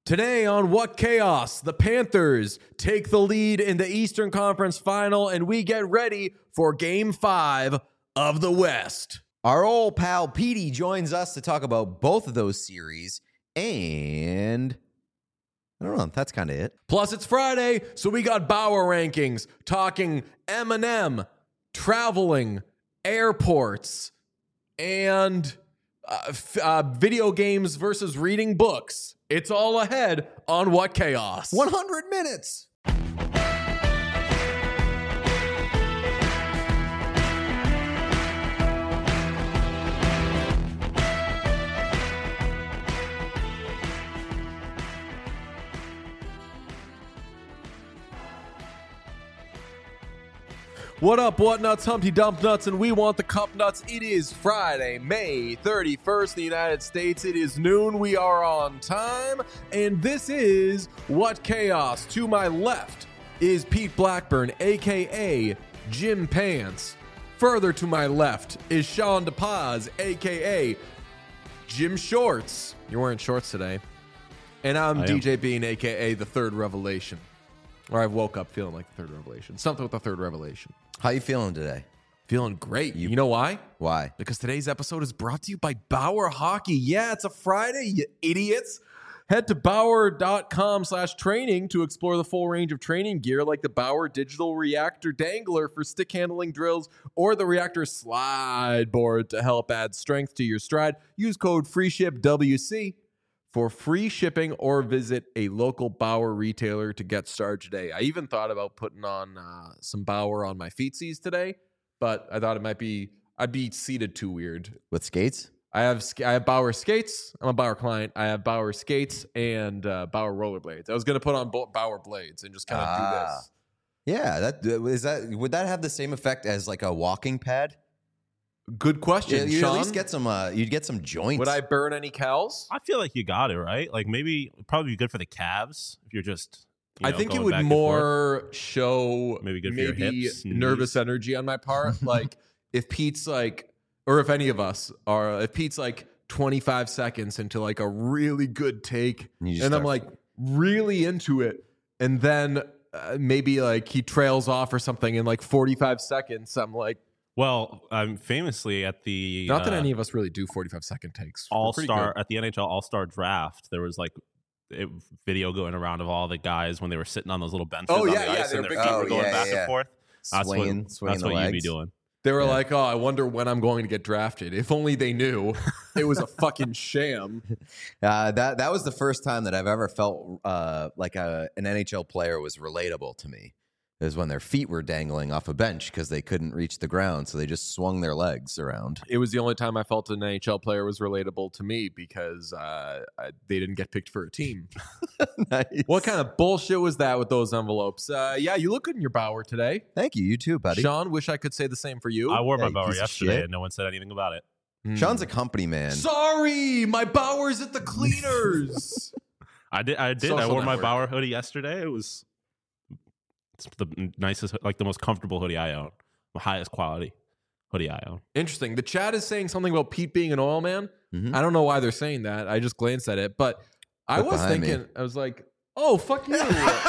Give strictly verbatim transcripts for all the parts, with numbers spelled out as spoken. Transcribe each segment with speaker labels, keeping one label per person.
Speaker 1: Today on What Chaos, the Panthers take the lead in the Eastern Conference Final, and we get ready for Game five of the West.
Speaker 2: Our old pal Petey joins us to talk about both of those series, and I don't know, that's kind of it.
Speaker 1: Plus, it's Friday, so we got Bauer rankings, talking M and M, traveling, airports, and uh, f- uh, video games versus reading books. It's all ahead on What Chaos.
Speaker 2: one hundred minutes.
Speaker 1: What up, what nuts, Humpty Dump Nuts, and we want the Cup Nuts. It is Friday, May thirty-first, in the United States. It is noon. We are on time, and this is What Chaos. To my left is Pete Blackburn, a k a. Jim Pants. Further to my left is Sean DePaz, a k a. Jim Shorts. You're wearing shorts today. And I'm
Speaker 3: I
Speaker 1: D
Speaker 3: am.
Speaker 1: J Bean, a k a. The Third Revelation. Or I woke up feeling like the Third Revelation. Something with the Third Revelation.
Speaker 2: How you feeling today?
Speaker 1: Feeling great. You, you know why?
Speaker 2: Why?
Speaker 1: Because today's episode is brought to you by Bauer Hockey. Yeah, it's a Friday, you idiots. Head to Bauer.com slash training to explore the full range of training gear like the Bauer Digital Reactor Dangler for stick handling drills or the Reactor Slide Board to help add strength to your stride. Use code FREESHIPWC for free shipping or visit a local Bauer retailer to get started today. I even thought about putting on uh, some Bauer on my feetsies today, but I thought it might be, I'd be seated too weird.
Speaker 2: With skates?
Speaker 1: I have sk- I have Bauer skates. I'm a Bauer client. I have Bauer skates and uh, Bauer rollerblades. I was going to put on bo- Bauer blades and just kind of do
Speaker 2: Ah.
Speaker 1: this.
Speaker 2: Yeah, that is that. Would that have the same effect as like a walking pad?
Speaker 1: Good question,
Speaker 2: Yeah, you'd
Speaker 1: Sean.
Speaker 2: at least get some. Uh, you'd get some joints.
Speaker 1: Would I burn any cows?
Speaker 3: I feel like you got it, right? Like maybe it'd probably be good for the calves if you're just. You
Speaker 1: I
Speaker 3: know,
Speaker 1: think it
Speaker 3: going
Speaker 1: would
Speaker 3: back and forth.
Speaker 1: more show
Speaker 3: Maybe good for your
Speaker 1: maybe
Speaker 3: hips and
Speaker 1: nervous
Speaker 3: knees.
Speaker 1: energy on my part. Like if Pete's like, or if any of us are, if Pete's like twenty-five seconds into like a really good take,
Speaker 2: And you just
Speaker 1: and I'm
Speaker 2: start-
Speaker 1: like really into it, and then uh, maybe like he trails off or something in like forty-five seconds. I'm like,
Speaker 3: Well, um, famously at the
Speaker 1: not that
Speaker 3: uh,
Speaker 1: any of us really do forty-five second takes. We're
Speaker 3: All
Speaker 1: pretty
Speaker 3: Star
Speaker 1: good.
Speaker 3: at the N H L All Star Draft, there was like a video going around of all the guys when they were sitting on those little benches
Speaker 1: Oh,
Speaker 3: on
Speaker 1: yeah,
Speaker 3: the
Speaker 1: yeah,
Speaker 3: ice
Speaker 1: they
Speaker 3: and
Speaker 1: were
Speaker 3: their
Speaker 1: big-
Speaker 3: feet
Speaker 2: Oh,
Speaker 3: were going
Speaker 2: yeah,
Speaker 3: back
Speaker 2: yeah,
Speaker 3: and forth. That's
Speaker 2: swinging,
Speaker 3: what,
Speaker 2: swinging
Speaker 3: that's
Speaker 2: the
Speaker 3: what
Speaker 2: legs.
Speaker 3: you'd be doing.
Speaker 1: They were
Speaker 2: Yeah.
Speaker 1: like, oh, I wonder when I'm going to get drafted. If only they knew it was a fucking sham.
Speaker 2: Uh, that that was the first time that I've ever felt uh, like a, an N H L player was relatable to me. It was when their feet were dangling off a bench because they couldn't reach the ground, so they just swung their legs around.
Speaker 1: It was the only time I felt an N H L player was relatable to me because uh, I, they didn't get picked for a team.
Speaker 2: Nice.
Speaker 1: What kind of bullshit was that with those envelopes? Uh, yeah, you look good in your Bauer today.
Speaker 2: Thank you. You too, buddy.
Speaker 1: Sean, wish I could say the same for you.
Speaker 3: I wore
Speaker 2: Yeah,
Speaker 3: my
Speaker 2: you
Speaker 3: Bauer
Speaker 2: piece of
Speaker 3: yesterday
Speaker 2: shit.
Speaker 3: and no one said anything about it.
Speaker 1: Hmm.
Speaker 2: Sean's a company man.
Speaker 1: Sorry, my Bauer's at the cleaners.
Speaker 3: I did. I did. I
Speaker 1: Social
Speaker 3: wore my
Speaker 1: network.
Speaker 3: Bauer hoodie yesterday. It was it's the nicest, like the most comfortable hoodie I own, the highest quality hoodie I own.
Speaker 1: Interesting. The chat is saying something about Pete being an oil man.
Speaker 2: Mhm.
Speaker 1: I don't know why they're saying that. I just glanced at it, but I
Speaker 2: Look
Speaker 1: was
Speaker 2: behind me.
Speaker 1: thinking, I was like, oh, fuck you.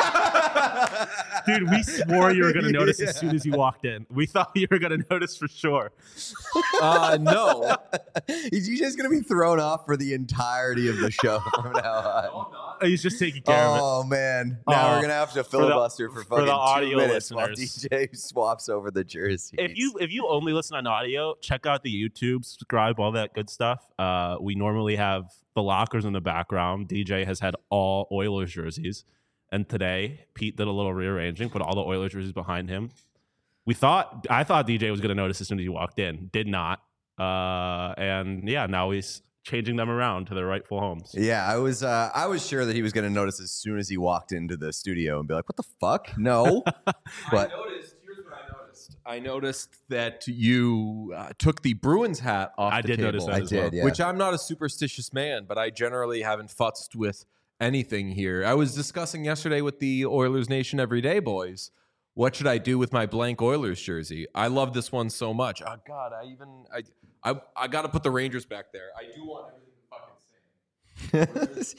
Speaker 3: Dude, we swore you were going to notice
Speaker 2: Yeah.
Speaker 3: as soon as you walked in. We thought you were going to notice for sure.
Speaker 1: uh, no.
Speaker 2: He's just going to be thrown off for the entirety of the show from now on.
Speaker 3: He's just taking care of it.
Speaker 2: Oh, man. Now
Speaker 3: Oh,
Speaker 2: we're going to have to
Speaker 3: for the-
Speaker 2: filibuster for,
Speaker 3: for
Speaker 2: fucking
Speaker 3: the
Speaker 2: two
Speaker 3: audio
Speaker 2: minutes while
Speaker 3: listeners.
Speaker 2: D J swaps over the jerseys.
Speaker 3: If you if you only listen on audio, check out the YouTube, subscribe, all that good stuff. Uh, we normally have the lockers in the background. D J has had all Oilers jerseys, and today Pete did a little rearranging, put all the Oilers jerseys behind him. We thought I thought D J was going to notice as soon as he walked in, did not, uh, and yeah, now he's changing them around to their rightful homes.
Speaker 2: Yeah, I was uh, I was sure that he was going to notice as soon as he walked into the studio and be like, "What the fuck? No." But
Speaker 1: I noticed, here's what I noticed. I noticed that you uh, took the Bruins hat off
Speaker 3: I
Speaker 1: the
Speaker 3: did
Speaker 1: table.
Speaker 3: notice that
Speaker 2: I
Speaker 3: as well.
Speaker 2: did, yeah.
Speaker 1: Which I'm not a superstitious man, but I generally haven't futzed with anything here. I was discussing yesterday with the Oilers Nation Everyday boys. What should I do with my blank Oilers jersey? I love this one so much. Oh God, I even I I, I got to put the Rangers back there. I do want everything to fucking sing.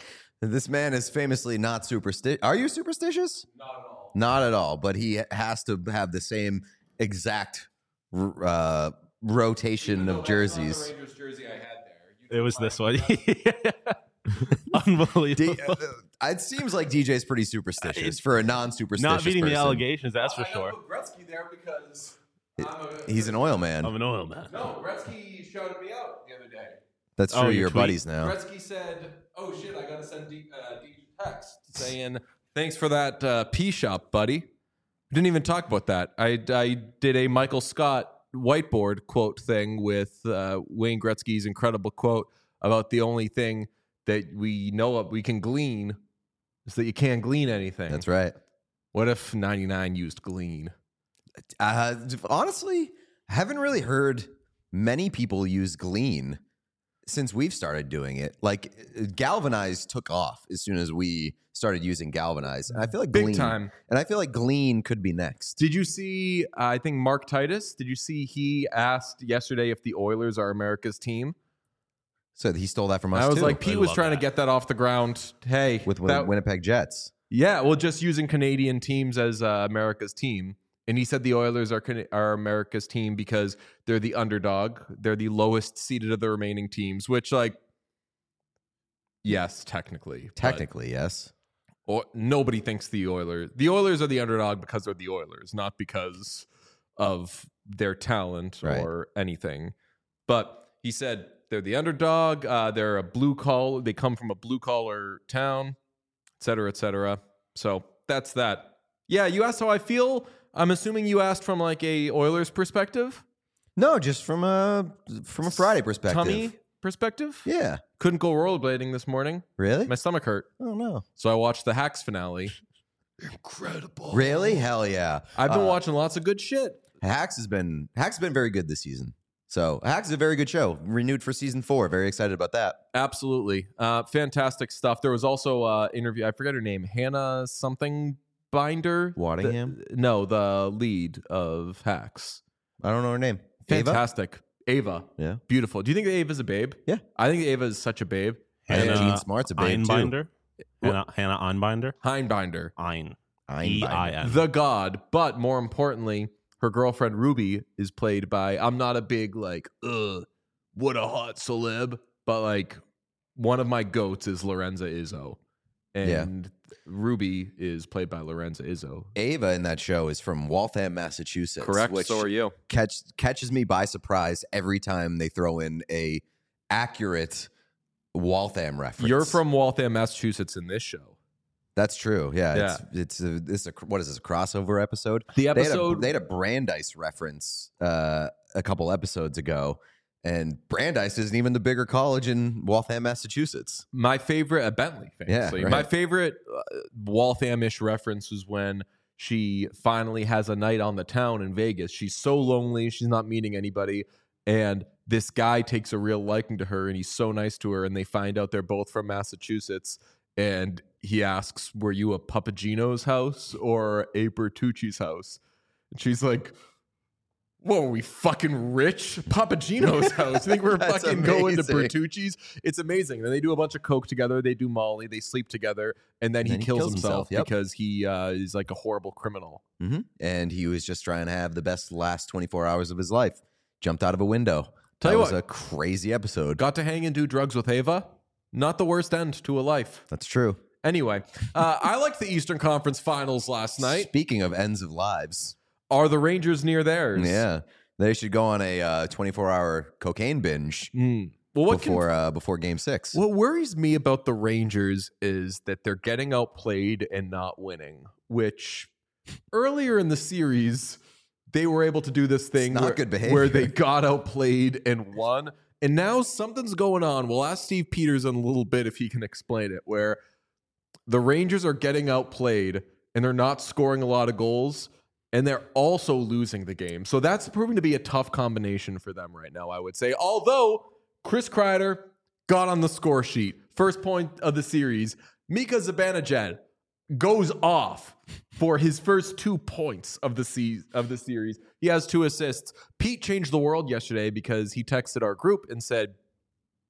Speaker 2: This man is famously not superstitious. Are you superstitious?
Speaker 1: Not at all.
Speaker 2: Not at all. But he has to have the same exact uh, rotation of jerseys.
Speaker 1: The Rangers jersey I had there.
Speaker 3: It was this one. Unbelievable.
Speaker 2: D- uh, it seems like D J's pretty superstitious for a non-superstitious
Speaker 3: Not meeting
Speaker 2: person.
Speaker 3: the allegations, that's for
Speaker 1: I
Speaker 3: sure.
Speaker 1: put Gretzky there because I'm a,
Speaker 2: He's an oil man.
Speaker 3: I'm an oil man.
Speaker 1: No, Gretzky shouted me out the other day.
Speaker 2: That's true.
Speaker 3: Oh, your
Speaker 2: You're
Speaker 3: tweet?
Speaker 2: buddies now.
Speaker 1: Gretzky said, "Oh shit, I gotta send D, uh, D text saying thanks for that uh, P shop, buddy." Didn't even talk about that. I I did a Michael Scott whiteboard quote thing with uh, Wayne Gretzky's incredible quote about the only thing that we know of we can glean is that you can't glean anything.
Speaker 2: That's right.
Speaker 1: What if ninety-nine used glean?
Speaker 2: Uh, honestly, I haven't really heard many people use Glean since we've started doing it. Like Galvanize took off as soon as we started using Galvanize, and I feel like
Speaker 1: Big
Speaker 2: Glean,
Speaker 1: time.
Speaker 2: and I feel like Glean could be next.
Speaker 1: Did you see, uh, I think Mark Titus, did you see he asked yesterday if the Oilers are America's team?
Speaker 2: So he stole that from us.
Speaker 1: I was
Speaker 2: too,
Speaker 1: like, Pete
Speaker 3: I
Speaker 1: was
Speaker 3: love
Speaker 1: trying
Speaker 3: that.
Speaker 1: to get that off the ground. Hey,
Speaker 2: with Win-
Speaker 1: that-
Speaker 2: Winnipeg Jets.
Speaker 1: yeah, well, just using Canadian teams as uh, America's team. And he said the Oilers are Can- are America's team because they're the underdog. They're the lowest seeded of the remaining teams, which, like, yes, technically. but-
Speaker 2: Technically, yes.
Speaker 1: Or nobody thinks the Oilers. The Oilers are the underdog because they're the Oilers, not because of their talent
Speaker 2: Right.
Speaker 1: or anything. But he said they're the underdog. Uh, they're a blue collar. They come from a blue collar town, et cetera, et cetera. So that's that. Yeah, you asked how I feel. I'm assuming you asked from like a Oilers perspective,
Speaker 2: No, just from a from a Friday perspective.
Speaker 1: tummy perspective.
Speaker 2: Yeah.
Speaker 1: Couldn't go rollerblading this morning.
Speaker 2: Really?
Speaker 1: My stomach hurt,
Speaker 2: Oh no.
Speaker 1: so I watched the Hacks finale. Incredible.
Speaker 2: Really? Hell yeah.
Speaker 1: I've been
Speaker 2: Uh,
Speaker 1: watching lots of good shit.
Speaker 2: Hacks has been Hacks has been very good this season. So Hacks is a very good show. Renewed for season four. Very excited about that.
Speaker 1: Absolutely. Uh, fantastic stuff. There was also uh interview. I forget her name. Hannah something Binder.
Speaker 2: Waddingham?
Speaker 1: The- no, the lead of Hacks.
Speaker 2: I don't know her name. Ava?
Speaker 1: Fantastic. Ava.
Speaker 2: Yeah.
Speaker 1: Beautiful. Do you think that Ava's a babe?
Speaker 2: Yeah.
Speaker 1: I think Ava is such a babe.
Speaker 2: And
Speaker 3: Hannah
Speaker 2: Gene Smart's a babe too.
Speaker 3: Einbinder. Hannah, Hannah Einbinder.
Speaker 1: Heinbinder.
Speaker 3: Ein.
Speaker 2: Einbinder.
Speaker 3: E I N.
Speaker 1: The god. But more importantly, her girlfriend Ruby is played by, I'm not a big like, ugh, what a hot celeb, but like one of my goats is Lorenza Izzo. And Ruby is played by Lorenza Izzo.
Speaker 2: Ava in that show is from Waltham, Massachusetts.
Speaker 1: Correct.
Speaker 2: Which
Speaker 1: So are you.
Speaker 2: catch, catches me by surprise every time they throw in a accurate Waltham reference.
Speaker 1: You're from Waltham, Massachusetts in this show.
Speaker 2: That's true. Yeah.
Speaker 1: Yeah.
Speaker 2: It's it's a, this a what is this a crossover episode?
Speaker 1: The
Speaker 2: They had a,
Speaker 1: episode
Speaker 2: they had a Brandeis reference uh, a couple episodes ago, and Brandeis isn't even the bigger college in Waltham, Massachusetts.
Speaker 1: my favorite at Bentley, famously.
Speaker 2: Yeah, right.
Speaker 1: My favorite uh, Waltham-ish reference was when she finally has a night on the town in Vegas. She's so lonely, she's not meeting anybody, and this guy takes a real liking to her, and he's so nice to her, and they find out they're both from Massachusetts, and he asks, "Were you a Papagino's house or a Bertucci's house?" And she's like, "Whoa, are we fucking rich? Papagino's house. You think we're
Speaker 2: That's
Speaker 1: fucking going to
Speaker 2: amazing.
Speaker 1: Bertucci's?" It's amazing. Then they do a bunch of coke together. They do Molly. They sleep together, and then,
Speaker 2: And
Speaker 1: he,
Speaker 2: then he
Speaker 1: kills
Speaker 2: kills
Speaker 1: himself,
Speaker 2: himself, yep.
Speaker 1: because he uh, is like a horrible criminal.
Speaker 2: Mm-hmm. And he was just trying to have the best last twenty-four hours of his life. Jumped out of a window.
Speaker 1: Tell
Speaker 2: that
Speaker 1: you
Speaker 2: was
Speaker 1: what.
Speaker 2: a crazy episode.
Speaker 1: Got to hang and do drugs with Ava. Not the worst end to a life.
Speaker 2: That's true.
Speaker 1: Anyway, uh, I liked the Eastern Conference Finals last night.
Speaker 2: Speaking of ends of lives,
Speaker 1: Are the Rangers near theirs?
Speaker 2: yeah, they should go on a uh, twenty-four hour cocaine binge
Speaker 1: Mm. Well, what can
Speaker 2: before uh, before Game Six.
Speaker 1: What worries me about the Rangers is that they're getting outplayed and not winning, which earlier in the series, they were able to do this thing
Speaker 2: not
Speaker 1: where,
Speaker 2: good behavior.
Speaker 1: where they got outplayed and won. And now something's going on. We'll ask Steve Peters in a little bit if he can explain it, where the Rangers are getting outplayed and they're not scoring a lot of goals, and they're also losing the game. So that's proving to be a tough combination for them right now, I would say. Although Chris Kreider got on the score sheet. First point of the series. Mika Zibanejad goes off for his first two points of the se- of the series. He has two assists. Pete changed the world yesterday because he texted our group and said,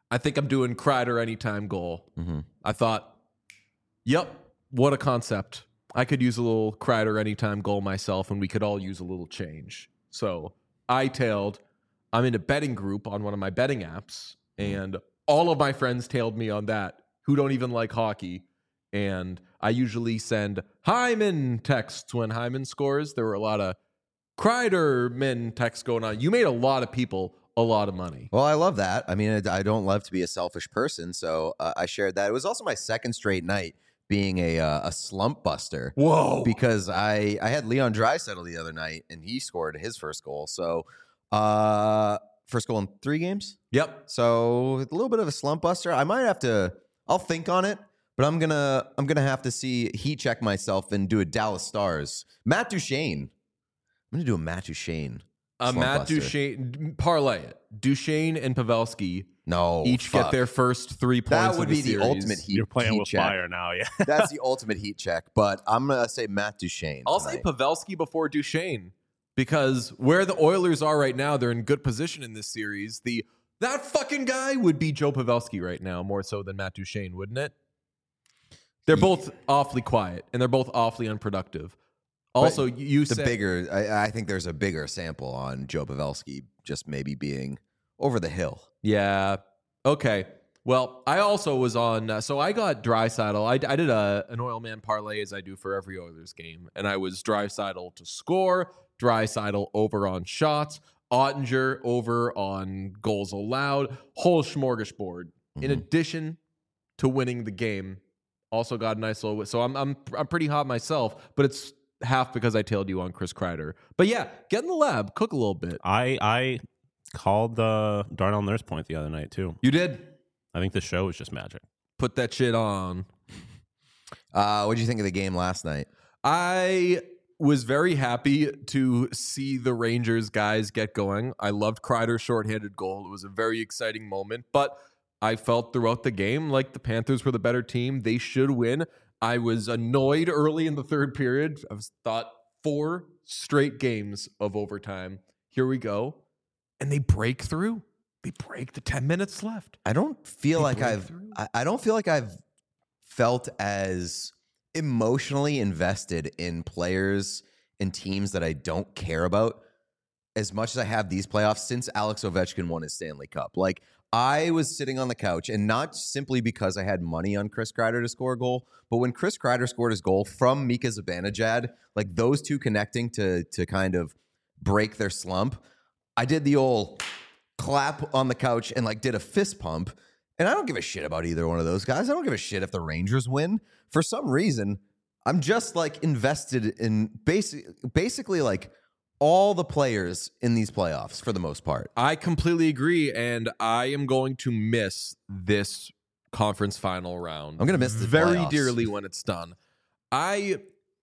Speaker 1: I think I'm doing Kreider anytime goal.
Speaker 2: Mm-hmm.
Speaker 1: I thought, yep, what a concept. I could use a little Kreider anytime goal myself, and we could all use a little change. So I tailed. I'm in a betting group on one of my betting apps, and all of my friends tailed me on that who don't even like hockey. And I usually send Hyman texts when Hyman scores. There were a lot of Kreider men texts going on. You made a lot of people a lot of money.
Speaker 2: Well, I love that. I mean, I don't love to be a selfish person, so uh, I shared that. It was also my second straight night being a uh, a slump buster.
Speaker 1: Whoa.
Speaker 2: Because I, I had Leon Draisaitl the other night, and he scored his first goal. So, uh, first goal in three games?
Speaker 1: Yep.
Speaker 2: So, a little bit of a slump buster. I might have to, I'll think on it, but I'm going to I'm gonna have to see, heat check myself and do a Dallas Stars. Matt Duchene. I'm going to do a Matt Duchene.
Speaker 1: Uh, Matt
Speaker 2: buster.
Speaker 1: Duchene, parlay it. Duchene and Pavelski
Speaker 2: No,
Speaker 1: each
Speaker 2: fuck.
Speaker 1: get their first three points.
Speaker 2: That would
Speaker 1: of
Speaker 2: be
Speaker 1: the,
Speaker 2: the
Speaker 1: series.
Speaker 2: ultimate heat.
Speaker 3: You're playing
Speaker 2: heat
Speaker 3: with
Speaker 2: check.
Speaker 3: fire now, yeah.
Speaker 2: That's the ultimate heat check. But I'm gonna say Matt Duchene.
Speaker 1: I'll
Speaker 2: tonight.
Speaker 1: say Pavelski before Duchene because where the Oilers are right now, they're in good position in this series. The that fucking guy would be Joe Pavelski right now, more so than Matt Duchene, wouldn't it? They're both awfully quiet and they're both awfully unproductive. Also,
Speaker 2: But
Speaker 1: you
Speaker 2: the
Speaker 1: said
Speaker 2: bigger. I, I think there's a bigger sample on Joe Pavelski just maybe being over the hill.
Speaker 1: Yeah. Okay. Well, I also was on. Uh, so I got Draisaitl. I, I did a an oil man parlay as I do for every Oilers game, and I was Draisaitl to score, Draisaitl over on shots, Ottinger over on goals allowed, whole smorgasbord. In
Speaker 2: Mhm.
Speaker 1: addition to winning the game, also got a nice little. So I'm I'm I'm pretty hot myself, but it's half because I tailed you on Chris Kreider. But yeah, get in the lab, cook a little bit.
Speaker 3: I I called the Darnell Nurse point the other night too.
Speaker 1: You did
Speaker 3: I think the show was just magic.
Speaker 1: put that shit on.
Speaker 2: Uh, what did you think of the game last night?
Speaker 1: I was very happy to see the Rangers guys get going. I loved Kreider's shorthanded goal. It was a very exciting moment, but I felt throughout the game like the Panthers were the better team. They should win. I was annoyed early in the third period. I was thought four straight games of overtime. Here we go. And they break through. They break the ten minutes left.
Speaker 2: I don't feel
Speaker 1: They
Speaker 2: like
Speaker 1: break
Speaker 2: I've.
Speaker 1: through.
Speaker 2: I, I don't feel like I've felt as emotionally invested in players and teams that I don't care about as much as I have these playoffs since Alex Ovechkin won his Stanley Cup. Like, I was sitting on the couch, and not simply because I had money on Chris Kreider to score a goal, but when Chris Kreider scored his goal from Mika Zibanejad, like those two connecting to to kind of break their slump, I did the old clap on the couch and like did a fist pump. And I don't give a shit about either one of those guys. I don't give a shit if the Rangers win. For some reason, I'm just like invested in basic, basically like all the players in these playoffs for the most part.
Speaker 1: I completely agree, and I am going to miss this conference final round.
Speaker 2: I'm gonna miss the
Speaker 1: very
Speaker 2: playoffs.
Speaker 1: dearly when it's done. I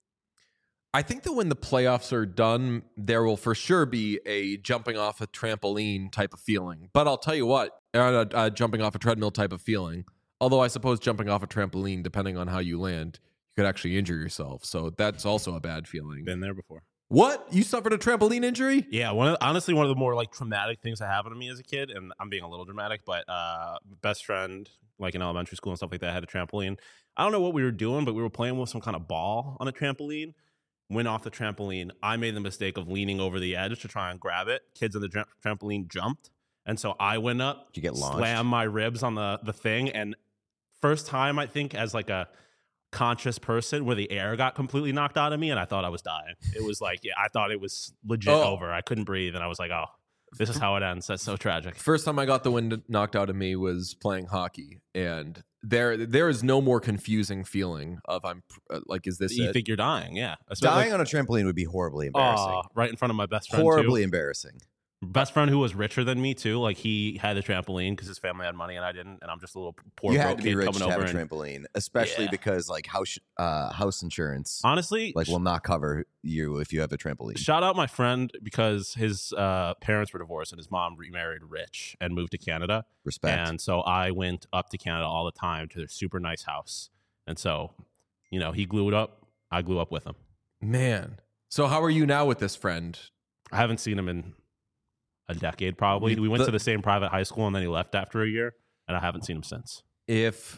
Speaker 1: I think that when the playoffs are done, there will for sure be a jumping off a trampoline type of feeling. But I'll tell you what, uh, uh, jumping off a treadmill type of feeling. Although I suppose jumping off a trampoline, depending on how you land, you could actually injure yourself. So that's also a bad feeling.
Speaker 3: Been there before.
Speaker 1: What? You suffered a trampoline injury?
Speaker 3: Yeah, one of the, honestly one of the more like traumatic things that happened to me as a kid, and I'm being a little dramatic, but uh, best friend like in elementary school and stuff like that had a trampoline. I don't know what we were doing, but we were playing with some kind of ball on a trampoline. Went off the trampoline. I made the mistake of leaning over the edge to try and grab it. Kids on the tra- trampoline jumped, and so I went up,
Speaker 2: Did you get launched?
Speaker 3: slammed my ribs on the the thing, and first time I think as like a conscious person where the air got completely knocked out of me and I thought I was dying. It was like, yeah, I thought it was legit
Speaker 1: Oh.
Speaker 3: over. I couldn't breathe and I was like, oh, this is how it ends. That's so tragic.
Speaker 1: First time I got the wind knocked out of me was playing hockey, and there there is no more confusing feeling of I'm uh, like, is this
Speaker 3: You
Speaker 1: it?
Speaker 3: think you're dying, yeah. Especially
Speaker 2: Dying on a trampoline would be horribly
Speaker 3: like,
Speaker 2: embarrassing.
Speaker 3: oh, right in front of my best friend
Speaker 2: horribly
Speaker 3: too.
Speaker 2: embarrassing.
Speaker 3: Best friend who was richer than me too. Like he had a trampoline because his family had money and I didn't, and I'm just a little poor
Speaker 2: You
Speaker 3: broke
Speaker 2: had to be
Speaker 3: kid
Speaker 2: rich
Speaker 3: coming
Speaker 2: to have
Speaker 3: over.
Speaker 2: a
Speaker 3: And,
Speaker 2: trampoline, especially
Speaker 3: Yeah.
Speaker 2: because like house uh, house insurance
Speaker 3: honestly,
Speaker 2: like will not cover you if you have a trampoline.
Speaker 3: shout out my friend because his uh, parents were divorced and his mom remarried rich and moved to Canada.
Speaker 2: Respect.
Speaker 3: And so I went up to Canada all the time to their super nice house. And so, you know, he glued up. I glue up with him.
Speaker 1: Man. So how are you now with this friend?
Speaker 3: I haven't seen him in a decade probably. We went
Speaker 1: The-
Speaker 3: to the same private high school and then he left after a year. and I haven't seen him since.
Speaker 1: If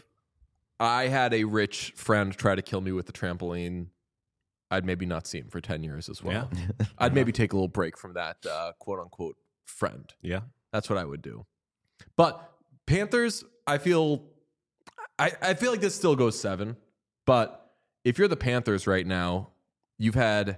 Speaker 1: I had a rich friend try to kill me with the trampoline, I'd maybe not see him for ten years as well.
Speaker 3: Yeah.
Speaker 1: I'd maybe take a little break from that uh, quote unquote friend.
Speaker 3: Yeah.
Speaker 1: That's what I would do. But Panthers, I feel I, I feel like this still goes seven. But if you're the Panthers right now, you've had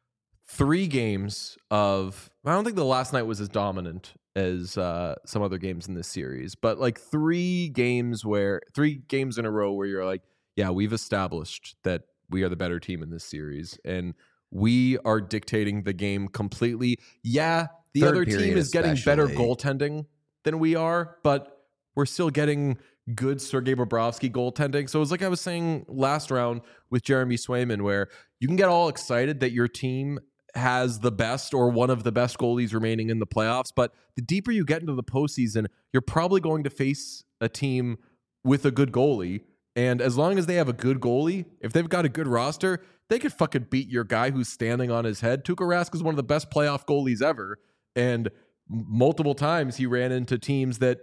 Speaker 1: three games of, I don't think the last night was as dominant as uh, some other games in this series, but like three games where, three games in a row where you're like, yeah, we've established that we are the better team in this series. And we are dictating the game completely. Yeah, the
Speaker 2: Third
Speaker 1: other team
Speaker 2: period
Speaker 1: is getting better
Speaker 2: especially.
Speaker 1: goaltending than we are, but we're still getting good Sergei Bobrovsky goaltending. So it's like I was saying last round with Jeremy Swayman, where you can get all excited that your team has the best or one of the best goalies remaining in the playoffs. But the deeper you get into the postseason, you're probably going to face a team with a good goalie. And as long as they have a good goalie, if they've got a good roster, they could fucking beat your guy who's standing on his head. Tuukka Rask is one of the best playoff goalies ever. And multiple times he ran into teams that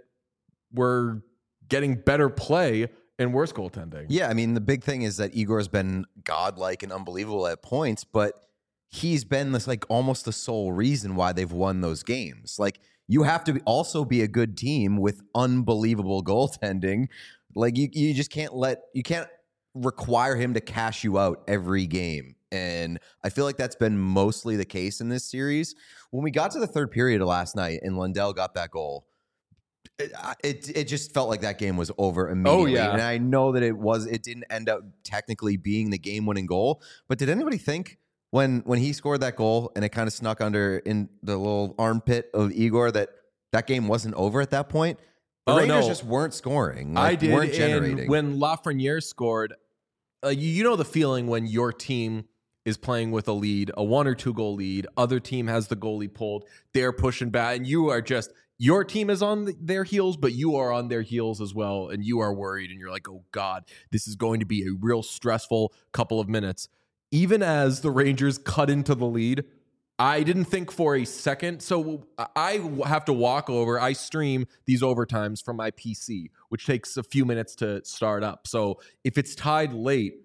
Speaker 1: were getting better play and worse goaltending.
Speaker 2: Yeah, I mean, the big thing is that Igor's been godlike and unbelievable at points, but he's been this like almost the sole reason why they've won those games. Like, you have to be, also be a good team with unbelievable goaltending. Like, you you just can't let you can't require him to cash you out every game. And I feel like that's been mostly the case in this series. When we got to the third period of last night and Lundell got that goal, It, it it just felt like that game was over immediately.
Speaker 1: Oh, yeah.
Speaker 2: And I know that it was it didn't end up technically being the game-winning goal, but did anybody think when when he scored that goal and it kind of snuck under in the little armpit of Igor that that game wasn't over at that point? The
Speaker 1: Oh,
Speaker 2: Rangers
Speaker 1: no.
Speaker 2: just weren't scoring. Like,
Speaker 1: I did.
Speaker 2: weren't generating.
Speaker 1: And when Lafreniere scored, uh, you, you know the feeling when your team is playing with a lead, a one or two goal lead, other team has the goalie pulled, they're pushing back, and you are just, your team is on the, their heels, but you are on their heels as well, and you are worried, and you're like, oh God, this is going to be a real stressful couple of minutes. Even as the Rangers cut into the lead, I didn't think for a second. So I have to walk over. I stream these overtimes from my P C, which takes a few minutes to start up. So if it's tied late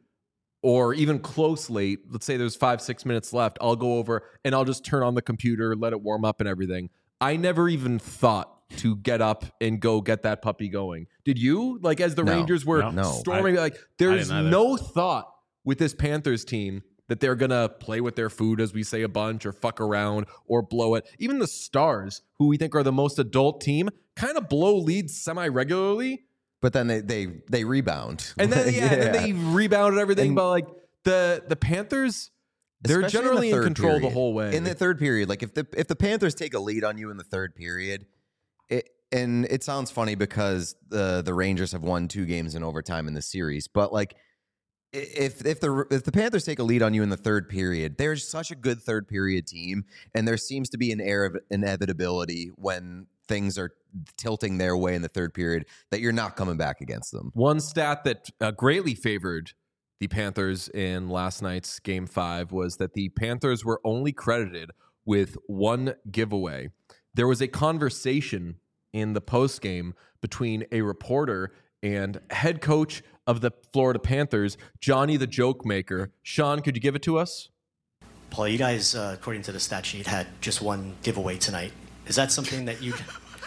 Speaker 1: or even close late, let's say there's five, six minutes left, I'll go over and I'll just turn on the computer, let it warm up and everything. I never even thought to get up and go get that puppy going. Did you? Like, as the
Speaker 2: No,
Speaker 1: Rangers were
Speaker 3: no,
Speaker 2: no.
Speaker 1: storming,
Speaker 3: I-
Speaker 1: like there's
Speaker 3: didn't either.
Speaker 1: no thought with this Panthers team that they're going to play with their food, as we say, a bunch, or fuck around or blow it. Even the Stars, who we think are the most adult team, kind of blow leads semi-regularly.
Speaker 2: But then they they they rebound.
Speaker 1: And then, yeah, and then they rebounded everything.
Speaker 2: And-
Speaker 1: but like the the Panthers, they're
Speaker 2: Especially
Speaker 1: generally
Speaker 2: the
Speaker 1: in,
Speaker 2: third
Speaker 1: control the
Speaker 2: period.
Speaker 1: whole way.
Speaker 2: In the third period, like if the if the Panthers take a lead on you in the third period, it and it sounds funny because the the Rangers have won two games in overtime in the series, but like i- if if the if the Panthers take a lead on you in the third period, they're such a good third period team, and there seems to be an air of inevitability when things are tilting their way in the third period that you're not coming back against them.
Speaker 1: One stat that uh, greatly favored the Panthers in last night's game five was that the Panthers were only credited with one giveaway. There was a conversation in the postgame between a reporter and head coach of the Florida Panthers, Johnny the Joke Maker. Sean, could you give it to us?
Speaker 4: Paul, you guys, uh, according to the stat sheet, had just one giveaway tonight. Is that something that you?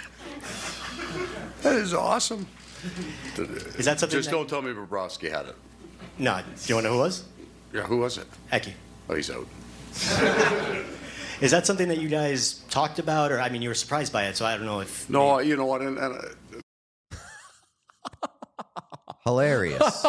Speaker 5: That is awesome.
Speaker 4: Is that something?
Speaker 5: Just
Speaker 4: that,
Speaker 5: don't tell me Bobrovsky had it.
Speaker 4: No. Do you want to know who it was?
Speaker 5: Yeah, who was it?
Speaker 4: Eki.
Speaker 5: Oh, he's out.
Speaker 4: Is that something that you guys talked about, or I mean, you were surprised by it? So I don't know if.
Speaker 5: No, you know what? And, and uh,
Speaker 2: Hilarious.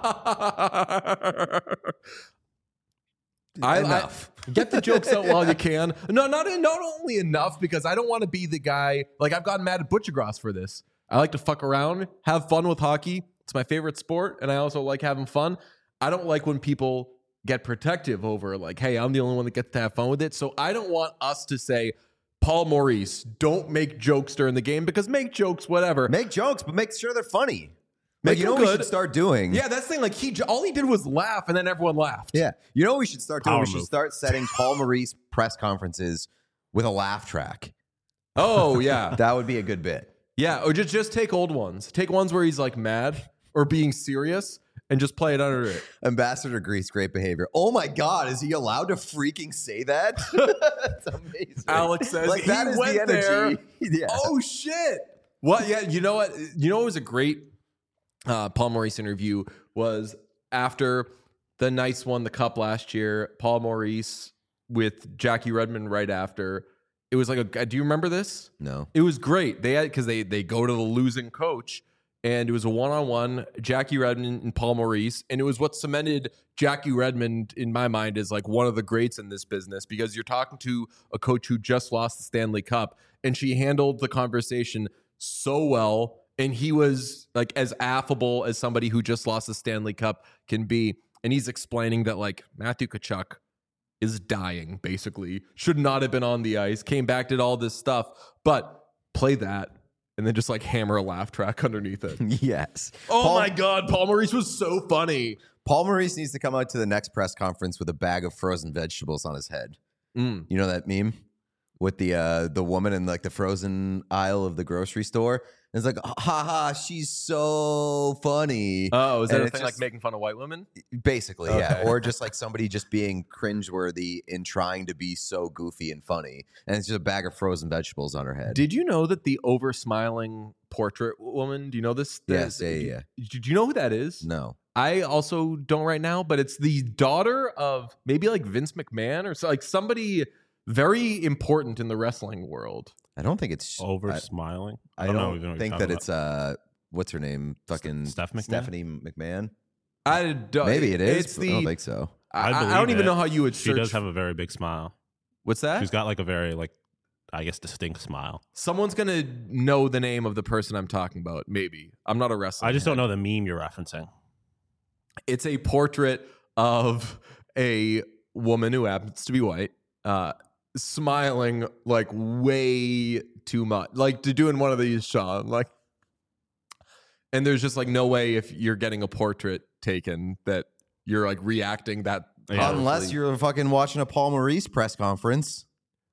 Speaker 1: I,
Speaker 2: Enough.
Speaker 1: I- get the jokes out while you can. No, not not only enough, because I don't want to be the guy. Like, I've gotten mad at Butchergross for this. I like to fuck around, have fun with hockey. It's my favorite sport, and I also like having fun. I don't like when people get protective over, like, hey, I'm the only one that gets to have fun with it. So I don't want us to say, Paul Maurice, don't make jokes during the game, because make jokes, whatever.
Speaker 2: Make jokes, but make sure they're funny.
Speaker 1: Make
Speaker 2: Like, you
Speaker 1: them
Speaker 2: know what we
Speaker 1: good.
Speaker 2: should start doing?
Speaker 1: Yeah, that's the thing. Like, he all he did was laugh, and then everyone laughed.
Speaker 2: Yeah. You know what we should start doing?
Speaker 3: Power
Speaker 2: we should
Speaker 3: move.
Speaker 2: start setting Paul Maurice press conferences with a laugh track.
Speaker 1: Oh, yeah.
Speaker 2: That would be a good bit.
Speaker 1: Yeah, or just just take old ones. Take ones where he's like mad or being serious, and just play it under it.
Speaker 2: Ambassador Grease, great behavior. Oh my God, is he allowed to freaking say that? That's amazing.
Speaker 1: Alex says
Speaker 2: like,
Speaker 1: he
Speaker 2: that is
Speaker 1: went
Speaker 2: the energy. Yeah.
Speaker 1: Oh shit! What? Yeah, you know what? You know what was a great uh, Paul Maurice interview was after the Knights won the cup last year. Paul Maurice with Jackie Redmond right after. It was like a. Do you remember this?
Speaker 2: No.
Speaker 1: It was great. They had because they they go to the losing coach. And it was a one-on-one, Jackie Redmond and Paul Maurice. And it was what cemented Jackie Redmond, in my mind, as like one of the greats in this business, because you're talking to a coach who just lost the Stanley Cup, and she handled the conversation so well. And he was like as affable as somebody who just lost the Stanley Cup can be. And he's explaining that like Matthew Tkachuk is dying, basically. Should not have been on the ice. Came back, did all this stuff. But play that. And then just like hammer a laugh track underneath it.
Speaker 2: Yes.
Speaker 1: Oh
Speaker 2: Paul,
Speaker 1: my God, Paul Maurice was so funny.
Speaker 2: Paul Maurice needs to come out to the next press conference with a bag of frozen vegetables on his head.
Speaker 1: Mm.
Speaker 2: You know that meme with the uh, the woman in like the frozen aisle of the grocery store? And it's like, ha ha, she's so funny.
Speaker 1: Oh, is that
Speaker 2: And
Speaker 1: a
Speaker 2: it's
Speaker 1: thing
Speaker 2: just-
Speaker 1: like making fun of white women?
Speaker 2: Basically, yeah.
Speaker 1: Okay.
Speaker 2: Or just like somebody just being cringeworthy in trying to be so goofy and funny. And it's just a bag of frozen vegetables on her head.
Speaker 1: Did you know that the over smiling portrait woman, do you know this?
Speaker 2: Yes,
Speaker 1: this-
Speaker 2: yeah, yeah.
Speaker 1: Do you know who that is?
Speaker 2: No.
Speaker 1: I also don't right now, but it's the daughter of maybe like Vince McMahon or so, like somebody very important in the wrestling world.
Speaker 2: I don't think it's
Speaker 3: Over
Speaker 2: I,
Speaker 3: smiling.
Speaker 2: I
Speaker 3: don't
Speaker 2: don't,
Speaker 3: know even what you're
Speaker 2: think
Speaker 3: talking
Speaker 2: that it's uh what's her name? Fucking
Speaker 3: Steph McMahon?
Speaker 2: Stephanie McMahon.
Speaker 1: I don't,
Speaker 2: Maybe it is.
Speaker 1: It's
Speaker 2: but
Speaker 1: the,
Speaker 2: I don't think so.
Speaker 1: I,
Speaker 3: I
Speaker 1: I
Speaker 3: believe
Speaker 1: don't even
Speaker 3: it.
Speaker 1: know how you would
Speaker 3: She
Speaker 1: search.
Speaker 3: does have a very big smile.
Speaker 1: What's that?
Speaker 3: She's got like a very like, I guess, distinct smile.
Speaker 1: Someone's gonna know the name of the person I'm talking about. Maybe I'm not a wrestler.
Speaker 3: I just don't know the meme you're referencing.
Speaker 1: It's a portrait of a woman who happens to be white, uh, smiling like way too much, like to doing one of these, Sean. Like, and there's just like no way if you're getting a portrait taken that you're like reacting that.
Speaker 3: Yeah.
Speaker 2: Unless you're fucking watching a Paul Maurice press conference.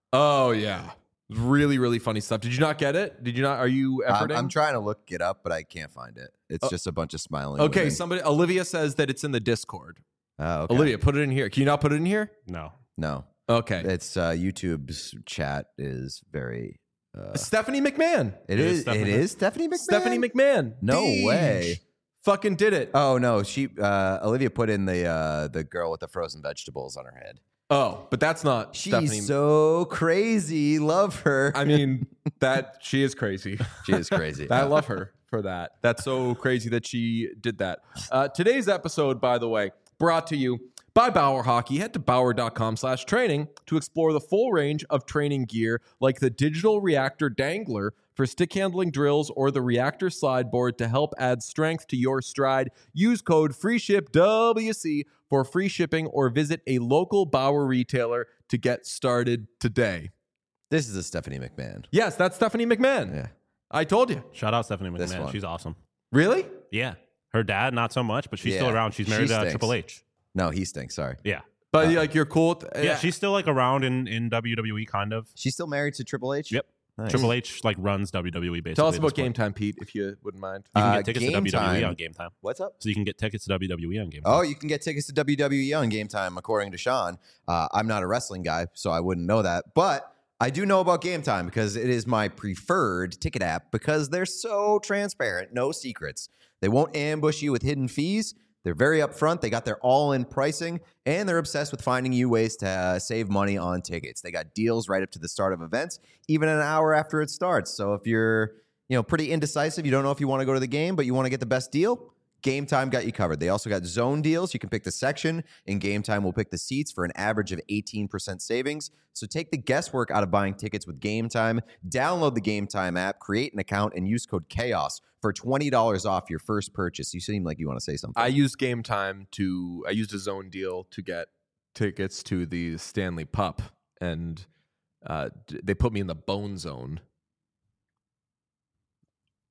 Speaker 1: Oh yeah, really really funny stuff. Did you not get it? Did you not? Are you
Speaker 2: I'm,
Speaker 1: efforting?
Speaker 2: I'm trying to look it up, but I can't find it. It's
Speaker 1: Uh,
Speaker 2: just a bunch of smiling.
Speaker 1: Okay,
Speaker 2: women.
Speaker 1: somebody. Olivia says that it's in the Discord.
Speaker 2: Oh, okay.
Speaker 1: Olivia, put it in here. Can you not put it in here?
Speaker 3: No.
Speaker 2: No,
Speaker 1: Okay.
Speaker 2: it's uh, YouTube's chat is very. Uh,
Speaker 1: Stephanie McMahon.
Speaker 2: it
Speaker 3: It is
Speaker 2: is. It
Speaker 3: Stephanie-
Speaker 2: is Stephanie McMahon.
Speaker 1: Stephanie McMahon.
Speaker 2: No
Speaker 1: Deej.
Speaker 2: way.
Speaker 1: Fucking did it.
Speaker 2: Oh no, she uh, Olivia put in the uh, the girl with the frozen vegetables on her head.
Speaker 1: Oh, but that's not
Speaker 2: She's
Speaker 1: Stephanie.
Speaker 2: so crazy. Love her.
Speaker 1: I mean, that she is crazy.
Speaker 2: she is crazy.
Speaker 1: I love her for that. That's so crazy that she did that. Uh, today's episode, by the way, brought to you by Bauer Hockey. Head to bauer.com slash training to explore the full range of training gear like the digital reactor dangler for stick handling drills or the reactor slide board to help add strength to your stride. Use code FREESHIPWC for free shipping or visit a local Bauer retailer to get started today.
Speaker 2: This is a Stephanie McMahon.
Speaker 1: Yes, that's Stephanie McMahon.
Speaker 2: Yeah.
Speaker 1: I told you.
Speaker 3: Shout out Stephanie
Speaker 2: This
Speaker 3: McMahon.
Speaker 2: one.
Speaker 3: She's awesome.
Speaker 1: Really?
Speaker 3: Yeah. Her dad, not so much, but she's still
Speaker 2: Yeah.
Speaker 3: around. She's married
Speaker 2: She
Speaker 3: to
Speaker 2: stinks.
Speaker 3: Triple H.
Speaker 2: No, he stinks. Sorry.
Speaker 3: Yeah.
Speaker 1: But
Speaker 2: Uh,
Speaker 1: like you're cool. With,
Speaker 3: Yeah, she's still like around in, in W W E, kind of.
Speaker 2: She's still married to Triple H.
Speaker 3: Yep.
Speaker 2: Nice.
Speaker 3: Triple H like runs W W E basically.
Speaker 1: Tell us
Speaker 3: at
Speaker 1: about
Speaker 3: this point.
Speaker 1: Game Time, Pete, if you wouldn't mind.
Speaker 3: You can
Speaker 2: Uh,
Speaker 3: get tickets
Speaker 2: Game
Speaker 3: to W W E
Speaker 2: Time.
Speaker 3: on Game Time.
Speaker 2: What's up?
Speaker 3: So you can get tickets to W W E on Game Time.
Speaker 2: Oh, you can get tickets to W W E on Game Time, according to Sean. Uh, I'm not a wrestling guy, so I wouldn't know that. But I do know about Game Time because it is my preferred ticket app because they're so transparent, no secrets. They won't ambush you with hidden fees. They're very upfront. They got their all-in pricing, and they're obsessed with finding you ways to uh, save money on tickets. They got deals right up to the start of events, even an hour after it starts. So if you're, you know, pretty indecisive, you don't know if you want to go to the game, but you want to get the best deal, Game Time got you covered. They also got zone deals. You can pick the section, and Game Time will pick the seats for an average of eighteen percent savings. So take the guesswork out of buying tickets with Game Time. Download the Game Time app, create an account, and use code CHAOS for twenty dollars off your first purchase. You seem like you want to say something.
Speaker 1: I used Game Time to, I used a zone deal to get tickets to the Stanley Pup, and uh, d- they put me in the Bone Zone.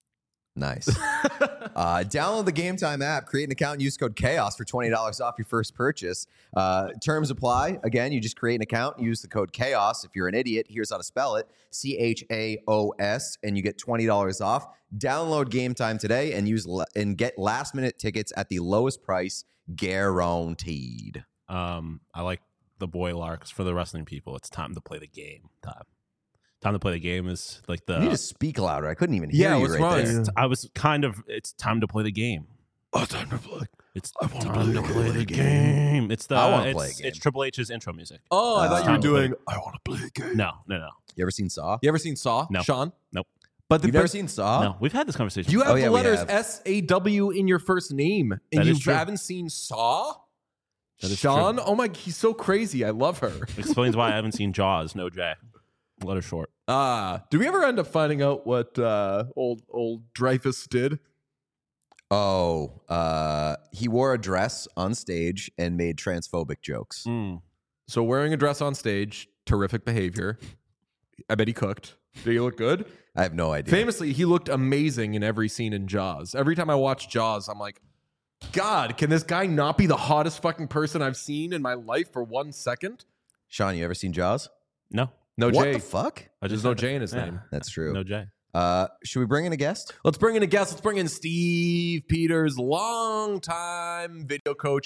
Speaker 2: Nice. uh, download the Game Time app, create an account, and use code CHAOS for twenty dollars off your first purchase. Uh, terms apply. Again, you just create an account, use the code CHAOS. If you're an idiot, here's how to spell it. C H A O S, and you get twenty dollars off. Download Game Time today and use and get last-minute tickets at the lowest price guaranteed.
Speaker 3: Um, I like the boy larks for the wrestling people. It's time to play the game. Time. Time to play the game is like the.
Speaker 2: You need to speak louder. I couldn't even hear
Speaker 1: Yeah,
Speaker 2: you
Speaker 1: what's
Speaker 2: right
Speaker 1: wrong?
Speaker 2: there.
Speaker 3: It's, I was kind of. It's time to play the game.
Speaker 1: Oh, time to play.
Speaker 3: It's
Speaker 1: I wanna
Speaker 3: time
Speaker 1: play
Speaker 3: to play the game. It's the.
Speaker 2: I wanna
Speaker 3: it's,
Speaker 2: play a game.
Speaker 3: It's Triple H's intro music.
Speaker 1: Oh, I
Speaker 2: Uh,
Speaker 1: thought you were
Speaker 3: time to play.
Speaker 1: doing. I want to play a game.
Speaker 3: No, no, no,
Speaker 2: You ever seen Saw?
Speaker 1: You ever seen Saw?
Speaker 3: No.
Speaker 1: Sean?
Speaker 3: Nope.
Speaker 1: But the
Speaker 2: You've never
Speaker 1: best-
Speaker 2: seen Saw?
Speaker 3: no. We've had this conversation.
Speaker 1: You have
Speaker 2: Oh, yeah,
Speaker 1: the
Speaker 2: we
Speaker 1: letters
Speaker 2: have.
Speaker 1: S A W in your first name, and
Speaker 3: That
Speaker 1: you
Speaker 3: is true.
Speaker 1: haven't seen Saw?
Speaker 3: That is
Speaker 1: Sean?
Speaker 3: true.
Speaker 1: Oh my, he's so crazy. I love her.
Speaker 3: Explains why I haven't seen Jaws. No J. Letter short.
Speaker 1: Ah, did we ever end up finding out what uh, old old Dreyfus did?
Speaker 2: Oh, uh, he wore a dress on stage and made transphobic jokes.
Speaker 3: Mm.
Speaker 1: So wearing a dress on stage, terrific behavior. I bet he cooked. Did he look good?
Speaker 2: I have no idea.
Speaker 1: Famously, he looked amazing in every scene in Jaws. Every time I watch Jaws, I'm like, God, can this guy not be the hottest fucking person I've seen in my life for one second?
Speaker 2: Sean, you ever seen Jaws?
Speaker 3: No.
Speaker 1: No
Speaker 2: what
Speaker 1: J.
Speaker 2: the fuck?
Speaker 3: I
Speaker 1: There's
Speaker 3: just
Speaker 1: no
Speaker 3: said
Speaker 1: J
Speaker 3: it.
Speaker 1: in his
Speaker 3: Yeah.
Speaker 1: name.
Speaker 2: That's true.
Speaker 3: No J.
Speaker 2: Uh, should we bring in a guest?
Speaker 1: Let's bring in a guest. Let's bring in Steve Peters, longtime video coach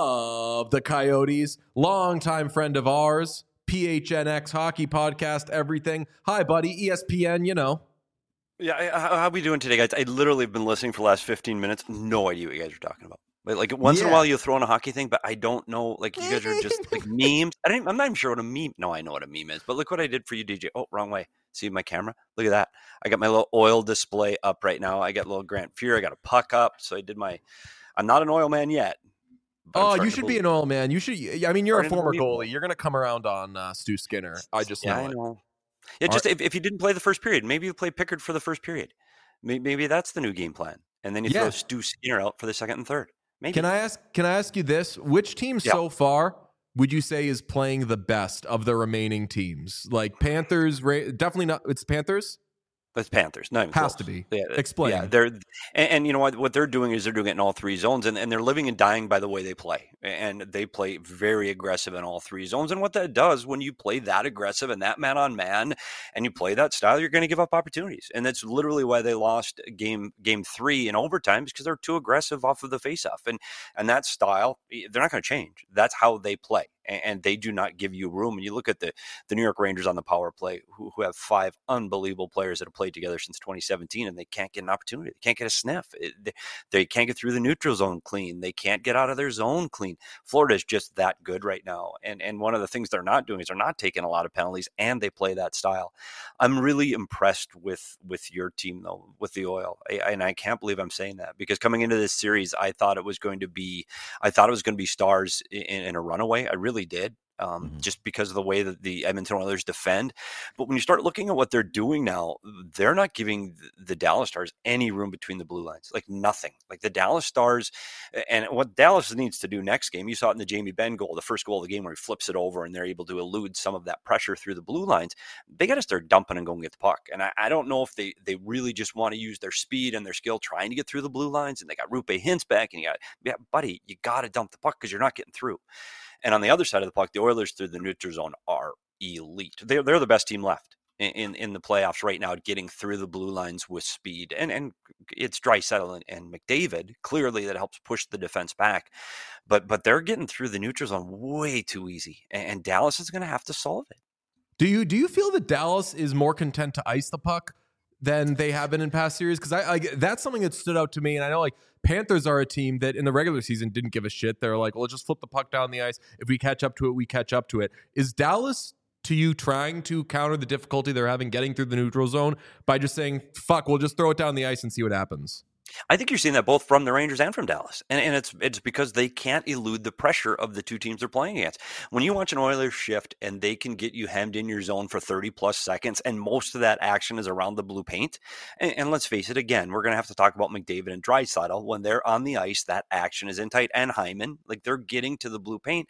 Speaker 1: of the Coyotes, longtime friend of ours, P H N X hockey podcast, everything. Hi, buddy. E S P N, you know.
Speaker 6: Yeah, I- how, how we doing today, guys? I literally have been listening for the last fifteen minutes. No idea what you guys are talking about. Like, like once in
Speaker 2: Yeah.
Speaker 6: a while you throw in a hockey thing, but I don't know. Like you guys are just like memes. I don't, I'm not even sure what a meme. No, I know what a meme is. But look what I did for you, D J. Oh, wrong way. See my camera? Look at that. I got my little oil display up right now. I got a little Grant Fuhr. I got a puck up. So I did my. I'm not an oil man yet. but I'm
Speaker 1: Oh,
Speaker 6: starting
Speaker 1: you
Speaker 6: to
Speaker 1: should be
Speaker 6: believe-
Speaker 1: an oil man. You should. I mean, you're a
Speaker 6: Starting to
Speaker 1: former
Speaker 6: believe
Speaker 1: goalie.
Speaker 6: it.
Speaker 1: You're going to come around on uh, Stu Skinner. I just
Speaker 6: Yeah,
Speaker 1: know
Speaker 6: I
Speaker 1: it.
Speaker 6: know. Yeah, just if, if you didn't play the first period, maybe you play Pickard for the first period. Maybe, maybe that's the new game plan. And then you
Speaker 1: Yeah.
Speaker 6: throw Stu Skinner out for the second and third. Maybe.
Speaker 1: Can I ask? Can I ask you this? Which team
Speaker 6: Yeah.
Speaker 1: so far would you say is playing the best of the remaining teams? Like Panthers, Ra- definitely not. It's Panthers.
Speaker 6: It's Panthers. Not even
Speaker 1: Has
Speaker 6: close.
Speaker 1: to be.
Speaker 6: Yeah,
Speaker 1: Explain.
Speaker 6: Yeah, they're and, and you know what? What they're doing is they're doing it in all three zones, and, and they're living and dying by the way they play. And they play very aggressive in all three zones. And what that does when you play that aggressive and that man on man, and you play that style, you're going to give up opportunities. And that's literally why they lost game game three in overtime, because they're too aggressive off of the faceoff. And and that style, they're not going to change. That's how they play. And they do not give you room. And you look at the, the New York Rangers on the power play, who, who have five unbelievable players that have played together since twenty seventeen, and they can't get an opportunity. They can't get a sniff. It, they, they can't get through the neutral zone clean. They can't get out of their zone clean. Florida is just that good right now. And and one of the things they're not doing is they're not taking a lot of penalties, and they play that style. I'm really impressed with with your team, though, with the Oil. I, and I can't believe I'm saying that, because coming into this series, I thought it was going to be, I thought it was going to be Stars in, in a runaway. I really did. Um,
Speaker 2: Mhm.
Speaker 6: just because of the way that the Edmonton Oilers defend. But when you start looking at what they're doing now, they're not giving the Dallas Stars any room between the blue lines, like nothing. Like the Dallas Stars, and what Dallas needs to do next game, you saw it in the Jamie Benn goal, the first goal of the game where he flips it over and they're able to elude some of that pressure through the blue lines. They got to start dumping and going get the puck. And I, I don't know if they they really just want to use their speed and their skill trying to get through the blue lines. And they got Rupe Hintz back, and you got, yeah, buddy, you got to dump the puck because you're not getting through. And on the other side of the puck, the Oilers through the neutral zone are elite. They're, they're the best team left in, in, in the playoffs right now, getting through the blue lines with speed. And and it's Draisaitl and, and McDavid, clearly, that helps push the defense back. But but they're getting through the neutral zone way too easy. And, and Dallas is going to have to solve it.
Speaker 1: Do you do you feel that Dallas is more content to ice the puck than they have been in past series? Because I, I that's something that stood out to me, and I know like Panthers are a team that in the regular season didn't give a shit. They're like, well, let's just flip the puck down the ice. If we catch up to it, we catch up to it. Is Dallas, to you, trying to counter the difficulty they're having getting through the neutral zone by just saying, fuck, we'll just throw it down the ice and see what happens?
Speaker 6: I think you're seeing that both from the Rangers and from Dallas. And, and it's it's because they can't elude the pressure of the two teams they're playing against. When you watch an Oilers shift and they can get you hemmed in your zone for thirty plus seconds, and most of that action is around the blue paint. And, and let's face it, again, we're going to have to talk about McDavid and Draisaitl. When they're on the ice, that action is in tight, and Hyman. Like, they're getting to the blue paint.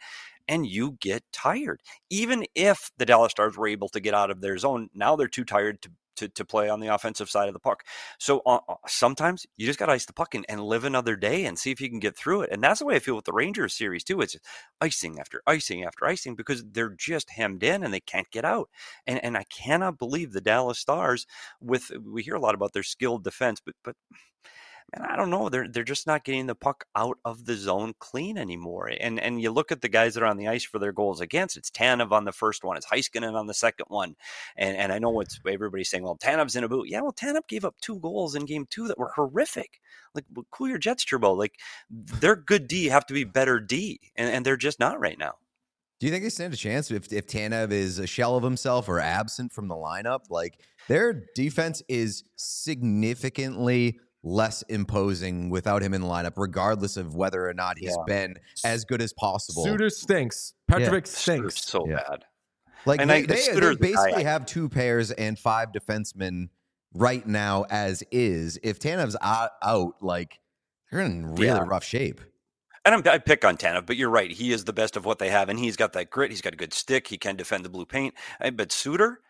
Speaker 6: and you get tired. Even if the Dallas Stars were able to get out of their zone, now they're too tired to To, to play on the offensive side of the puck. So uh, sometimes you just got to ice the puck and, and live another day and see if you can get through it. And that's the way I feel with the Rangers series too. It's icing after icing after icing because they're just hemmed in and they can't get out. And and I cannot believe the Dallas Stars with, we hear a lot about their skilled defense, but but man, I don't know. They're they're just not getting the puck out of the zone clean anymore. And and you look at the guys that are on the ice for their goals against. It's Tanev on the first one. It's Heiskanen on the second one. And and I know it's everybody's saying, well, Tanev's in a boot. Yeah, well, Tanev gave up two goals in game two that were horrific. Like, cool your jets, Turbo. Like, their good D have to be better D, and, and they're just not right now.
Speaker 2: Do you think they stand a chance if if Tanev is a shell of himself or absent from the lineup? Like, their defense is significantly less imposing without him in the lineup, regardless of whether or not he's
Speaker 6: Yeah.
Speaker 2: been as good as possible.
Speaker 1: Suter stinks. Petrovic
Speaker 6: It's
Speaker 1: stinks.
Speaker 6: so
Speaker 2: Yeah.
Speaker 6: bad.
Speaker 2: Like
Speaker 6: And
Speaker 2: they,
Speaker 6: I-
Speaker 2: they, they
Speaker 6: Suter's the guy
Speaker 2: basically
Speaker 6: I-
Speaker 2: have two pairs and five defensemen right now as is. If Tanev's out, out like they're in really
Speaker 6: Yeah.
Speaker 2: rough shape.
Speaker 6: And I'm, I pick on Tanev, but you're right. He is the best of what they have, and he's got that grit. He's got a good stick. He can defend the blue paint. I- But Suter,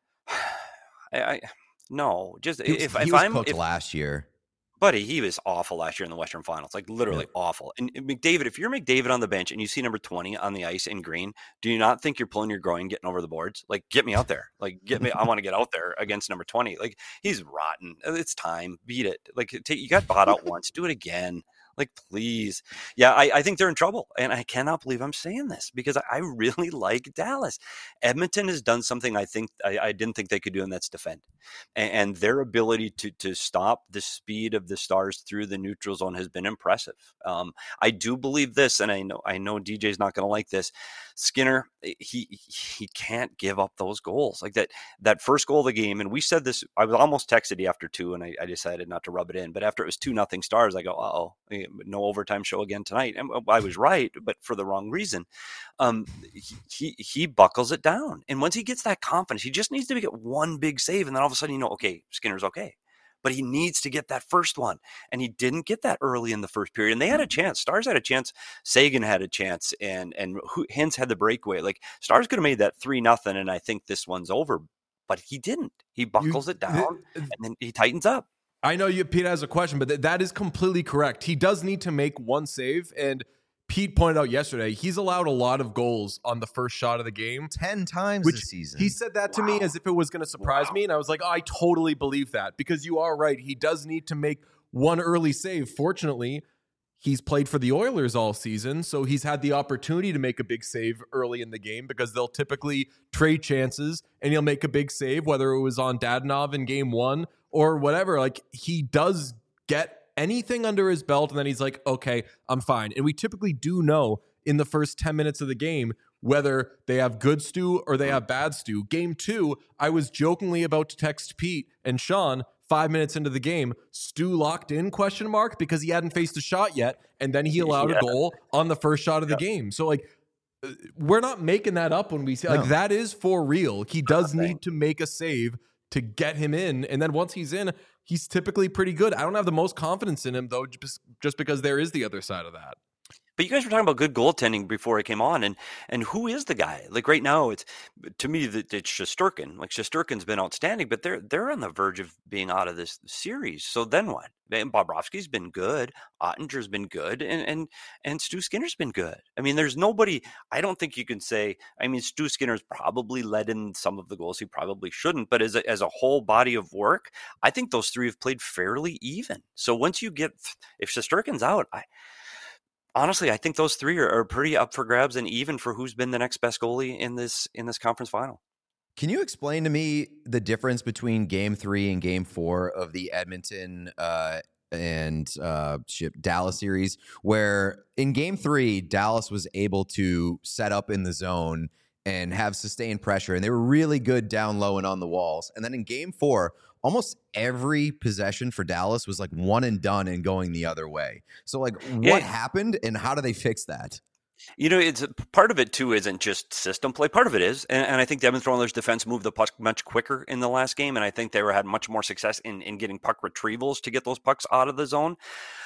Speaker 6: I, I no, just
Speaker 2: He was,
Speaker 6: if,
Speaker 2: he
Speaker 6: if
Speaker 2: was
Speaker 6: I'm
Speaker 2: cooked
Speaker 6: if,
Speaker 2: last year.
Speaker 6: buddy, he was awful last year in the Western Finals, like literally awful. And and McDavid, if you're McDavid on the bench and you see number twenty on the ice in green, do you not think you're pulling your groin, getting over the boards? Like, get me out there. Like, get me. I want to get out there against number twenty. Like, he's rotten. It's time. Beat it. Like, take, you got bought out once. Do it again. Like, please. Yeah, I, I think they're in trouble. And I cannot believe I'm saying this because I, I really like Dallas. Edmonton has done something I think I, I didn't think they could do, and that's defend. And, and their ability to to stop the speed of the Stars through the neutral zone has been impressive. Um, I do believe this, and I know I know D J's not going to like this. Skinner, he he can't give up those goals. Like that that first goal of the game, and we said this, I was almost texted you after two, and I, I decided not to rub it in. But after it was two nothing Stars, I go, uh-oh, no overtime show again tonight. And I was right, but for the wrong reason. Um, he, he he buckles it down. And once he gets that confidence, he just needs to get one big save, and then all of a sudden, you know, okay, Skinner's okay. But he needs to get that first one. And he didn't get that early in the first period. And they had a chance. Stars had a chance. Sagan had a chance. And and Hintz had the breakaway. Like, Stars could have made that three nothing, and I think this one's over. But he didn't. He buckles
Speaker 1: You-
Speaker 6: it down, and then he tightens up.
Speaker 1: I know you, Pete has a question, but th- that is completely correct. He does need to make one save, and Pete pointed out yesterday he's allowed a lot of goals on the first shot of the game.
Speaker 2: Ten times
Speaker 1: Which
Speaker 2: this season.
Speaker 1: he said that to me as if it was going to surprise me, and I was like, oh, I totally believe that because you are right. He does need to make one early save. Fortunately, he's played for the Oilers all season, so he's had the opportunity to make a big save early in the game because they'll typically trade chances, and he'll make a big save, whether it was on Dadonov in game one or whatever. Like, he does get anything under his belt, and then he's like, okay, I'm fine. And we typically do know in the first ten minutes of the game whether they have good stew or they have bad stew. Game two, I was jokingly about to text Pete and Sean five minutes into the game, Stu locked in, question mark, because he hadn't faced a shot yet, and then he allowed
Speaker 6: Yeah.
Speaker 1: a goal on the first shot of the
Speaker 6: Yeah.
Speaker 1: game. So, like, uh, we're not making that up when we say, like,
Speaker 2: No.
Speaker 1: that is for real. He does
Speaker 6: Nothing.
Speaker 1: need to make a save to get him in, and then once he's in, he's typically pretty good. I don't have the most confidence in him, though, just, just because there is the other side of that.
Speaker 6: But you guys were talking about good goaltending before I came on, and and who is the guy? Like right now, it's to me that it's Shesterkin. Like Shesterkin's been outstanding, but they're they're on the verge of being out of this series. So then what? And Bobrovsky's been good, Ottinger's been good, and and and Stu Skinner's been good. I mean, there's nobody. I don't think you can say. I mean, Stu Skinner's probably led in some of the goals he probably shouldn't, but as a, as a whole body of work, I think those three have played fairly even. So once you get, if Shesterkin's out, I. Honestly, I think those three are, are pretty up for grabs and even for who's been the next best goalie in this in this conference final.
Speaker 2: Can you explain to me the difference between game three and game four of the Edmonton uh, and uh, ship Dallas series, where in game three, Dallas was able to set up in the zone and have sustained pressure, and they were really good down low and on the walls. And then in game four, almost every possession for Dallas was like one and done and going the other way. So, like, what
Speaker 6: Yeah.
Speaker 2: happened and how do they fix that?
Speaker 6: You know, it's part of it too isn't just system play. Part of it is, and, and I think the Edmonton Oilers defense moved the puck much quicker in the last game, and I think they were had much more success in in getting puck retrievals to get those pucks out of the zone.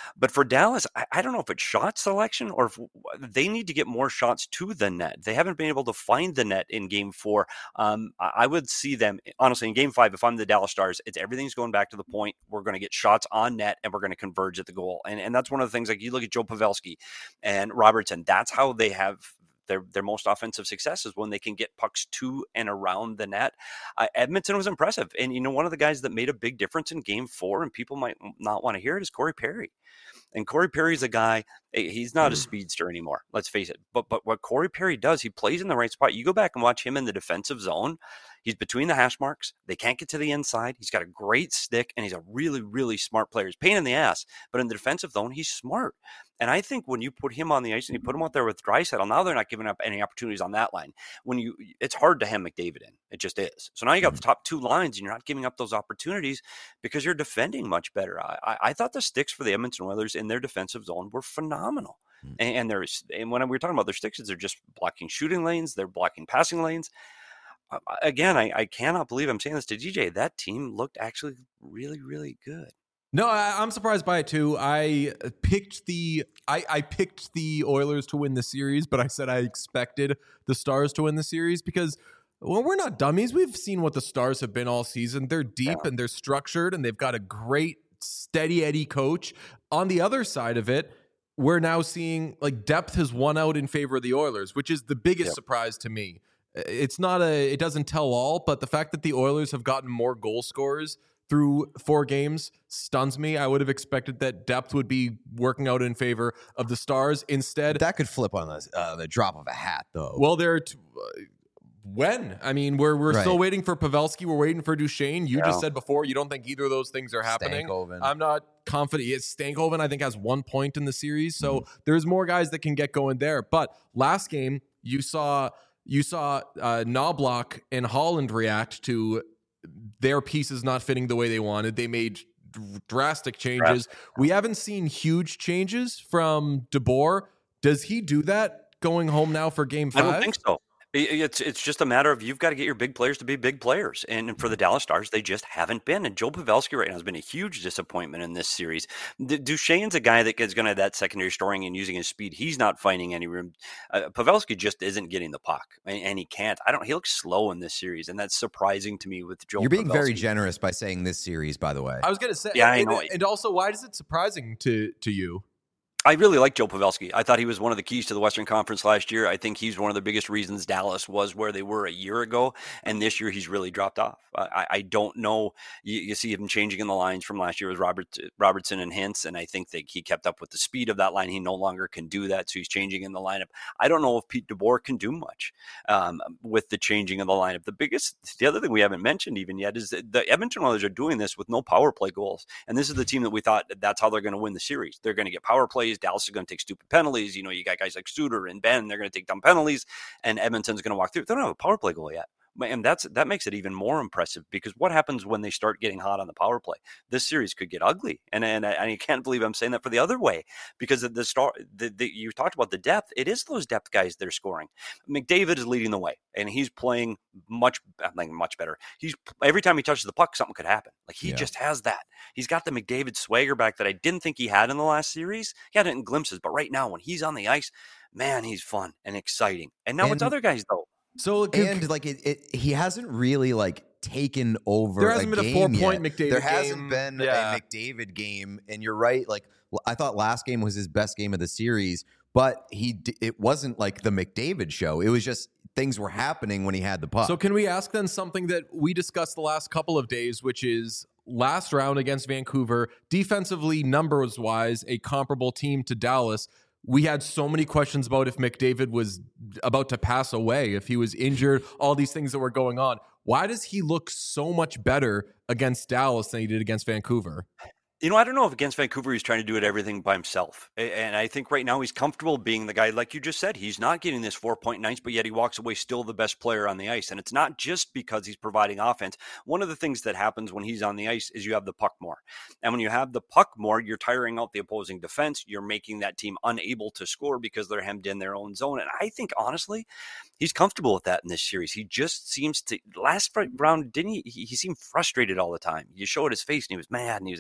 Speaker 6: But for Dallas, I, I don't know if it's shot selection or if they need to get more shots to the net. They haven't been able to find the net in game four. Um, I, I would see them, honestly, in game five, if I'm the Dallas Stars, it's everything's going back to the point. We're going to get shots on net and we're going to converge at the goal. And, and that's one of the things, like you look at Joe Pavelski and Robertson, that's how they have their their most offensive success is when they can get pucks to and around the net. Uh, Edmonton was impressive. And, you know, one of the guys that made a big difference in game four, and people might not want to hear it, is Corey Perry. And Corey Perry's a guy, he's not a speedster anymore, let's face it. But but what Corey Perry does, he plays in the right spot. You go back and watch him in the defensive zone. He's between the hash marks. They can't get to the inside. He's got a great stick, and he's a really, really smart player. He's a pain in the ass, but in the defensive zone, he's smart. And I think when you put him on the ice and you put him out there with Draisaitl, now they're not giving up any opportunities on that line. When you, it's hard to hem McDavid in. It just is. So now you got the top two lines, and you're not giving up those opportunities because you're defending much better. I, I, I thought the sticks for the Edmonton Oilers in their defensive zone were phenomenal. Mm-hmm. And, and there's, and when we were talking about their sticks, they're just blocking shooting lanes, they're blocking passing lanes. Uh, again, I, I cannot believe I'm saying this to D J. That team looked actually really, really good.
Speaker 1: No, I, I'm surprised by it too. I picked the I, I picked the Oilers to win the series, but I said I expected the Stars to win the series because, well, we're not dummies. We've seen what the Stars have been all season. They're deep yeah. and they're structured, and they've got a great steady Eddie coach. On the other side of it, we're now seeing like depth has won out in favor of the Oilers, which is the biggest yep. surprise to me. It's not a, it doesn't tell all, but the fact that the Oilers have gotten more goal scorers through four games stuns me. I would have expected that depth would be working out in favor of the Stars. Instead,
Speaker 2: that could flip on the, uh, the drop of a hat, though.
Speaker 1: Well, they're t- uh, when? I mean, we're we're
Speaker 2: right.
Speaker 1: still waiting for Pavelski. We're waiting for Duchesne. You yeah. just said before you don't think either of those things are happening.
Speaker 2: Stankoven.
Speaker 1: I'm not confident. Yes, Stankoven, I think, has one point in the series, so
Speaker 2: mm-hmm.
Speaker 1: there's more guys that can get going there. But last game, you saw you saw uh, Knobloch and Holland react to their pieces not fitting the way they wanted. They made drastic changes. Right. We haven't seen huge changes from DeBoer. Does he do that going home now for game five?
Speaker 6: I don't think so. It's it's just a matter of you've got to get your big players to be big players. And for the Dallas Stars, they just haven't been. And Joe Pavelski right now has been a huge disappointment in this series. D- Duchene's a guy that is going to have that secondary scoring and using his speed. He's not finding any room. Uh, Pavelski just isn't getting the puck, and, and he can't. I don't. He looks slow in this series, and that's surprising to me with Joe.
Speaker 2: You're being
Speaker 6: Pavelski.
Speaker 2: very generous by saying this series, by the way.
Speaker 1: I was going to say,
Speaker 6: yeah,
Speaker 1: and,
Speaker 6: I know.
Speaker 1: And also, why is it surprising to to you?
Speaker 6: I really like Joe Pavelski. I thought he was one of the keys to the Western Conference last year. I think he's one of the biggest reasons Dallas was where they were a year ago. And this year he's really dropped off. I, I don't know. You, you see him changing in the lines from last year with Robert Robertson and Hintz. And I think that he kept up with the speed of that line. He no longer can do that. So he's changing in the lineup. I don't know if Pete DeBoer can do much um, with the changing of the lineup. The biggest, the other thing we haven't mentioned even yet is that the Edmonton Oilers are doing this with no power play goals. And this is the team that we thought that's how they're going to win the series. They're going to get power plays. Dallas is going to take stupid penalties. You know, you got guys like Suter and Ben, they're going to take dumb penalties, and Edmonton's going to walk through. They don't have a power play goal yet. And that's that makes it even more impressive because what happens when they start getting hot on the power play? This series could get ugly, and and I, I can't believe I'm saying that for the other way because the star the, the, you talked about the depth. It is those depth guys they're scoring. McDavid is leading the way, and he's playing much like much better. He's every time he touches the puck, something could happen. Like he yeah. just has that. He's got the McDavid swagger back that I didn't think he had in the last series. He had it in glimpses, but right now when he's on the ice, man, he's fun and exciting. And now
Speaker 2: and-
Speaker 6: it's other guys though.
Speaker 1: So
Speaker 2: and like it, it, he hasn't really like taken over.
Speaker 1: There hasn't
Speaker 2: a
Speaker 1: been
Speaker 2: game
Speaker 1: a four-point
Speaker 2: yet.
Speaker 1: McDavid
Speaker 2: There
Speaker 1: game.
Speaker 2: hasn't been
Speaker 1: yeah.
Speaker 2: a McDavid game, and you're right. Like I thought last game was his best game of the series, but he it wasn't like the McDavid show. It was just things were happening when he had the puck.
Speaker 1: So can we ask then something that we discussed the last couple of days, which is last round against Vancouver, defensively, numbers wise, a comparable team to Dallas. We had so many questions about if McDavid was about to pass away, if he was injured, all these things that were going on. Why does he look so much better against Dallas than he did against Vancouver?
Speaker 6: You know, I don't know if against Vancouver he's trying to do it everything by himself. And I think right now he's comfortable being the guy, like you just said, he's not getting this four-point nights, but yet he walks away still the best player on the ice. And it's not just because he's providing offense. One of the things that happens when he's on the ice is you have the puck more. And when you have the puck more, you're tiring out the opposing defense. You're making that team unable to score because they're hemmed in their own zone. And I think, honestly, he's comfortable with that in this series. He just seems to, last round, didn't he? He, he seemed frustrated all the time. You showed his face and he was mad and he was angry and he was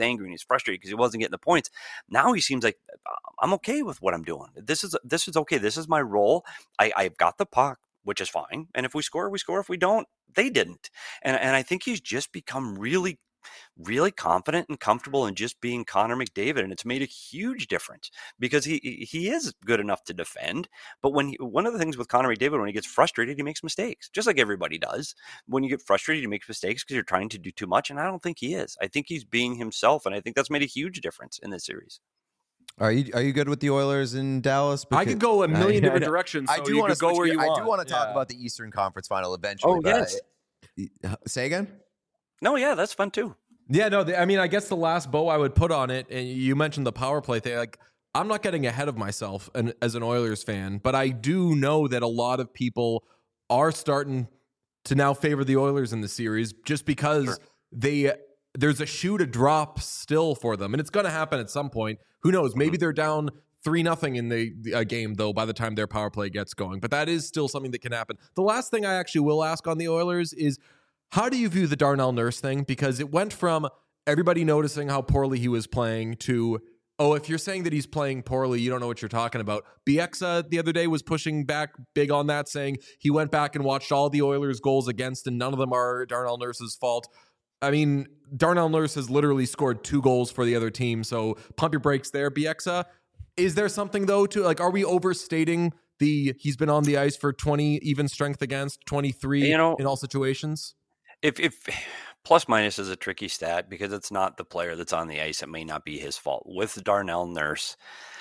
Speaker 6: frustrated because he wasn't getting the points. Now he seems like I'm okay with what I'm doing. This is this is okay. This is my role. I, I've got the puck, which is fine. And if we score, we score. If we don't, they didn't. And and I think he's just become really, really confident and comfortable in just being Connor McDavid. And it's made a huge difference because he he is good enough to defend. But when he, one of the things with Connor McDavid, when he gets frustrated, he makes mistakes, just like everybody does. When you get frustrated, you make mistakes because you're trying to do too much. And I don't think he is. I think he's being himself. And I think that's made a huge difference in this series.
Speaker 2: Are you are you good with the Oilers in Dallas?
Speaker 1: I could go a million
Speaker 2: I,
Speaker 1: different
Speaker 2: I,
Speaker 1: directions. So
Speaker 2: I do
Speaker 1: you
Speaker 2: want
Speaker 1: could
Speaker 2: to
Speaker 1: go where you
Speaker 2: I
Speaker 1: want.
Speaker 2: do want to talk
Speaker 1: Yeah.
Speaker 2: about the Eastern Conference Final eventually.
Speaker 6: Oh,
Speaker 2: but
Speaker 6: yes.
Speaker 2: I, say again?
Speaker 6: No, yeah, that's fun too.
Speaker 1: Yeah, no, the, I mean, I guess the last bow I would put on it, and you mentioned the power play thing. Like, I'm not getting ahead of myself and, as an Oilers fan, but I do know that a lot of people are starting to now favor the Oilers in the series just because
Speaker 6: Sure.
Speaker 1: they there's a shoe to drop still for them, and it's going to happen at some point. Who knows? Maybe they're down three nothing in the, the uh, game though by the time their power play gets going, but that is still something that can happen. The last thing I actually will ask on the Oilers is, how do you view the Darnell Nurse thing? Because it went from everybody noticing how poorly he was playing to, oh, if you're saying that he's playing poorly, you don't know what you're talking about. Bieksa the other day was pushing back big on that, saying he went back and watched all the Oilers' goals against, and none of them are Darnell Nurse's fault. I mean, Darnell Nurse has literally scored two goals for the other team, so pump your brakes there, Bieksa. Is there something, though, to, like, are we overstating the he's been on the ice for twenty even strength against, twenty-three
Speaker 6: You know,
Speaker 1: in all situations?
Speaker 6: If if plus minus is a tricky stat because it's not the player that's on the ice. It may not be his fault. With Darnell Nurse,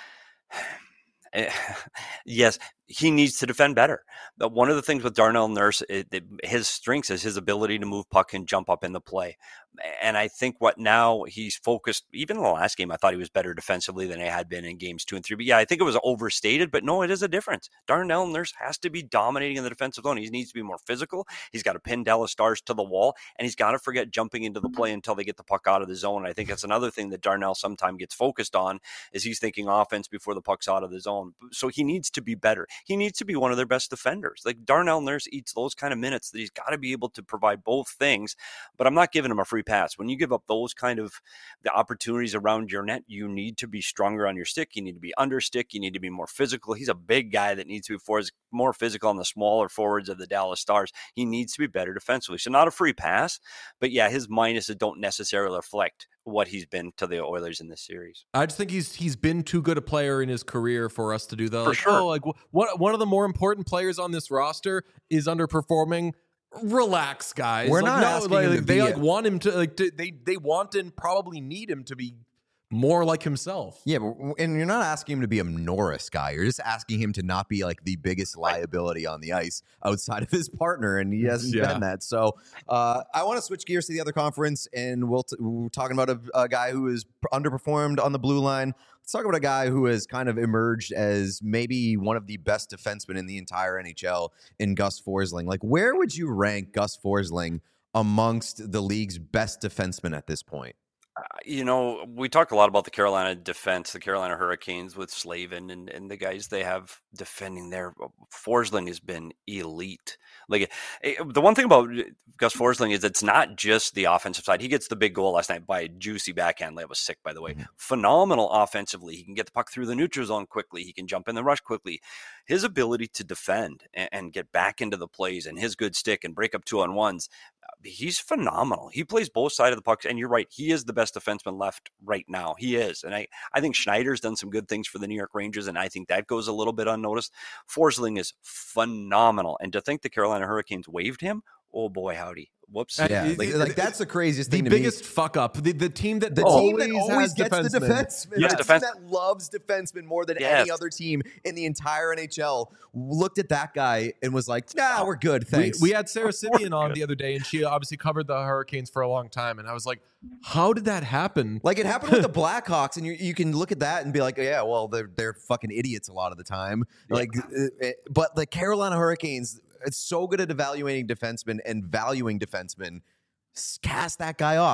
Speaker 6: yes, he needs to defend better. But one of the things with Darnell Nurse, it, it, his strengths is his ability to move puck and jump up in the play. And I think what now he's focused, even in the last game, I thought he was better defensively than he had been in games two and three. But yeah, I think it was overstated, but no, it is a difference. Darnell Nurse has to be dominating in the defensive zone. He needs to be more physical. He's got to pin Dallas Stars to the wall, and he's got to forget jumping into the play until they get the puck out of the zone. I think that's another thing that Darnell sometimes gets focused on, is he's thinking offense before the puck's out of the zone. So he needs to be better. He needs to be one of their best defenders. Like, Darnell Nurse eats those kind of minutes that he's got to be able to provide both things, but I'm not giving him a free pass. When you give up those kind of the opportunities around your net, you need to be stronger on your stick. You need to be under stick. You need to be more physical. He's a big guy that needs to be for, more physical on the smaller forwards of the Dallas Stars. He needs to be better defensively. So not a free pass, but yeah, his minuses don't necessarily reflect what he's been to the Oilers in this series.
Speaker 1: I just think he's he's been too good a player in his career for us to do that.
Speaker 6: For
Speaker 1: Like,
Speaker 6: sure.
Speaker 1: oh, like what one of the more important players on this roster is underperforming. Relax, guys.
Speaker 2: We're
Speaker 1: Like,
Speaker 2: not
Speaker 1: no,
Speaker 2: asking
Speaker 1: like,
Speaker 2: him to
Speaker 1: they
Speaker 2: be
Speaker 1: like
Speaker 2: a-
Speaker 1: want him to like to, they they want and probably need him to be more like himself.
Speaker 2: Yeah, but, and you're not asking him to be a Norris guy. You're just asking him to not be like the biggest liability on the ice outside of his partner, and he hasn't
Speaker 1: Yeah.
Speaker 2: been that. So uh, I want to switch gears to the other conference, and we'll t- we're talking about a, a guy who is underperformed on the blue line. Let's talk about a guy who has kind of emerged as maybe one of the best defensemen in the entire N H L in Gus Forsling. Like, where would you rank Gus Forsling amongst the league's best defensemen at this point?
Speaker 6: Uh, you know, we talk a lot about the Carolina defense, the Carolina Hurricanes with Slavin and, and the guys they have defending there. Forsling has been elite. Like, eh, the one thing about Gus Forsling is it's not just the offensive side. He gets the big goal last night by a juicy backhand. That was sick, by the way.
Speaker 2: Mm-hmm.
Speaker 6: Phenomenal offensively. He can get the puck through the neutral zone quickly. He can jump in the rush quickly. His ability to defend and, and get back into the plays and his good stick and break up two on ones, he's phenomenal. He plays both sides of the puck, and you're right. He is the best defenseman left right now. He is. And I, I think Schneider's done some good things for the New York Rangers, and I think that goes a little bit unnoticed. Forsling is phenomenal. And to think the Carolina Hurricanes waived him, oh boy, howdy. Whoops.
Speaker 1: Uh,
Speaker 2: Yeah,
Speaker 1: it-
Speaker 2: like,
Speaker 1: it-
Speaker 2: like that's the craziest
Speaker 1: The
Speaker 2: thing to
Speaker 1: biggest
Speaker 2: me.
Speaker 1: fuck up. The, the team that
Speaker 2: The
Speaker 1: always,
Speaker 2: team that always
Speaker 1: has
Speaker 2: gets the
Speaker 1: defensemen.
Speaker 2: defenseman,
Speaker 6: Yes,
Speaker 2: the
Speaker 6: defense-
Speaker 2: team that loves defensemen more than
Speaker 6: Yes.
Speaker 2: any other team in the entire N H L, looked at that guy and was like, nah, we're good,
Speaker 1: We,
Speaker 2: thanks.
Speaker 1: we had Sarah Simeon on
Speaker 6: good.
Speaker 1: the other day, and she obviously covered the Hurricanes for a long time. And I was like, how did that happen?
Speaker 2: Like, it happened with the Blackhawks, and you you can look at that and be like, yeah, well, they're they're fucking idiots a lot of the time. Like, uh, uh, but the Carolina Hurricanes, it's so good at evaluating defensemen and valuing defensemen. s- Cast that guy off.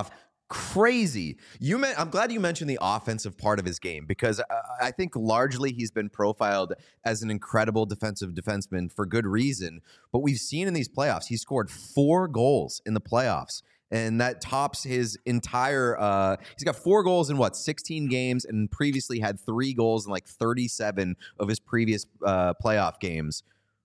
Speaker 2: crazy. You meant, I'm glad you mentioned the offensive part of his game because I, I think largely he's been profiled as an incredible defensive defenseman for good reason. But we've seen in these playoffs, he scored four goals in the playoffs. And that tops his entire uh, – he's got four goals in, what, sixteen games, and previously had three goals in, like, thirty-seven of his previous uh, playoff games.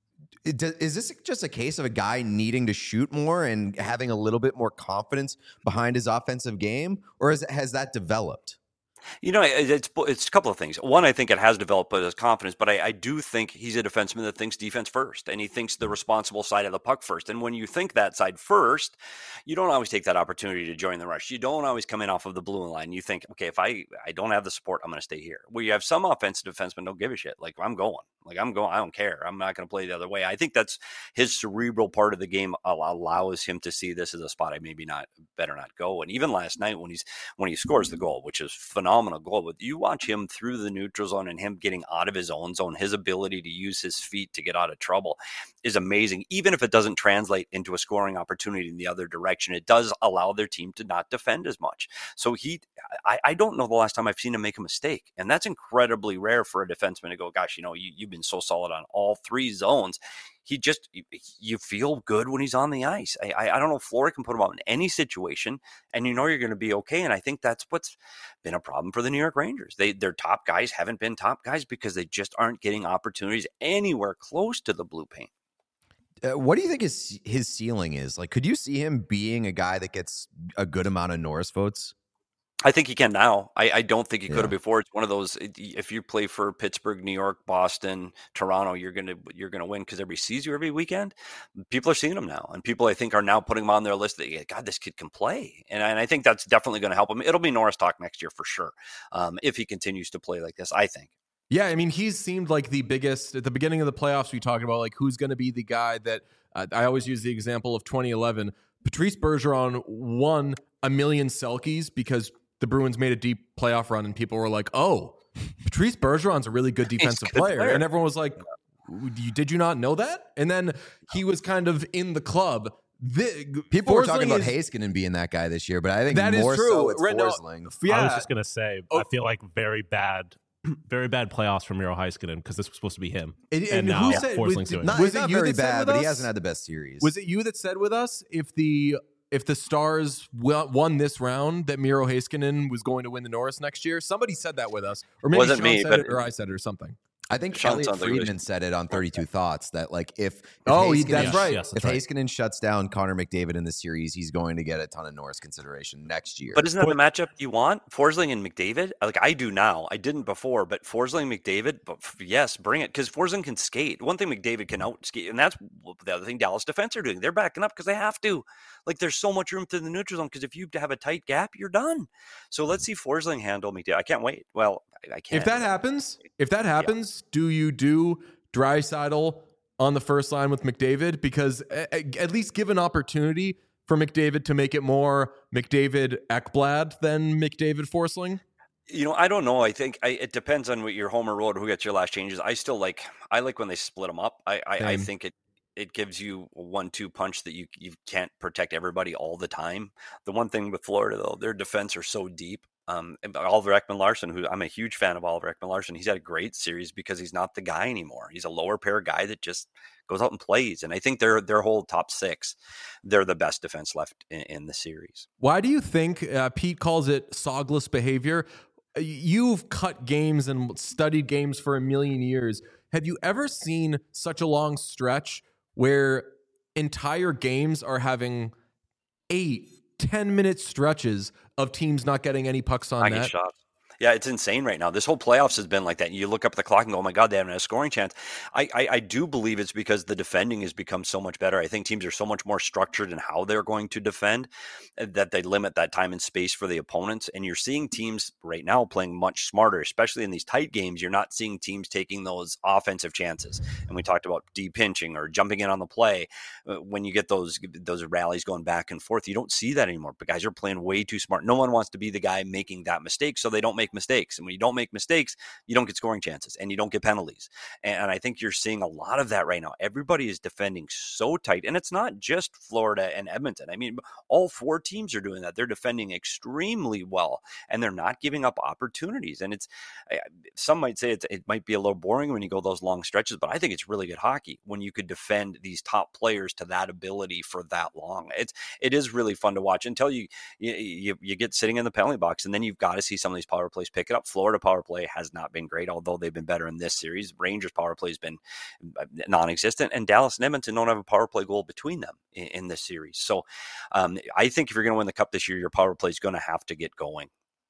Speaker 2: It, is this just a case of a guy needing to shoot more and having a little bit more confidence behind his offensive game, or is, has that developed?
Speaker 6: You know, it's it's a couple of things. One, I think it has developed his confidence, but I, I do think he's a defenseman that thinks defense first, and he thinks the responsible side of the puck first. And when you think that side first, you don't always take that opportunity to join the rush. You don't always come in off of the blue line. You think, okay, if I, I don't have the support, I'm going to stay here. Where you have some offensive defensemen don't give a shit. Like, I'm going. Like, I'm going. I don't care. I'm not going to play the other way. I think that's his cerebral part of the game allows him to see this as a spot I maybe not better not go. And even last night when he's when he scores the goal, which is phenomenal. Phenomenal goal, but you watch him through the neutral zone and him getting out of his own zone, his ability to use his feet to get out of trouble is amazing. Even if it doesn't translate into a scoring opportunity in the other direction, it does allow their team to not defend as much. So he, I, I don't know the last time I've seen him make a mistake, and that's incredibly rare for a defenseman to go, gosh, you know, you, you've been so solid on all three zones. He just, you feel good when he's on the ice. I, I, I don't know if Fleury can put him out in any situation, and you know you're going to be okay. And I think that's what's been a problem for the New York Rangers. They, their top guys haven't been top guys because they just aren't getting opportunities anywhere close to the blue paint.
Speaker 2: Uh, what do you think his his ceiling is? Like, could you see him being a guy that gets a good amount of Norris votes?
Speaker 6: I think he can now. I, I don't think he could
Speaker 2: Yeah.
Speaker 6: have before. It's one of those. If you play for Pittsburgh, New York, Boston, Toronto, you're gonna you're gonna win because everybody sees you every weekend. People are seeing him now, and people I think are now putting him on their list. That yeah, God, this kid can play, and, and I think that's definitely going to help him. It'll be Norris talk next year for sure, um, if he continues to play like this. I think.
Speaker 1: Yeah, I mean, he's seemed like the biggest at the beginning of the playoffs. We talked about like who's going to be the guy that uh, I always use the example of twenty eleven. Patrice Bergeron won a million Selkies because the Bruins made a deep playoff run, and people were like, "Oh, Patrice Bergeron's a really good defensive
Speaker 6: a good
Speaker 1: player.
Speaker 6: player."
Speaker 1: And everyone was like, "Did you not know that?" And then he was kind of in the club. The,
Speaker 2: People were
Speaker 1: Forsling
Speaker 2: talking about
Speaker 1: is-
Speaker 2: Heiskanen being that guy this year, but I think
Speaker 1: That is
Speaker 2: more
Speaker 1: true.
Speaker 2: so it's
Speaker 1: Right now-
Speaker 2: Forsling.
Speaker 1: Yeah,
Speaker 3: I was just gonna say,
Speaker 1: Oh.
Speaker 3: I feel like very bad, very bad playoffs from Miro Heiskanen because this was supposed to be him,
Speaker 1: And-
Speaker 3: and,
Speaker 1: and
Speaker 3: now
Speaker 1: who said-
Speaker 3: Forsling's
Speaker 1: was-
Speaker 3: doing
Speaker 2: Not,
Speaker 3: it.
Speaker 1: Was
Speaker 2: he's
Speaker 1: it
Speaker 2: not
Speaker 1: you
Speaker 2: very
Speaker 1: that said
Speaker 2: bad,
Speaker 1: with
Speaker 2: but he
Speaker 1: us?
Speaker 2: hasn't had the best series.
Speaker 1: Was it you that said with us if the if the Stars w- won this round that Miro Heiskanen was going to win the Norris next year? Somebody said that with us, or maybe
Speaker 6: Wasn't
Speaker 1: Sean
Speaker 6: me,
Speaker 1: said
Speaker 6: but-
Speaker 1: it, or I said it, or something.
Speaker 2: I think
Speaker 6: Sean
Speaker 2: Elliot
Speaker 6: sounds like he was-
Speaker 2: Friedman said it on thirty-two Thoughts that like if, if
Speaker 1: Oh, he-
Speaker 2: Heiskanen-
Speaker 1: that's
Speaker 3: Yes,
Speaker 1: right.
Speaker 3: yes,
Speaker 2: If
Speaker 3: that's right.
Speaker 2: Heiskanen shuts down Connor McDavid in the series, he's going to get a ton of Norris consideration next year.
Speaker 6: But isn't that the matchup you want? Forsling and McDavid? Like I do now. I didn't before, but Forsling, McDavid, but f- yes, bring it. Because Forsling can skate. One thing McDavid can out skate, and that's the other thing Dallas defense are doing. They're backing up because they have to. Like there's so much room to the neutral zone because if you have a tight gap, you're done. So let's see Forsling handle McDavid. I can't wait. Well, I, I can't.
Speaker 1: If that happens, if that happens, do you do Draisaitl on the first line with McDavid? Because a- a- at least give an opportunity for McDavid to make it more McDavid Ekblad than McDavid Forsling.
Speaker 6: You know, I don't know. I think I, it depends on what your home or road, who gets your last changes. I still like, I like when they split them up. I, I, I
Speaker 1: Same.
Speaker 6: think it, it gives you a one two punch that you, you can't protect everybody all the time. The one thing with Florida, though, their defense are so deep. Um, and Oliver Ekman-Larsson, who I'm a huge fan of Oliver Ekman-Larsson, he's had a great series because he's not the guy anymore. He's a lower pair guy that just goes out and plays. And I think their their whole top six, they're the best defense left in, in the series.
Speaker 1: Why do you think uh, Pete calls it sogless behavior? Uh, You've cut games and studied games for a million years. Have you ever seen such a long stretch where entire games are having eight, ten minute stretches of teams not getting any pucks on
Speaker 6: I get
Speaker 1: net?
Speaker 6: shots. Yeah, it's insane right now. This whole playoffs has been like that. You look up at the clock and go, oh my God, they haven't had a scoring chance. I, I, I do believe it's because the defending has become so much better. I think teams are so much more structured in how they're going to defend that they limit that time and space for the opponents. And you're seeing teams right now playing much smarter, especially in these tight games. You're not seeing teams taking those offensive chances. And we talked about de-pinching or jumping in on the play. When you get those those rallies going back and forth, you don't see that anymore. But guys are playing way too smart. No one wants to be the guy making that mistake, so they don't make make mistakes. And when you don't make mistakes, you don't get scoring chances and you don't get penalties. And, and I think you're seeing a lot of that right now. Everybody is defending so tight. And it's not just Florida and Edmonton. I mean, all four teams are doing that. They're defending extremely well and they're not giving up opportunities. And it's, some might say it's, it might be a little boring when you go those long stretches, but I think it's really good hockey when you could defend these top players to that ability for that long. It's, it is really fun to watch until you, you, you, you get sitting in the penalty box, and then you've got to see some of these power plays pick it up. Florida power play has not been great, although they've been better in this series. Rangers power play has been non-existent, and Dallas and Edmonton don't have a power play goal between them in, in this series. So um, I think if you're going to win the cup this year, your power play is going to have to get going.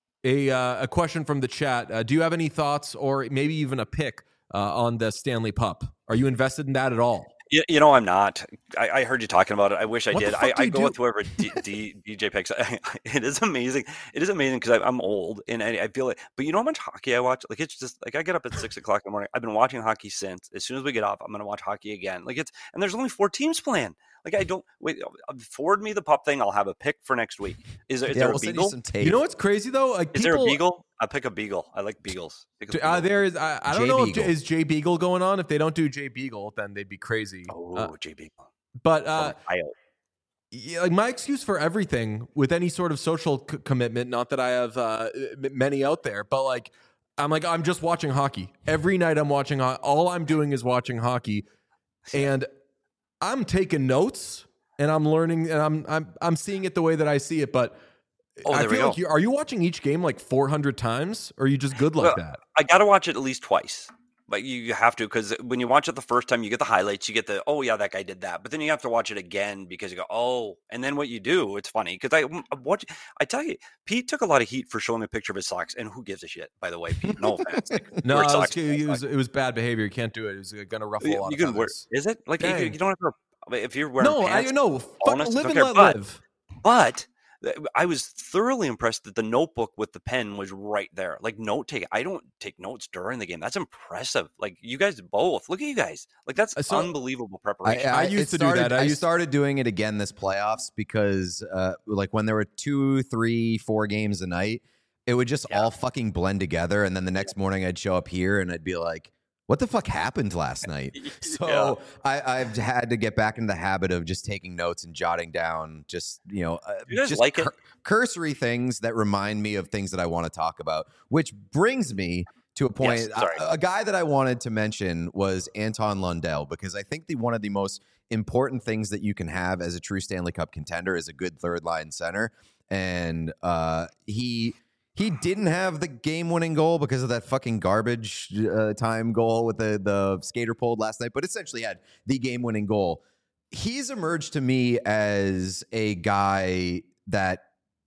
Speaker 1: A, uh, a question from the chat. Uh, do you have any thoughts or maybe even a pick uh, on the Stanley Pup? Are you invested in that at all?
Speaker 6: You, you know, I'm not. I, I heard you talking about it. I wish I
Speaker 1: What
Speaker 6: did.
Speaker 1: the fuck
Speaker 6: I,
Speaker 1: do
Speaker 6: I
Speaker 1: you
Speaker 6: go
Speaker 1: do?
Speaker 6: with whoever D, D, D J picks. It is amazing. It is amazing because I'm old and I, I feel like, but you know how much hockey I watch? Like, it's just like I get up at six o'clock in the morning. I've been watching hockey since. As soon as we get off, I'm going to watch hockey again. Like, it's, and there's only four teams playing. Like, I don't, wait, forward me the pup thing. I'll have a pick for next week. Is there, is
Speaker 2: Yeah,
Speaker 6: there
Speaker 2: we'll
Speaker 6: a
Speaker 2: send you
Speaker 6: beagle?
Speaker 2: some tape.
Speaker 1: You know what's crazy though? Like
Speaker 6: Is
Speaker 1: people,
Speaker 6: there a beagle? I'll pick a beagle. I like beagles. Pick a
Speaker 1: Uh,
Speaker 6: beagle.
Speaker 1: there is. I, I don't
Speaker 2: Jay
Speaker 1: know.
Speaker 2: Beagle.
Speaker 1: If, is Jay Beagle going on? If they don't do Jay Beagle, then they'd be crazy.
Speaker 6: Oh,
Speaker 1: Uh,
Speaker 6: J Beagle.
Speaker 1: but uh,
Speaker 6: From Ohio.
Speaker 1: yeah, like my excuse for everything with any sort of social c- commitment. Not that I have uh, m- many out there, but like I'm like I'm just watching hockey every night. I'm watching. Ho- all I'm doing is watching hockey, and I'm taking notes and I'm learning and I'm I'm I'm seeing it the way that I see it. But
Speaker 6: Oh,
Speaker 1: I
Speaker 6: there we
Speaker 1: feel like
Speaker 6: go.
Speaker 1: you are you watching each game like four hundred times, or are you just good like
Speaker 6: Well,
Speaker 1: that?
Speaker 6: I got to watch it at least twice. Like you, you have to, because when you watch it the first time, you get the highlights, you get the, oh yeah, that guy did that. But then you have to watch it again because you go, oh, and then what you do, it's funny because I watch. I tell you, Pete took a lot of heat for showing me a picture of his socks, and who gives a shit? By the way, Pete, no offense. Like,
Speaker 1: No,
Speaker 6: wear
Speaker 1: it was,
Speaker 6: socks,
Speaker 1: it,
Speaker 6: wear
Speaker 1: was,
Speaker 6: socks.
Speaker 1: it was bad behavior. You can't do it. It was going to ruffle a
Speaker 6: You,
Speaker 1: lot
Speaker 6: you
Speaker 1: of
Speaker 6: can wear,
Speaker 1: feathers.
Speaker 6: is it like you,
Speaker 1: Dang.
Speaker 6: you don't have to? If you're wearing
Speaker 1: No,
Speaker 6: pants,
Speaker 1: I know. Fuck,
Speaker 6: bonus,
Speaker 1: live
Speaker 6: don't
Speaker 1: and
Speaker 6: care,
Speaker 1: let
Speaker 6: but-
Speaker 1: live.
Speaker 6: But I was thoroughly impressed that the notebook with the pen was right there. Like note taking. I don't take notes during the game. That's impressive. Like you guys both. Look at you guys. Like that's
Speaker 1: I saw-
Speaker 6: unbelievable preparation.
Speaker 1: I used
Speaker 2: it
Speaker 1: to do
Speaker 2: started,
Speaker 1: that. I
Speaker 2: I,
Speaker 1: used-
Speaker 2: started doing it again this playoffs because, uh, like, when there were two, three, four games a night, it would just
Speaker 6: Yeah.
Speaker 2: all fucking blend together. And then the next morning, I'd show up here and I'd be like, "What the fuck happened last night?" So I, I've had to get back into the habit of just taking notes and jotting down, just you know, uh,
Speaker 6: You guys
Speaker 2: just
Speaker 6: like it?
Speaker 2: cur- cursory things that remind me of things that I want to talk about. Which brings me to a point.
Speaker 6: Yes, sorry.
Speaker 2: a, a guy that I wanted to mention was Anton Lundell, because I think the one of the most important things that you can have as a true Stanley Cup contender is a good third line center, and uh, he. He didn't have the game-winning goal because of that fucking garbage uh, time goal with the, the skater pulled last night, but essentially had the game-winning goal. He's emerged to me as a guy that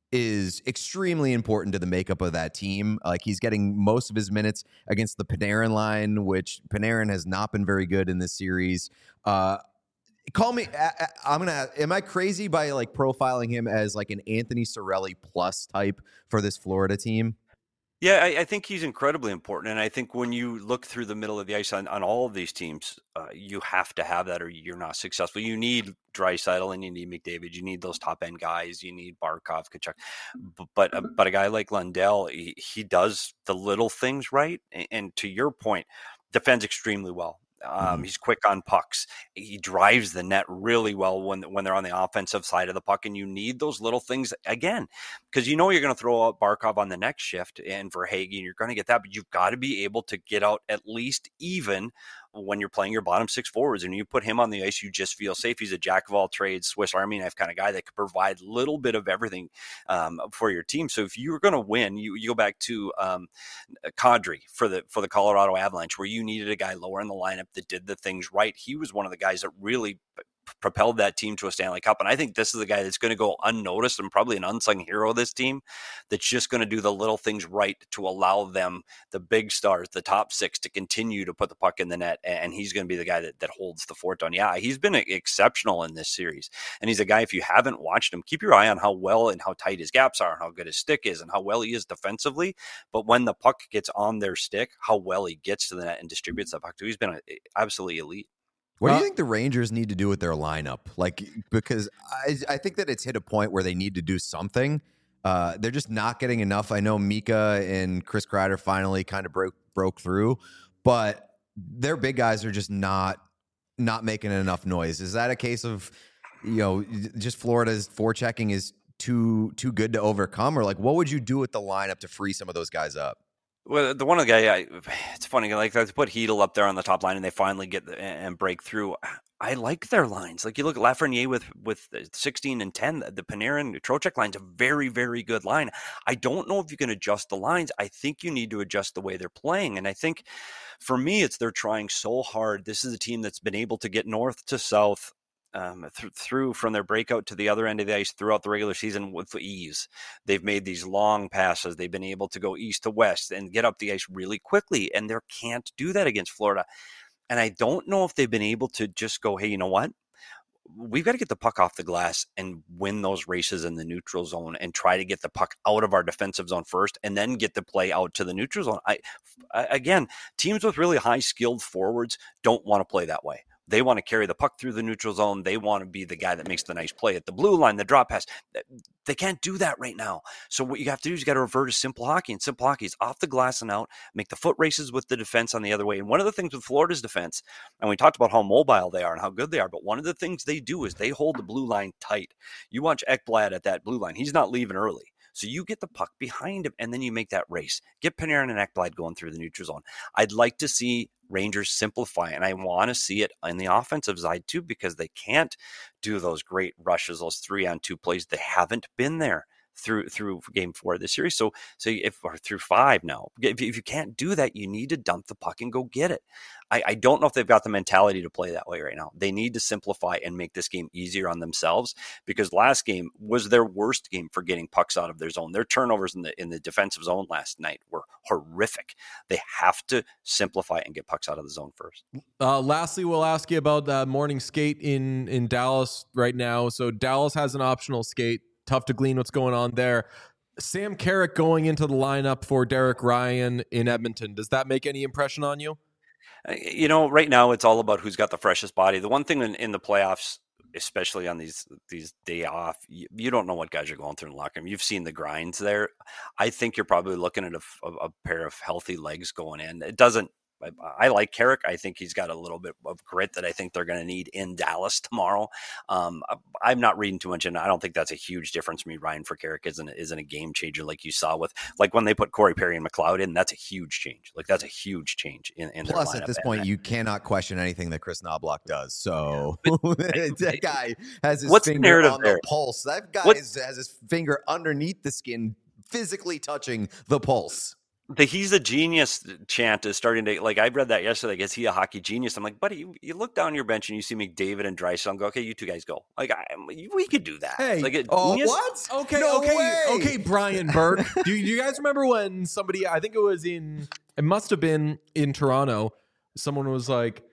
Speaker 2: is extremely important to the makeup of that team. Like he's getting most of his minutes against the Panarin line, which Panarin has not been very good in this series. Uh, Call me. I- I- I'm gonna. Am I crazy by like profiling him as like an Anthony Cirelli plus type for this Florida team?
Speaker 6: Yeah, I, I think he's incredibly important. And I think when you look through the middle of the ice on, on all of these teams, uh, you have to have that or you're not successful. You need Draisaitl and you need McDavid. You need those top end guys. You need Barkov, Kachuk. B- But, uh, but a guy like Lundell, he, he does the little things right. And, and to your point, defends extremely well. Um,
Speaker 2: Mhm.
Speaker 6: He's quick on pucks. He drives the net really well when when they're on the offensive side of the puck, and you need those little things again because you know you're going to throw out Barkov on the next shift, and for Hagee, you're going to get that, but you've got to be able to get out at least even when you're playing your bottom six forwards, and you put him on the ice, you just feel safe. He's a jack of all trades, Swiss Army knife kind of guy that could provide a little bit of everything um, for your team. So if you're going to win, you, you go back to um, Kadri for the for the Colorado Avalanche, where you needed a guy lower in the lineup that did the things right. He was one of the guys that really propelled that team to a Stanley Cup. And I think this is the guy that's going to go unnoticed and probably an unsung hero of this team that's just going to do the little things right to allow them, the big stars, the top six, to continue to put the puck in the net. And he's going to be the guy that, that holds the fort down. Yeah, he's been exceptional in this series. And he's a guy, if you haven't watched him, keep your eye on how well and how tight his gaps are and how good his stick is and how well he is defensively. But when the puck gets on their stick, how well he gets to the net and distributes that puck too. He's been a, absolutely elite.
Speaker 2: What do
Speaker 1: Uh,
Speaker 2: you think the Rangers need to do with their lineup? Like, because I, I think that it's hit a point where they need to do something. Uh, they're just not getting enough. I know Mika and Chris Kreider finally kind of broke broke through, but their big guys are just not not making enough noise. Is that a case of, you know, just Florida's forechecking is too too good to overcome, or like what would you do with the lineup to free some of those guys up?
Speaker 6: Well, the one of the guy, I, it's funny, like they put Hedel up there on the top line and they finally get the, and break through. I like their lines. Like you look at Lafreniere with with sixteen and ten, the Panarin Trocheck line's a very, very good line. I don't know if you can adjust the lines. I think you need to adjust the way they're playing. And I think for me, it's they're trying so hard. This is a team that's been able to get north to south, Um, th- through from their breakout to the other end of the ice throughout the regular season with ease. They've made these long passes. They've been able to go east to west and get up the ice really quickly, and they can't do that against Florida. And I don't know if they've been able to just go, hey, you know what? We've got to get the puck off the glass and win those races in the neutral zone and try to get the puck out of our defensive zone first and then get the play out to the neutral zone. I, I again, teams with really high skilled forwards don't want to play that way. They want to carry the puck through the neutral zone. They want to be the guy that makes the nice play at the blue line, the drop pass. They can't do that right now. So what you have to do is you got to revert to simple hockey. And simple hockey is off the glass and out, make the foot races with the defense on the other way. And one of the things with Florida's defense, and we talked about how mobile they are and how good they are, but one of the things they do is they hold the blue line tight. You watch Ekblad at that blue line. He's not leaving early. So you get the puck behind him, and then you make that race. Get Panarin and Ekblad going through the neutral zone. I'd like to see Rangers simplify, and I want to see it in the offensive side too, because they can't do those great rushes, those three-on-two plays. They haven't been there through through game four of the series. So so if or through five now, if, if you can't do that, you need to dump the puck and go get it. I, I don't know if they've got the mentality to play that way right now. They need to simplify and make this game easier on themselves, because last game was their worst game for getting pucks out of their zone. Their turnovers in the in the defensive zone last night were horrific. They have to simplify and get pucks out of the zone first.
Speaker 1: Uh, lastly, we'll ask you about the morning skate in, in Dallas right now. So Dallas has an optional skate. Tough to glean what's going on there. Sam Carrick going into the lineup for Derek Ryan in Edmonton. Does that make any impression on you?
Speaker 6: You know, right now it's all about who's got the freshest body. The one thing in, in the playoffs, especially on these these day off, you, you don't know what guys are going through in the locker room. You've seen the grinds there. I think you're probably looking at a, a, a pair of healthy legs going in. It doesn't. I, I like Carrick. I think he's got a little bit of grit that I think they're going to need in Dallas tomorrow. Um, I, I'm not reading too much, and I don't think that's a huge difference. Me, Ryan for Carrick isn't isn't a game changer like you saw with like when they put Corey Perry and McLeod in. That's a huge change. Like that's a huge change in, in their
Speaker 2: Plus,
Speaker 6: lineup.
Speaker 2: at this
Speaker 6: And
Speaker 2: point,
Speaker 6: I,
Speaker 2: you cannot question anything that Chris Knobloch does. So
Speaker 6: But-
Speaker 2: that guy has his
Speaker 6: What's the
Speaker 2: finger
Speaker 6: narrative
Speaker 2: on
Speaker 6: there?
Speaker 2: the pulse. That guy
Speaker 6: What-
Speaker 2: is, has his finger underneath the skin, physically touching the pulse.
Speaker 6: The he's a genius chant is starting to, like, I read that yesterday. Is he a hockey genius? I'm like, buddy, you, you look down your bench and you see McDavid and Draisaitl and go, okay, you two guys go. Like, I, we could do that.
Speaker 1: Hey,
Speaker 6: like, it,
Speaker 2: Oh,
Speaker 6: genius?
Speaker 2: what?
Speaker 1: Okay,
Speaker 2: No
Speaker 1: okay,
Speaker 2: way.
Speaker 1: okay, Brian Burke. do, you- do you guys remember when somebody, I think it was in, it must have been in Toronto, someone was like,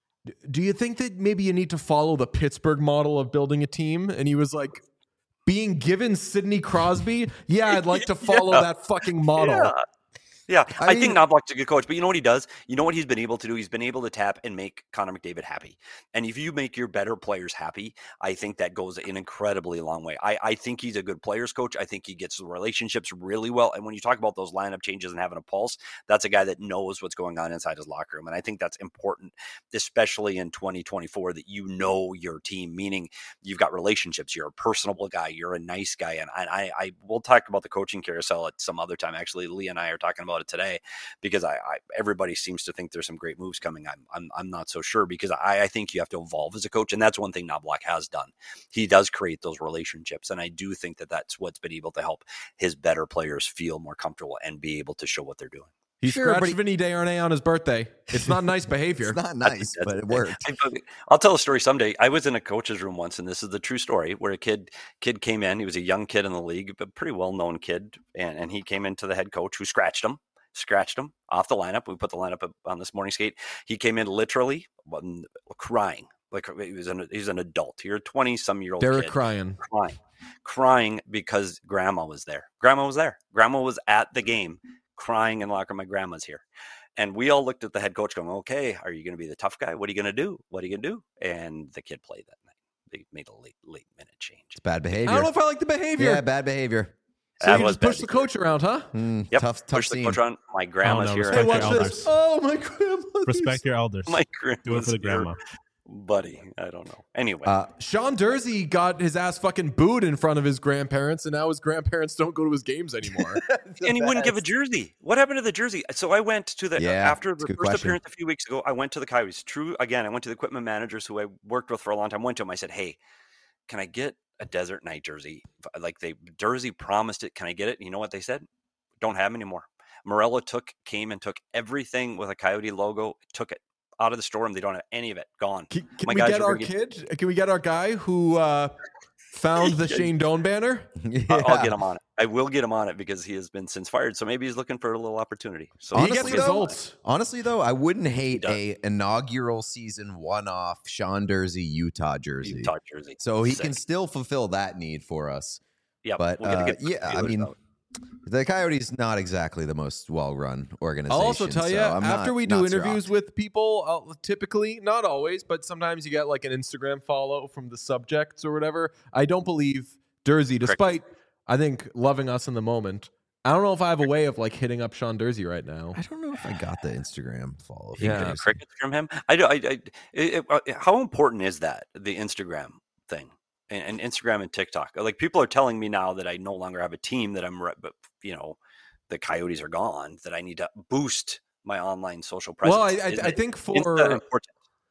Speaker 1: do you think that maybe you need to follow the Pittsburgh model of building a team? And he was like, being given Sidney Crosby? Yeah, I'd like to follow
Speaker 6: Yeah.
Speaker 1: that fucking model.
Speaker 6: Yeah. Yeah,
Speaker 2: I
Speaker 6: I, think
Speaker 2: mean-
Speaker 6: Knobloch's a good coach, but you know what he does? You know what he's been able to do? He's been able to tap and make Connor McDavid happy. And if you make your better players happy, I think that goes an incredibly long way. I, I think he's a good players coach. I think he gets the relationships really well. And when you talk about those lineup changes and having a pulse, that's a guy that knows what's going on inside his locker room. And I think that's important, especially in twenty twenty-four, that you know your team, meaning you've got relationships. You're a personable guy. You're a nice guy. And I, I, I will talk about the coaching carousel at some other time. Actually, Lee and I are talking about it today, because I, I everybody seems to think there's some great moves coming. I'm I'm, I'm not so sure, because I, I think you have to evolve as a coach, and that's one thing Knobloch has done. He does create those relationships, and I do think that that's what's been able to help his better players feel more comfortable and be able to show what they're doing.
Speaker 1: He
Speaker 2: Sure,
Speaker 1: scratched
Speaker 2: but he-
Speaker 1: Vinny Desharnais on his birthday. It's not nice behavior.
Speaker 2: It's not nice, but it worked.
Speaker 6: I- I'll tell a story someday. I was in a coach's room once, and this is the true story, where a kid kid came in. He was a young kid in the league, but pretty well-known kid, and, and he came into the head coach, who scratched him. Scratched him off the lineup. We put the lineup up on this morning skate. He came in literally um, crying, like he was an he's an adult. You're a twenty some year old
Speaker 1: Derek
Speaker 6: kid,
Speaker 1: crying.
Speaker 6: crying, crying because grandma was there. Grandma was there. Grandma was at the game, crying in the locker room. My grandma's here. And we all looked at the head coach going, okay, are you going to be the tough guy? What are you going to do? What are you going to do? And the kid played that night. They made a late, late minute change.
Speaker 2: It's bad
Speaker 1: I
Speaker 2: behavior.
Speaker 1: don't know if I like the behavior.
Speaker 2: Yeah, bad behavior.
Speaker 1: So
Speaker 6: That
Speaker 1: you
Speaker 6: was
Speaker 1: just push
Speaker 6: bad
Speaker 1: the
Speaker 6: to hear.
Speaker 1: coach around, huh?
Speaker 2: Mm,
Speaker 6: Yep.
Speaker 2: Tough, tough
Speaker 6: Push the
Speaker 2: scene.
Speaker 6: coach around. My grandma's
Speaker 3: no,
Speaker 6: here.
Speaker 3: respect
Speaker 1: Hey,
Speaker 3: your
Speaker 1: watch
Speaker 3: elders.
Speaker 1: this. Oh, my grandma.
Speaker 3: Respect your elders.
Speaker 6: My
Speaker 3: Do it
Speaker 6: grandma's
Speaker 3: for the
Speaker 6: here.
Speaker 3: grandma.
Speaker 6: Buddy, I don't know. Anyway,
Speaker 2: Uh,
Speaker 1: Sean Dursey got his ass fucking booed in front of his grandparents, and now his grandparents don't go to his games anymore.
Speaker 6: and he wouldn't give a jersey. What happened to the jersey? So I went to the
Speaker 2: Yeah,
Speaker 6: after
Speaker 2: it's
Speaker 6: the
Speaker 2: a good
Speaker 6: first
Speaker 2: question.
Speaker 6: appearance a few weeks ago. I went to the Coyotes. True, again, I went to the equipment managers who I worked with for a long time. Went to them. I said, "Hey, can I get a Desert Night jersey? Like they Dursey promised it. Can I get it?" You know what they said? Don't have them anymore. Morello took came and took everything with a Coyote logo. Took it out of the store, and they don't have any of it. Gone.
Speaker 1: Can, can
Speaker 6: My
Speaker 1: we
Speaker 6: guys
Speaker 1: get
Speaker 6: are
Speaker 1: our
Speaker 6: gonna
Speaker 1: kid? Can we get our guy who uh, found the Shane Doan banner?
Speaker 2: yeah.
Speaker 6: I'll, I'll get him on it. I will get him on it because he has been since fired. So maybe he's looking for a little opportunity. So
Speaker 1: He
Speaker 2: Honestly,
Speaker 1: gets
Speaker 2: though,
Speaker 1: results.
Speaker 2: Honestly, though, I wouldn't hate
Speaker 6: does.
Speaker 2: a inaugural season one-off Sean Dursey Utah jersey.
Speaker 6: Utah jersey.
Speaker 2: So he
Speaker 6: Sick.
Speaker 2: can still fulfill that need for us.
Speaker 6: Yep.
Speaker 2: But
Speaker 6: we'll get a
Speaker 2: uh,
Speaker 6: good
Speaker 2: yeah, I
Speaker 6: feelers
Speaker 2: mean,
Speaker 6: out.
Speaker 2: the Coyotes not exactly the most well-run organization.
Speaker 1: I'll also tell you,
Speaker 2: so I'm
Speaker 1: after
Speaker 2: not-
Speaker 1: we do
Speaker 2: not
Speaker 1: interviews
Speaker 2: shocked.
Speaker 1: with people, uh, typically, not always, but sometimes you get like an Instagram follow from the subjects or whatever. I don't believe Dursey, despite, I think, loving us in the moment. I don't know if I have a way of like hitting up Sean Dursey right now.
Speaker 2: I don't know if I got the Instagram follow.
Speaker 6: You
Speaker 1: Yeah.
Speaker 6: get crickets from him. I do. I, I, it, it, how important is that, the Instagram thing and, and Instagram and TikTok? Like people are telling me now that I no longer have a team, that I'm, re- but you know, the Coyotes are gone, that I need to boost my online social presence.
Speaker 1: Well, I, I,
Speaker 6: Is
Speaker 1: I
Speaker 6: it-
Speaker 1: think
Speaker 6: is that
Speaker 1: for
Speaker 6: important?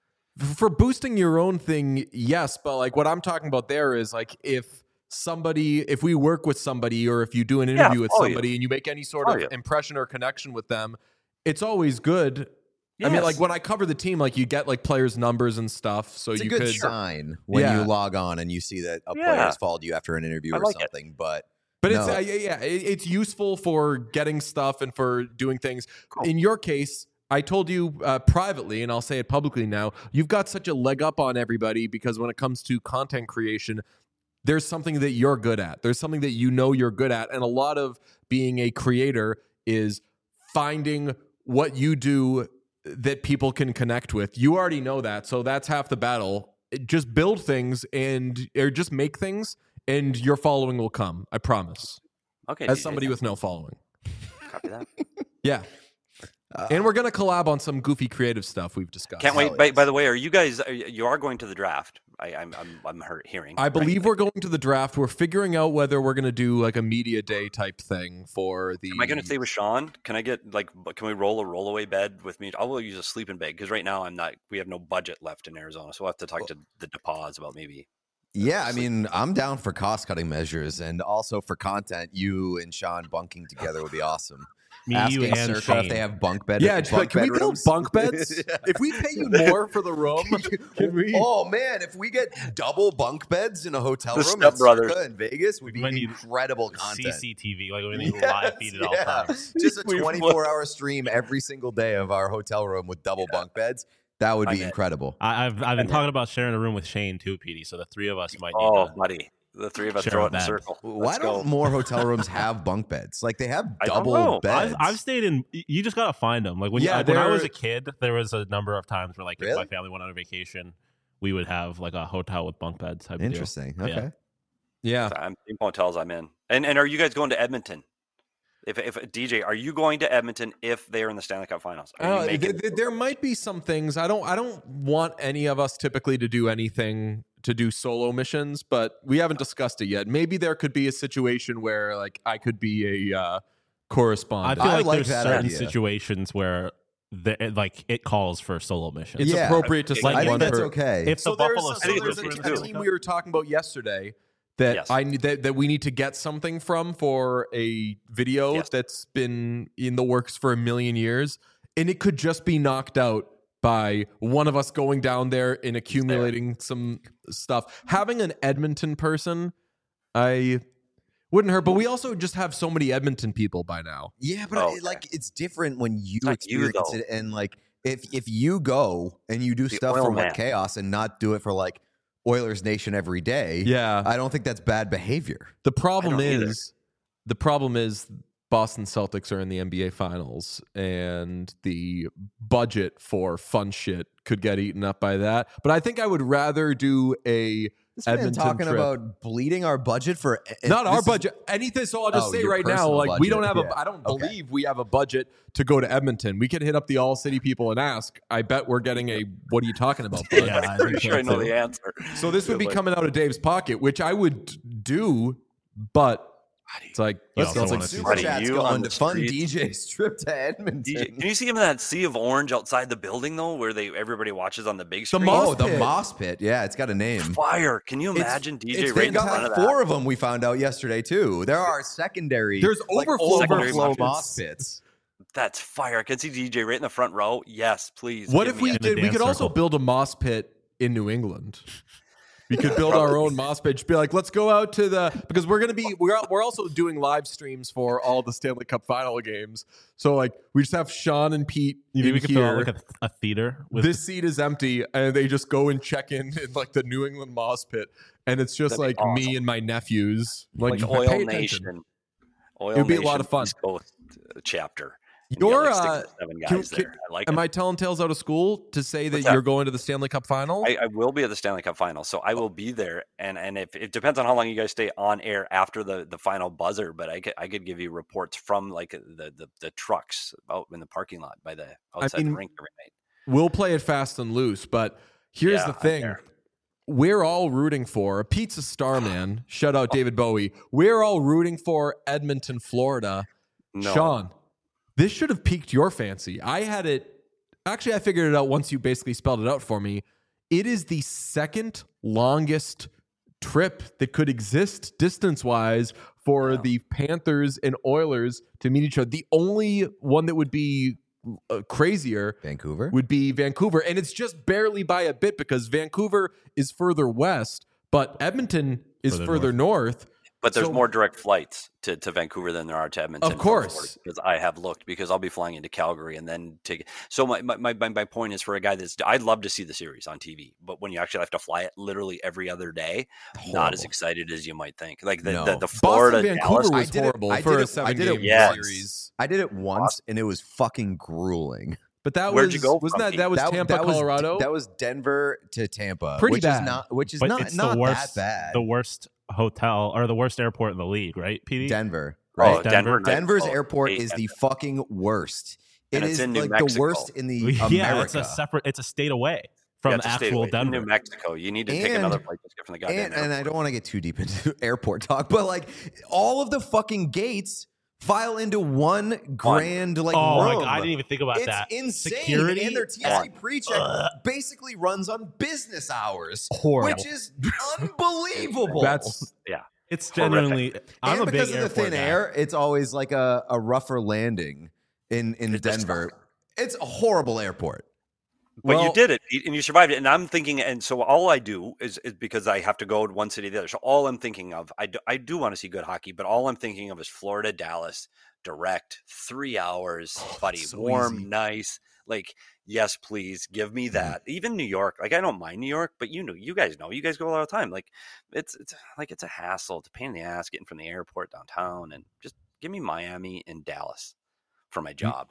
Speaker 1: for boosting your own thing, yes, but like what I'm talking about there is like if somebody, if we work with somebody, or if you do an
Speaker 6: Yeah,
Speaker 1: interview with
Speaker 6: follow you.
Speaker 1: somebody and you make any sort
Speaker 6: Follow
Speaker 1: of
Speaker 6: you.
Speaker 1: impression or connection with them, it's always good. I mean,
Speaker 6: Yes.
Speaker 1: like when I cover the team, like you get like players' numbers and stuff, so
Speaker 2: It's a
Speaker 1: you
Speaker 2: good
Speaker 1: could.
Speaker 2: sign when
Speaker 1: Yeah.
Speaker 2: you log on and you see that a
Speaker 6: Yeah.
Speaker 2: player has followed you after an interview
Speaker 6: I
Speaker 2: or
Speaker 6: like it.
Speaker 2: something. But
Speaker 1: But it's
Speaker 2: No.
Speaker 1: uh, yeah, yeah, it, it's useful for getting stuff and for doing things.
Speaker 6: Cool.
Speaker 1: In your case, I told you uh, privately, and I'll say it publicly now. You've got such a leg up on everybody because when it comes to content creation, there's something that you're good at. There's something that you know you're good at, and a lot of being a creator is finding what you do that people can connect with. You already know that, so that's half the battle. Just build things and or just make things, and your following will come. I promise.
Speaker 6: Okay.
Speaker 1: As
Speaker 6: D J,
Speaker 1: somebody with no following.
Speaker 6: copy that.
Speaker 1: Yeah.
Speaker 2: uh,
Speaker 1: And we're gonna collab on some goofy creative stuff we've discussed.
Speaker 6: Can't wait.
Speaker 2: Hell
Speaker 6: By,
Speaker 2: yes.
Speaker 6: by the way, are you guys? Are you you are going to the draft? I, I'm I'm I'm heard, hearing.
Speaker 1: I
Speaker 6: right?
Speaker 1: believe we're going to the draft. We're figuring out whether we're gonna do like a media day type thing for the.
Speaker 6: Am I going to stay with Sean? Can I get like? Can we roll a rollaway bed with me? I will use a sleeping bag because right now I'm not. We have no budget left in Arizona, so we'll have to talk to the DePause about maybe.
Speaker 2: yeah, I mean, I'm down for cost cutting measures and also for content. You and Sean bunking together would be awesome.
Speaker 3: Me,
Speaker 2: Asking
Speaker 3: you, and
Speaker 2: Circa
Speaker 3: Shane.
Speaker 2: if they have bunk bed.
Speaker 1: Yeah, just be like,
Speaker 2: bunk
Speaker 1: can we build
Speaker 2: bedrooms?
Speaker 1: bunk beds? If we pay you more for the room, can we?
Speaker 2: Oh man, if we get double bunk beds in a hotel
Speaker 6: The
Speaker 2: room
Speaker 6: Step
Speaker 2: at
Speaker 6: Brothers.
Speaker 2: Circa in Vegas, would
Speaker 3: We
Speaker 2: be
Speaker 3: might need
Speaker 2: incredible content.
Speaker 3: C C T V, like we need
Speaker 2: Yes,
Speaker 3: live feed at all
Speaker 2: yeah.
Speaker 3: times.
Speaker 2: Just a
Speaker 6: We would.
Speaker 2: twenty-four hour stream every single day of our hotel room with double bunk beds. That would
Speaker 6: I'm
Speaker 2: be
Speaker 6: in.
Speaker 2: incredible.
Speaker 3: I, I've I've been
Speaker 6: And-
Speaker 3: talking about sharing a room with Shane too, Petey. So the three of us might need
Speaker 6: Oh,
Speaker 3: to.
Speaker 6: buddy, the three of us
Speaker 3: Share
Speaker 6: throw
Speaker 3: a
Speaker 6: it in a
Speaker 3: bed.
Speaker 6: circle.
Speaker 2: Why
Speaker 6: Let's
Speaker 2: don't
Speaker 6: go.
Speaker 2: more hotel rooms have bunk beds? Like they have
Speaker 6: I don't
Speaker 2: double
Speaker 6: know.
Speaker 2: beds.
Speaker 3: I've, I've stayed in. You just gotta find them. Like when,
Speaker 1: Yeah,
Speaker 3: I, when I was
Speaker 1: they're-
Speaker 3: a kid, there was a number of times where, like, if
Speaker 2: Really?
Speaker 3: my family went on a vacation, we would have like a hotel with bunk beds. Type of deal.
Speaker 2: Interesting.
Speaker 3: Yeah.
Speaker 2: Okay.
Speaker 1: Yeah.
Speaker 6: I'm in hotels. I'm in. And and are you guys going to Edmonton? If if D J, are you going to Edmonton if they are in the Stanley Cup Finals? Are you
Speaker 1: Uh,
Speaker 6: making-
Speaker 1: there, there- there might be some things. I don't. I don't want any of us typically to do anything to do solo missions, but we haven't discussed it yet. Maybe there could be a situation where like I could be a uh,
Speaker 3: I
Speaker 1: correspondent.
Speaker 3: feel
Speaker 2: I
Speaker 3: like,
Speaker 2: like
Speaker 3: there's
Speaker 2: that
Speaker 3: certain
Speaker 2: idea.
Speaker 3: situations where the, it, like it calls for solo missions.
Speaker 1: it's
Speaker 2: Yeah.
Speaker 1: appropriate to
Speaker 6: I
Speaker 1: send
Speaker 2: I
Speaker 1: one
Speaker 2: think that's
Speaker 1: per-
Speaker 2: okay.
Speaker 3: If
Speaker 1: So
Speaker 3: the
Speaker 1: there's,
Speaker 3: Buffalo
Speaker 1: so
Speaker 6: think
Speaker 1: there's
Speaker 6: it's
Speaker 1: a,
Speaker 6: good
Speaker 1: a
Speaker 6: too.
Speaker 1: team we were talking about yesterday that
Speaker 6: Yes.
Speaker 1: I need that, that we need to get something from for a video
Speaker 6: Yes.
Speaker 1: that's been in the works for a million years, and it could just be knocked out by one of us going down there and accumulating some stuff. Having an Edmonton person, I wouldn't hurt, but we also just have so many Edmonton people by now.
Speaker 2: Yeah, but
Speaker 6: Oh,
Speaker 2: it-
Speaker 6: okay.
Speaker 2: like it's different when you
Speaker 6: It's not you,
Speaker 2: experience
Speaker 6: though.
Speaker 2: it, and like if if you go and you do
Speaker 6: The
Speaker 2: stuff
Speaker 6: oil
Speaker 2: for
Speaker 6: man.
Speaker 2: What Chaos and not do it for like Oilers Nation every day,
Speaker 1: Yeah.
Speaker 2: I don't think that's bad behavior.
Speaker 1: The problem
Speaker 6: I don't either.
Speaker 1: is, the problem is Boston Celtics are in the N B A Finals, and the budget for fun shit could get eaten up by that. But I think I would rather do a
Speaker 2: This man
Speaker 1: Edmonton
Speaker 2: talking
Speaker 1: trip.
Speaker 2: about bleeding our budget for
Speaker 1: Not
Speaker 2: this
Speaker 1: our
Speaker 2: is-
Speaker 1: budget. Anything. So I'll just
Speaker 2: Oh,
Speaker 1: say
Speaker 2: your
Speaker 1: right now,
Speaker 2: personal
Speaker 1: like we don't have
Speaker 2: budget.
Speaker 1: a.
Speaker 2: Yeah.
Speaker 1: I don't
Speaker 2: Okay.
Speaker 1: believe we have a budget to go to Edmonton. We could hit up the All City people and ask. I bet we're getting a. What are you talking about? bud?
Speaker 3: Yeah, I
Speaker 6: Pretty
Speaker 3: think
Speaker 6: sure I
Speaker 3: so,
Speaker 6: know
Speaker 3: too.
Speaker 6: the answer.
Speaker 1: So this would be
Speaker 6: Like,
Speaker 1: coming out of Dave's pocket, which I would do, but it's like
Speaker 3: You
Speaker 1: let's
Speaker 3: also
Speaker 1: let's
Speaker 3: wanna
Speaker 1: like
Speaker 3: see
Speaker 2: Super
Speaker 6: Buddy,
Speaker 2: Chat's
Speaker 6: you on
Speaker 2: going
Speaker 6: the
Speaker 2: to fund
Speaker 6: streets.
Speaker 2: D J's trip to Edmonton.
Speaker 6: D J, can you see him in that sea of orange outside the building though, where they everybody watches on the big screen?
Speaker 1: moss
Speaker 2: Oh, the
Speaker 1: pit.
Speaker 2: Moss Pit. Yeah, it's got a name.
Speaker 6: Fire! Can you
Speaker 2: It's-
Speaker 6: imagine D J
Speaker 2: It's,
Speaker 6: right
Speaker 2: they've
Speaker 6: in
Speaker 2: got
Speaker 6: front
Speaker 2: like
Speaker 6: of that?
Speaker 2: four of them we found out yesterday too. There are secondary.
Speaker 1: There's
Speaker 2: like,
Speaker 1: overflow
Speaker 6: Secondary
Speaker 2: overflow
Speaker 6: moss
Speaker 2: moss
Speaker 6: pits.
Speaker 2: pits.
Speaker 6: That's fire! I can see D J right in the front row. Yes, please.
Speaker 1: What
Speaker 6: give
Speaker 1: if
Speaker 6: me
Speaker 1: we
Speaker 6: it.
Speaker 3: In the
Speaker 1: did? We
Speaker 3: dance
Speaker 1: could also
Speaker 3: circle.
Speaker 1: build a moss pit in New England. We could build our own moss pit. Just be like, let's go out to the because we're gonna be we're we're also doing live streams for all the Stanley Cup final games. So like we just have Sean and Pete
Speaker 3: You think
Speaker 1: in
Speaker 3: we could fill out
Speaker 1: here.
Speaker 3: like a, a theater with
Speaker 1: This seat is empty, and they just go and check in in like the New England moss pit, and it's just
Speaker 6: That'd
Speaker 1: like
Speaker 6: be
Speaker 1: me
Speaker 6: awesome.
Speaker 1: and my nephews. Like,
Speaker 6: like
Speaker 1: pay
Speaker 6: Oil
Speaker 1: attention.
Speaker 6: Nation? Oil
Speaker 1: It would be a
Speaker 6: Nation
Speaker 1: lot of fun.
Speaker 6: East Coast, uh, chapter. And you
Speaker 1: You're
Speaker 6: got, like,
Speaker 1: uh,
Speaker 6: six or seven
Speaker 1: can-
Speaker 6: guys
Speaker 1: can-
Speaker 6: there. I like
Speaker 1: am
Speaker 6: it.
Speaker 1: I telling tales out of school to say that
Speaker 6: What's that?
Speaker 1: you're going to the Stanley Cup final?
Speaker 6: I, I will be at the Stanley Cup final, so I will be there. And and if it depends on how long you guys stay on air after the, the final buzzer, but I could I could give you reports from like the the, the trucks out in the parking lot by the outside
Speaker 1: mean,
Speaker 6: the rink every night.
Speaker 1: We'll play it fast and loose, but here's
Speaker 6: Yeah,
Speaker 1: the
Speaker 6: I'm
Speaker 1: thing.
Speaker 6: there.
Speaker 1: We're all rooting for a pizza star man. Shout out David Bowie. We're all rooting for Edmonton, Florida.
Speaker 6: No.
Speaker 1: Sean, this should have piqued your fancy. I had it. Actually, I figured it out once you basically spelled it out for me. It is the second longest trip that could exist distance wise for
Speaker 6: Yeah.
Speaker 1: the Panthers and Oilers to meet each other. The only one that would be uh, crazier
Speaker 2: Vancouver.
Speaker 1: would be Vancouver. And it's just barely by a bit because Vancouver is further west, but Edmonton is further,
Speaker 3: Further
Speaker 1: north.
Speaker 6: But there's
Speaker 1: So-
Speaker 6: more direct flights to, to Vancouver than there are to Edmonton.
Speaker 1: Of course.
Speaker 6: from Florida, because I have looked because I'll be flying into Calgary and then take. So my, my, my, my point is for a guy that's I'd love to see the series on T V, but when you actually have to fly it literally every other day, not as
Speaker 2: Horrible.
Speaker 6: excited as you might think. Like the
Speaker 2: No.
Speaker 6: the, the Florida
Speaker 1: Boston,
Speaker 6: Dallas.
Speaker 1: Vancouver
Speaker 2: I
Speaker 1: was
Speaker 2: did it-
Speaker 1: horrible
Speaker 2: I
Speaker 1: for
Speaker 2: did
Speaker 1: a
Speaker 2: it- I
Speaker 1: seven
Speaker 2: did it
Speaker 1: game
Speaker 6: Yes.
Speaker 1: series.
Speaker 2: I did it once, and it was fucking grueling.
Speaker 1: But that
Speaker 6: Where'd
Speaker 1: was
Speaker 6: you go
Speaker 1: wasn't
Speaker 6: from,
Speaker 1: that
Speaker 6: Pete?
Speaker 1: that was
Speaker 2: that,
Speaker 1: Tampa,
Speaker 2: that was,
Speaker 1: Colorado?
Speaker 2: That was Denver to Tampa,
Speaker 1: Pretty
Speaker 2: which
Speaker 1: bad.
Speaker 2: is not, which is
Speaker 3: but
Speaker 2: not
Speaker 3: it's
Speaker 2: not
Speaker 3: the worst,
Speaker 2: that bad.
Speaker 3: the worst hotel or the worst airport in the league, right, P D?
Speaker 2: Denver,
Speaker 6: Oh,
Speaker 2: right?
Speaker 3: Denver.
Speaker 6: Denver, nice.
Speaker 2: Denver's
Speaker 6: Oh,
Speaker 2: airport
Speaker 6: hate
Speaker 2: is the
Speaker 6: Denver.
Speaker 2: fucking worst. It
Speaker 6: And it's
Speaker 2: is
Speaker 6: in New
Speaker 2: like the
Speaker 6: Mexico.
Speaker 2: worst in the
Speaker 3: yeah,
Speaker 2: America.
Speaker 3: it's a separate. It's a state away from
Speaker 6: Yeah, it's a state
Speaker 3: actual
Speaker 6: away. It's in
Speaker 3: Denver.
Speaker 6: New Mexico. You need to take
Speaker 2: And-
Speaker 6: another flight just get from the goddamn
Speaker 2: and, and I
Speaker 6: airport.
Speaker 2: don't want to get too deep into airport talk, but like all of the fucking gates file into one grand like
Speaker 3: oh my
Speaker 2: room.
Speaker 3: god, I didn't even think about
Speaker 2: It's
Speaker 3: that.
Speaker 2: insane.
Speaker 3: Security,
Speaker 2: And their T S A
Speaker 6: on.
Speaker 2: pre-check
Speaker 3: Ugh.
Speaker 2: basically runs on business hours,
Speaker 3: Horrible.
Speaker 2: which is unbelievable.
Speaker 1: That's
Speaker 6: Yeah.
Speaker 3: It's
Speaker 6: Horrific.
Speaker 3: genuinely. I'm
Speaker 2: and
Speaker 3: a
Speaker 2: because
Speaker 3: big
Speaker 2: of the
Speaker 3: airport
Speaker 2: thin
Speaker 3: guy.
Speaker 2: air, it's always like a, a rougher landing in, in
Speaker 6: It just
Speaker 2: Denver. It's a horrible airport.
Speaker 6: But
Speaker 1: Well-
Speaker 6: you did it, Pete, and you survived it. And I'm thinking, and so all I do is, is because I have to go to one city to the other. So all I'm thinking of, I do, I do want to see good hockey, but all I'm thinking of is Florida, Dallas, direct, three hours, buddy,
Speaker 2: so
Speaker 6: warm,
Speaker 2: easy.
Speaker 6: nice. Like, yes, please give me that. Even New York, like I don't mind New York, but you know, you guys know, you guys go all the time. Like, it's it's like it's a hassle, it's a pain in the ass getting from the airport downtown, and just give me Miami and Dallas for my job.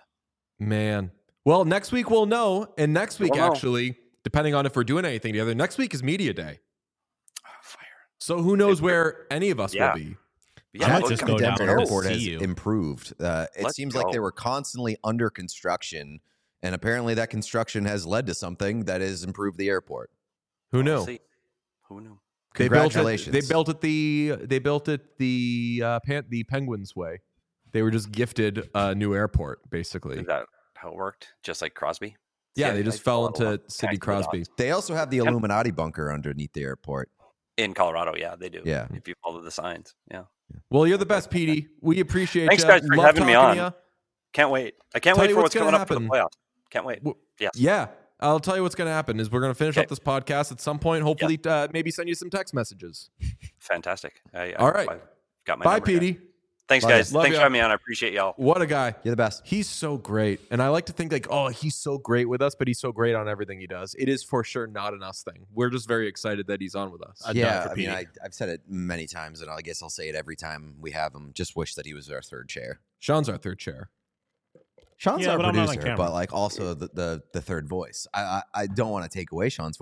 Speaker 1: man. Well, next week we'll know, and next week
Speaker 6: We'll know.
Speaker 1: actually, depending on if we're doing anything together, next week is media day.
Speaker 6: Oh, fire.
Speaker 1: So who knows where any of us
Speaker 6: Yeah.
Speaker 1: will be?
Speaker 6: Yeah,
Speaker 3: I might
Speaker 6: let's
Speaker 3: just
Speaker 6: go
Speaker 3: go down
Speaker 2: Denver
Speaker 3: there to
Speaker 2: Airport
Speaker 3: see
Speaker 2: has
Speaker 3: you.
Speaker 2: improved. Uh, it
Speaker 6: Let's
Speaker 2: seems like they
Speaker 6: go.
Speaker 2: were constantly under construction, and apparently that construction has led to something that has improved the airport.
Speaker 1: Who knew?
Speaker 6: See. Who knew?
Speaker 1: They built it.
Speaker 2: Congratulations.
Speaker 1: They built it the. They built it the uh, pan, the Penguins way. They were just gifted a new airport, basically.
Speaker 6: Is that how it worked? Just like Crosby?
Speaker 1: Yeah,
Speaker 6: See,
Speaker 1: they
Speaker 6: I-
Speaker 1: just
Speaker 6: I
Speaker 1: fell
Speaker 6: follow
Speaker 1: into
Speaker 6: along.
Speaker 1: Sidney
Speaker 6: Connect the dots.
Speaker 1: Crosby.
Speaker 2: They also have the Illuminati bunker underneath the airport.
Speaker 6: In Colorado, yeah, they do.
Speaker 2: Yeah.
Speaker 6: If you follow the signs. Yeah.
Speaker 1: Well, you're the best, Petey. We appreciate
Speaker 6: Thanks,
Speaker 1: you.
Speaker 6: guys, for
Speaker 1: Love
Speaker 6: having me
Speaker 1: talking to
Speaker 6: on.
Speaker 1: ya.
Speaker 6: Can't wait. I can't
Speaker 1: Tell
Speaker 6: wait
Speaker 1: you
Speaker 6: for
Speaker 1: what's
Speaker 6: what's coming
Speaker 1: gonna
Speaker 6: up for the
Speaker 1: happen.
Speaker 6: playoffs. Can't wait.
Speaker 1: W-
Speaker 6: Yes.
Speaker 1: Yeah, I'll tell you what's going to happen is we're going to finish
Speaker 6: Okay.
Speaker 1: up this podcast at some point. Hopefully, uh, maybe send you some text messages.
Speaker 6: Fantastic. I, I,
Speaker 1: All right.
Speaker 6: I've got my
Speaker 1: Bye,
Speaker 6: number here.
Speaker 1: Petey.
Speaker 6: Thanks,
Speaker 2: Love
Speaker 6: guys.
Speaker 1: you. Love
Speaker 6: Thanks
Speaker 1: ya.
Speaker 6: for having me on. I appreciate y'all.
Speaker 1: What a guy.
Speaker 2: You're the best.
Speaker 1: He's so great. And I like to think like, oh, he's so great with us, but he's so great on everything he does. It is for sure not an us thing. We're just very excited that he's on with us.
Speaker 3: I'd die
Speaker 2: yeah,
Speaker 3: for
Speaker 2: I mean,
Speaker 3: Petey.
Speaker 2: I, I've said it many times, and I guess I'll say it every time we have him. Just wish that he was our third chair.
Speaker 1: Sean's our third chair.
Speaker 2: Sean's
Speaker 3: Yeah,
Speaker 2: our
Speaker 3: but I'm not on
Speaker 2: producer,
Speaker 3: camera.
Speaker 2: but like also the, the the third voice. I I, I don't want to take away Sean's voice,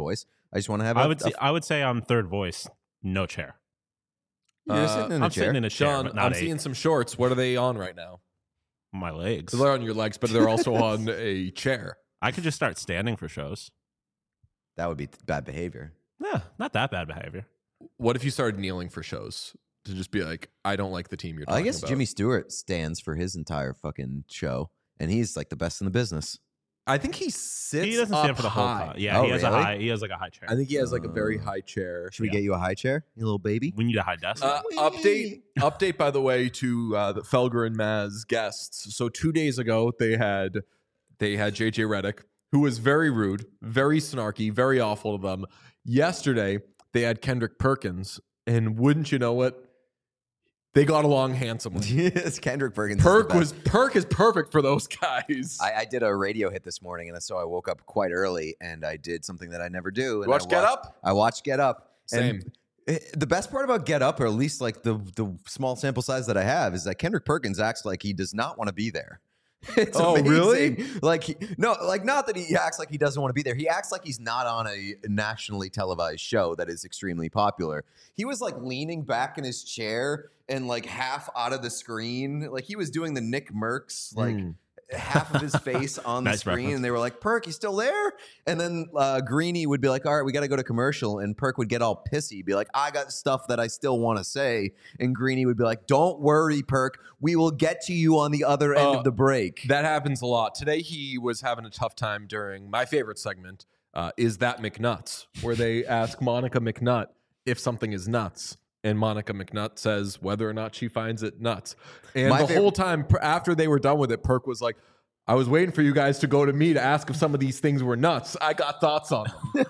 Speaker 2: I just want to have.
Speaker 3: I
Speaker 2: a,
Speaker 3: would
Speaker 2: a-
Speaker 3: say I would say I'm third voice, no chair.
Speaker 2: You're
Speaker 1: Uh,
Speaker 2: sitting in a
Speaker 3: I'm
Speaker 2: chair.
Speaker 3: sitting in a chair,
Speaker 1: Sean,
Speaker 3: but not
Speaker 1: I'm
Speaker 3: eight.
Speaker 1: seeing some shorts. What are they on right now?
Speaker 3: My legs.
Speaker 1: They're on your legs, but they're also on a chair.
Speaker 3: I could just start standing for shows.
Speaker 2: That would be bad behavior.
Speaker 3: Yeah, not that bad behavior.
Speaker 1: What if you started kneeling for shows to just be like, I don't like the team you're talking
Speaker 2: I guess
Speaker 1: about?
Speaker 2: Jimmy Stewart stands for his entire fucking show, and he's like the best in the business.
Speaker 1: I think he sits.
Speaker 3: He doesn't
Speaker 1: up
Speaker 3: stand for the whole
Speaker 1: high.
Speaker 3: time. Yeah,
Speaker 2: Oh,
Speaker 3: he has a
Speaker 2: really?
Speaker 3: high. He has like a high chair.
Speaker 1: I think he has like a very
Speaker 2: Uh,
Speaker 1: high chair.
Speaker 2: Should we
Speaker 3: Yeah.
Speaker 2: get you a high chair, you little baby?
Speaker 3: we need a high desk.
Speaker 1: Uh, update, update. By the way, to uh, the Felger and Maz guests. So two days ago, they had they had J J Redick, who was very rude, very snarky, very awful to them. Yesterday, they had Kendrick Perkins, and wouldn't you know it, they got along handsomely.
Speaker 2: Yes, Kendrick Perkins. is the
Speaker 1: Perk
Speaker 2: best.
Speaker 1: was Perk is perfect for those guys.
Speaker 2: I, I did a radio hit this morning, and so I woke up quite early, and I did something that I never do. And
Speaker 1: You watch
Speaker 2: I
Speaker 1: Get
Speaker 2: watched-
Speaker 1: Up?
Speaker 2: I watched Get Up.
Speaker 1: Same.
Speaker 2: And it- the best part about Get Up, or at least like the the small sample size that I have, is that Kendrick Perkins acts like he does not want to be there. It's
Speaker 1: Oh,
Speaker 2: amazing.
Speaker 1: really?
Speaker 2: Like he, no, like not that he acts like he doesn't want to be there. He acts like he's not on a nationally televised show that is extremely popular. He was like leaning back in his chair and like half out of the screen, like he was doing the Nick Merckx, like
Speaker 1: Mm.
Speaker 2: half of his face on the
Speaker 3: Nice
Speaker 2: screen,
Speaker 3: reference.
Speaker 2: and they were like, "Perk, you still there?" And then uh, Greeny would be like, "All right, we got to go to commercial," and Perk would get all pissy, be like, "I got stuff that I still want to say," and Greeny would be like, "Don't worry, Perk, we will get to you on the other end
Speaker 1: Uh,
Speaker 2: of the break."
Speaker 1: That happens a lot. Today he was having a tough time during my favorite segment, uh, Is That McNuts, where they ask Monica McNutt if something is nuts. And Monica McNutt says whether or not she finds it nuts. And
Speaker 2: My
Speaker 1: the
Speaker 2: favorite-
Speaker 1: whole time per- after they were done with it, Perk was like, I was waiting for you guys to go to me to ask if some of these things were nuts. I got thoughts on them.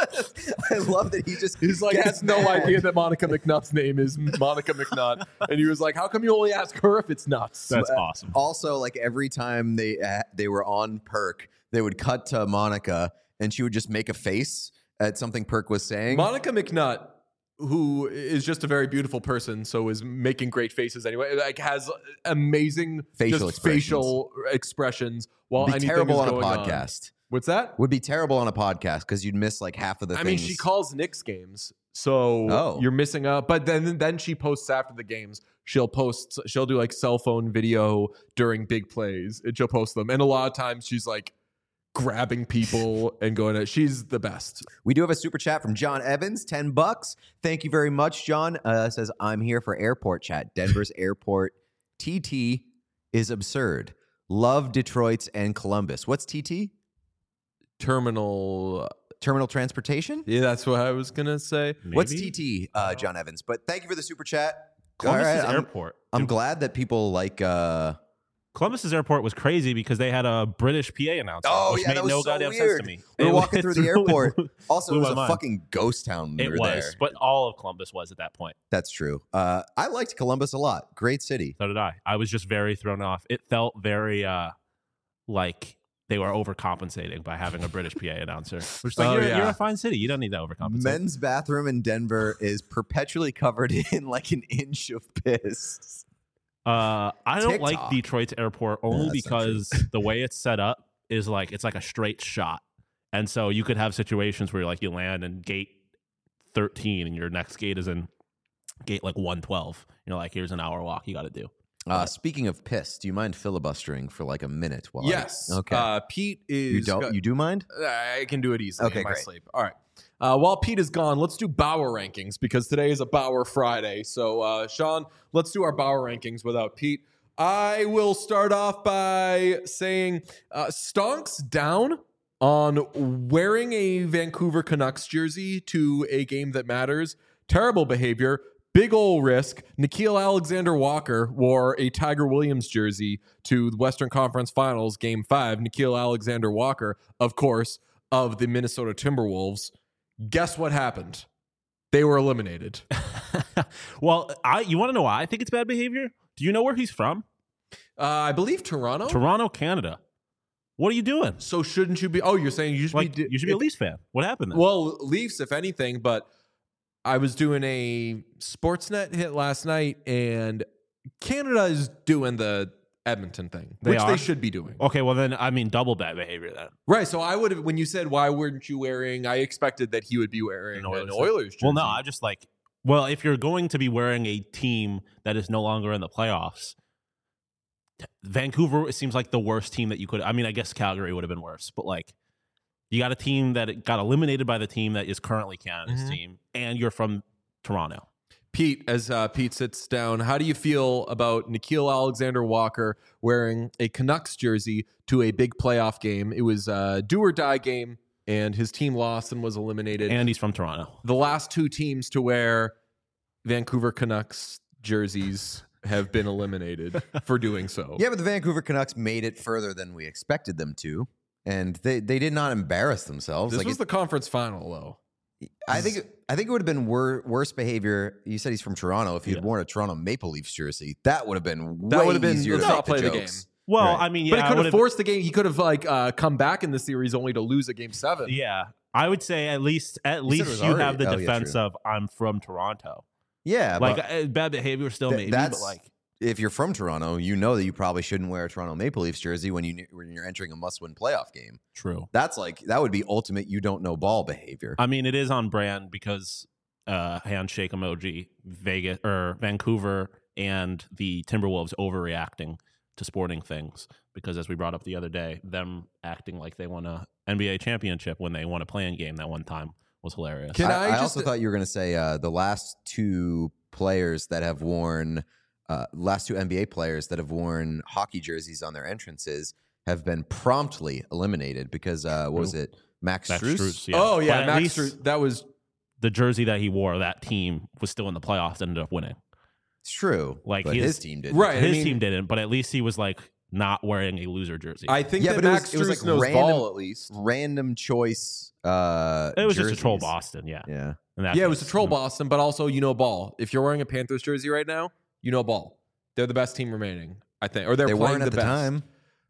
Speaker 2: I love that he just
Speaker 1: He's like,
Speaker 2: gets
Speaker 1: has no
Speaker 2: mad.
Speaker 1: idea that Monica McNutt's name is Monica McNutt. And he was like, how come you only ask her if it's nuts?
Speaker 3: That's awesome.
Speaker 2: Also, like every time they uh, they were on Perk, they would cut to Monica, and she would just make a face at something Perk was saying.
Speaker 1: Monica McNutt, who is just a very beautiful person, so is making great faces anyway, like has amazing
Speaker 2: Facial
Speaker 1: just
Speaker 2: expressions.
Speaker 1: facial expressions while
Speaker 2: Would be
Speaker 1: anything
Speaker 2: terrible
Speaker 1: is
Speaker 2: on a
Speaker 1: going on.
Speaker 2: podcast.
Speaker 1: What's that?
Speaker 2: Would be terrible on a podcast because you'd miss like half of the
Speaker 1: I
Speaker 2: things.
Speaker 1: mean, she calls Knicks games, so
Speaker 2: Oh.
Speaker 1: you're missing out. But then then she posts after the games. She'll post. She'll do like cell phone video during big plays, and she'll post them. And a lot of times she's like grabbing people and going. To, she's the best.
Speaker 2: We do have a super chat from John Evans, ten bucks. Thank you very much, John. Uh, says I'm here for airport chat. Denver's airport T T is absurd. Love Detroit's and Columbus. What's T T?
Speaker 1: Terminal.
Speaker 2: Terminal transportation.
Speaker 1: Yeah, that's what I was gonna say.
Speaker 2: What's
Speaker 3: Maybe?
Speaker 2: T T, uh, John Evans? But thank you for the super chat.
Speaker 3: Columbus's
Speaker 2: All right, I'm-
Speaker 3: airport.
Speaker 2: I'm
Speaker 3: Dude,
Speaker 2: glad that people like. Uh,
Speaker 3: Columbus's airport was crazy because they had a British P A announcer.
Speaker 2: Oh,
Speaker 3: which
Speaker 2: yeah,
Speaker 3: made
Speaker 2: that was
Speaker 3: no
Speaker 2: so
Speaker 3: goddamn
Speaker 2: weird.
Speaker 3: sense to me.
Speaker 2: we were
Speaker 3: It-
Speaker 2: walking
Speaker 3: it
Speaker 2: through the
Speaker 3: really
Speaker 2: airport.
Speaker 3: blew
Speaker 2: Also, it
Speaker 3: my
Speaker 2: was a
Speaker 3: mind.
Speaker 2: fucking ghost town. when
Speaker 3: It
Speaker 2: we were
Speaker 3: was,
Speaker 2: there.
Speaker 3: but all of Columbus was at that point.
Speaker 2: That's true. Uh, I liked Columbus a lot. Great city.
Speaker 3: So did I. I was just very thrown off. It felt very uh, like they were overcompensating by having a British P A announcer. Which is like,
Speaker 1: Oh,
Speaker 3: you're,
Speaker 1: yeah.
Speaker 3: you're a fine city. You don't need to overcompensate.
Speaker 2: Men's bathroom in Denver is perpetually covered in like an inch of piss.
Speaker 3: Uh, I don't like
Speaker 2: TikTok.
Speaker 3: Detroit's airport only
Speaker 2: that's not true.
Speaker 3: because the way it's set up is like it's like a straight shot, and so you could have situations where like you land in gate thirteen and your next gate is in gate like one twelve. You're like, here's an hour walk you got to do.
Speaker 2: Uh, speaking of piss, do you mind filibustering for like a minute? While I-
Speaker 1: Yes.
Speaker 2: okay.
Speaker 1: Uh, Pete is.
Speaker 2: you don't. You do mind?
Speaker 1: I can do it easily
Speaker 2: Okay,
Speaker 1: in my
Speaker 2: great.
Speaker 1: sleep. All right. Uh, while Pete is gone, let's do Bauer rankings because today is a Bauer Friday. So, uh, Sean, let's do our Bauer rankings without Pete. I will start off by saying uh, Stonks down on wearing a Vancouver Canucks jersey to a game that matters. Terrible behavior. Big ol' risk. Nikhil Alexander Walker wore a Tiger Williams jersey to the Western Conference Finals, Game five. Nikhil Alexander Walker, of course, of the Minnesota Timberwolves. Guess what happened? They were eliminated.
Speaker 3: Well, I you want to know why I think it's bad behavior? Do you know where he's from?
Speaker 1: Uh, I believe Toronto.
Speaker 3: Toronto, Canada. What are you doing?
Speaker 1: So shouldn't you be? Oh, you're saying you should
Speaker 3: Like,
Speaker 1: be?
Speaker 3: you should be a Leafs fan. What happened then?
Speaker 1: Well, Leafs, if anything, but I was doing a Sportsnet hit last night, and Canada is doing the Edmonton thing,
Speaker 3: They
Speaker 1: which
Speaker 3: are?
Speaker 1: they should be doing.
Speaker 3: Okay, well then I mean double bad behavior then.
Speaker 1: Right. So I would have, when you said why weren't you wearing, I expected that he would be wearing
Speaker 3: An
Speaker 1: an
Speaker 3: Oilers
Speaker 1: Oilers,
Speaker 3: jersey.
Speaker 1: jersey.
Speaker 3: Well, no, I just like well, if you're going to be wearing a team that is no longer in the playoffs, Vancouver it seems like the worst team that you could. I mean, I guess Calgary would have been worse, but like you got a team that got eliminated by the team that is currently Canada's
Speaker 1: Mhm.
Speaker 3: team, and you're from Toronto.
Speaker 1: Pete, as uh, Pete sits down, how do you feel about Nikhil Alexander Walker wearing a Canucks jersey to a big playoff game? It was a do or die game, and his team lost and was eliminated.
Speaker 3: And he's from Toronto.
Speaker 1: The last two teams to wear Vancouver Canucks jerseys have been eliminated for doing so.
Speaker 2: Yeah, but the Vancouver Canucks made it further than we expected them to, and they, they did not embarrass themselves.
Speaker 1: This
Speaker 2: like
Speaker 1: was
Speaker 2: it,
Speaker 1: the conference final, though.
Speaker 2: I think I think it would have been wor- worse behavior. You said he's from Toronto. If he had
Speaker 3: Yeah.
Speaker 2: worn a Toronto Maple Leafs jersey, that would have been
Speaker 1: That
Speaker 2: way
Speaker 1: would have been-
Speaker 2: easier
Speaker 1: let's
Speaker 2: to
Speaker 1: not
Speaker 2: make
Speaker 1: play the
Speaker 2: jokes.
Speaker 3: Well,
Speaker 2: Right.
Speaker 3: I mean, yeah,
Speaker 1: but it
Speaker 3: I
Speaker 1: could have
Speaker 3: would've-
Speaker 1: forced the game. He could have like uh, come back in the series only to lose at game seven.
Speaker 3: Yeah, I would say at least at
Speaker 2: said it
Speaker 3: least
Speaker 2: was
Speaker 3: you
Speaker 2: already-
Speaker 3: have the
Speaker 2: oh, yeah,
Speaker 3: defense
Speaker 2: true.
Speaker 3: of I'm from Toronto.
Speaker 2: Yeah,
Speaker 3: Like
Speaker 2: but
Speaker 3: uh, bad behavior still
Speaker 2: th-
Speaker 3: maybe,
Speaker 2: that's
Speaker 3: but like
Speaker 2: if you're from Toronto, you know that you probably shouldn't wear a Toronto Maple Leafs jersey when you when you're entering a must-win playoff game.
Speaker 3: true.
Speaker 2: That's like that would be ultimate you don't know ball behavior.
Speaker 3: I mean, it is on brand because uh, handshake emoji, Vegas or Vancouver and the Timberwolves overreacting to sporting things because, as we brought up the other day, them acting like they won a N B A championship when they won a play-in game that one time was hilarious.
Speaker 1: Can
Speaker 2: I,
Speaker 1: I
Speaker 2: I
Speaker 1: just-
Speaker 2: also thought you were going to say uh, the last two players that have worn, uh, last two N B A players that have worn hockey jerseys on their entrances have been promptly eliminated because uh, what was it, Max,
Speaker 3: Max
Speaker 2: Strus?
Speaker 3: Strus, yeah.
Speaker 1: Oh
Speaker 3: But
Speaker 1: yeah,
Speaker 3: at
Speaker 1: Max.
Speaker 3: least
Speaker 1: Stru- that was
Speaker 3: the jersey that he wore, that team was still in the playoffs, ended up winning.
Speaker 2: It's true,
Speaker 3: Like,
Speaker 2: but
Speaker 3: he
Speaker 2: his
Speaker 3: is-
Speaker 2: team did
Speaker 1: right. I
Speaker 3: His
Speaker 1: mean,
Speaker 3: team didn't, but at least he was like not wearing a loser jersey.
Speaker 1: I think
Speaker 2: Yeah,
Speaker 1: that
Speaker 2: but it was-
Speaker 1: Max
Speaker 2: it was,
Speaker 1: Strus
Speaker 2: like,
Speaker 1: knows
Speaker 2: random-
Speaker 1: ball at least.
Speaker 2: Random choice. Uh,
Speaker 3: it was just a troll
Speaker 2: jerseys.
Speaker 3: Boston, yeah.
Speaker 2: Yeah,
Speaker 3: In that
Speaker 1: Yeah, it was a
Speaker 3: case.
Speaker 1: troll Boston, but also you know ball. If you're wearing a Panthers jersey right now, you know ball. They're the best team remaining, I think, or they're
Speaker 2: they
Speaker 1: playing
Speaker 2: weren't at the
Speaker 1: best.
Speaker 2: time.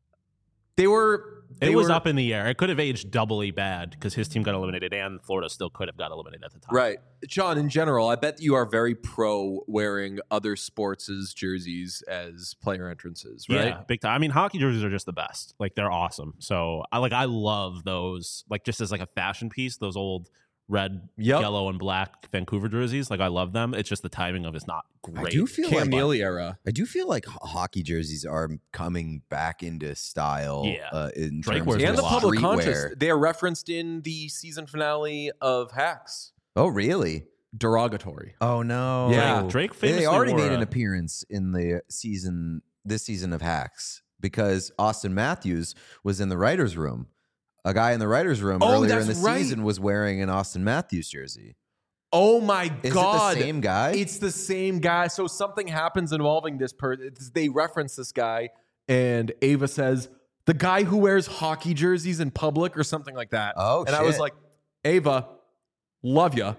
Speaker 1: They were. They
Speaker 3: It was
Speaker 1: were,
Speaker 3: up in the air. It could have aged doubly bad because his team got eliminated and Florida still could have got eliminated at the time.
Speaker 1: Right. John, in general, I bet you are very pro wearing other sports' jerseys as player entrances, right?
Speaker 3: Yeah, big time. I mean, hockey jerseys are just the best. Like they're awesome. So I like I love those. Like just as like a fashion piece, those old red,
Speaker 1: Yep.
Speaker 3: yellow, and black Vancouver jerseys. Like I love them. It's just the timing of it's not great.
Speaker 2: I do feel
Speaker 1: Cam
Speaker 2: like
Speaker 1: Neely era.
Speaker 2: I do feel like ho- hockey jerseys are coming back into style.
Speaker 3: Yeah.
Speaker 2: uh, in
Speaker 3: Drake
Speaker 2: terms
Speaker 3: wears
Speaker 2: of
Speaker 1: And the
Speaker 3: a lot.
Speaker 1: public
Speaker 2: streetwear.
Speaker 1: conscious. They are referenced in the season finale of Hacks.
Speaker 2: Oh, really?
Speaker 1: Derogatory.
Speaker 2: Oh no!
Speaker 1: Yeah.
Speaker 3: Drake
Speaker 2: They-
Speaker 3: famously
Speaker 2: they already
Speaker 3: wore
Speaker 2: made
Speaker 3: a-
Speaker 2: an appearance in the season, this season of Hacks, because Austin Matthews was in the writers' room. A guy in the writers' room
Speaker 1: Oh,
Speaker 2: earlier in
Speaker 1: that's
Speaker 2: the
Speaker 1: right.
Speaker 2: season was wearing an Austin Matthews jersey.
Speaker 1: Oh my
Speaker 2: Is
Speaker 1: God.
Speaker 2: it the same guy?
Speaker 1: It's the same guy. So something happens involving this person. They reference this guy, and Ava says, the guy who wears hockey jerseys in public or something like that.
Speaker 2: Oh,
Speaker 1: and I was
Speaker 2: shit.
Speaker 1: like, Ava, love ya.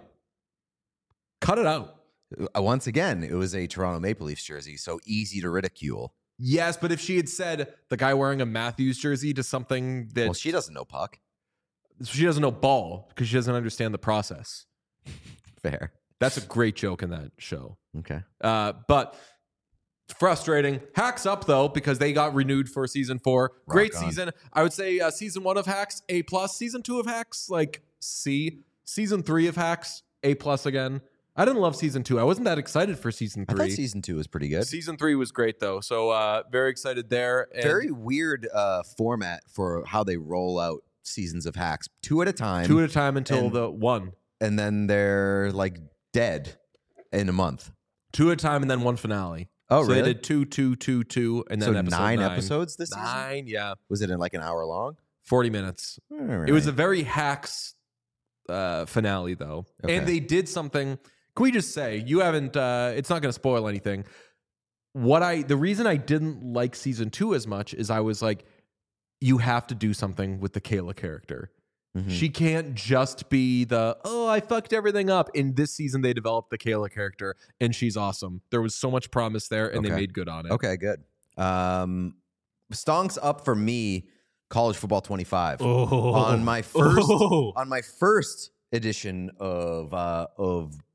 Speaker 1: Cut it out.
Speaker 2: Uh, Once again, it was a Toronto Maple Leafs jersey, so easy to ridicule.
Speaker 1: Yes, but if she had said the guy wearing a Matthews jersey to something that
Speaker 2: Well, she doesn't know puck.
Speaker 1: she doesn't know ball because she doesn't understand the process.
Speaker 2: Fair.
Speaker 1: That's a great joke in that show.
Speaker 2: Okay.
Speaker 1: Uh, but frustrating. Hacks up though because they got renewed for season four. Great
Speaker 2: on.
Speaker 1: season. I would say uh, season one of Hacks A plus. Season two of Hacks like C. Season three of Hacks A plus again. I didn't love season two. I wasn't that excited for season
Speaker 2: I
Speaker 1: three.
Speaker 2: thought season two was pretty good.
Speaker 1: Season three was great though, so uh, very excited there. And
Speaker 2: Very weird uh, format for how they roll out seasons of Hacks, two at a time,
Speaker 1: two at a time until
Speaker 2: and-
Speaker 1: the one.
Speaker 2: and then they're like dead in a month.
Speaker 1: Two at a time and then one finale.
Speaker 2: Oh,
Speaker 1: so
Speaker 2: really?
Speaker 1: they did two, two, two, two, and then
Speaker 2: so
Speaker 1: episode
Speaker 2: nine,
Speaker 1: nine
Speaker 2: episodes this season.
Speaker 1: Nine, yeah,
Speaker 2: Was it in like an hour long?
Speaker 1: forty minutes.
Speaker 2: All
Speaker 1: It was a
Speaker 2: right.
Speaker 1: very Hacks uh, finale, though.
Speaker 2: Okay.
Speaker 1: And they did something. Can we just say, you haven't, uh, it's not going to spoil anything. What I, the reason I didn't like season two as much is I was like, you have to do something with the Kayla character.
Speaker 2: Mhm.
Speaker 1: She can't just be the, oh, I fucked everything up. In this season, they developed the Kayla character, and she's awesome. There was so much promise there, and they
Speaker 2: Okay.
Speaker 1: made good on it.
Speaker 2: Okay, good. Um, Stonks up for me. College football twenty-five
Speaker 3: Oh.
Speaker 2: on my first
Speaker 3: Oh.
Speaker 2: on my first edition of uh, of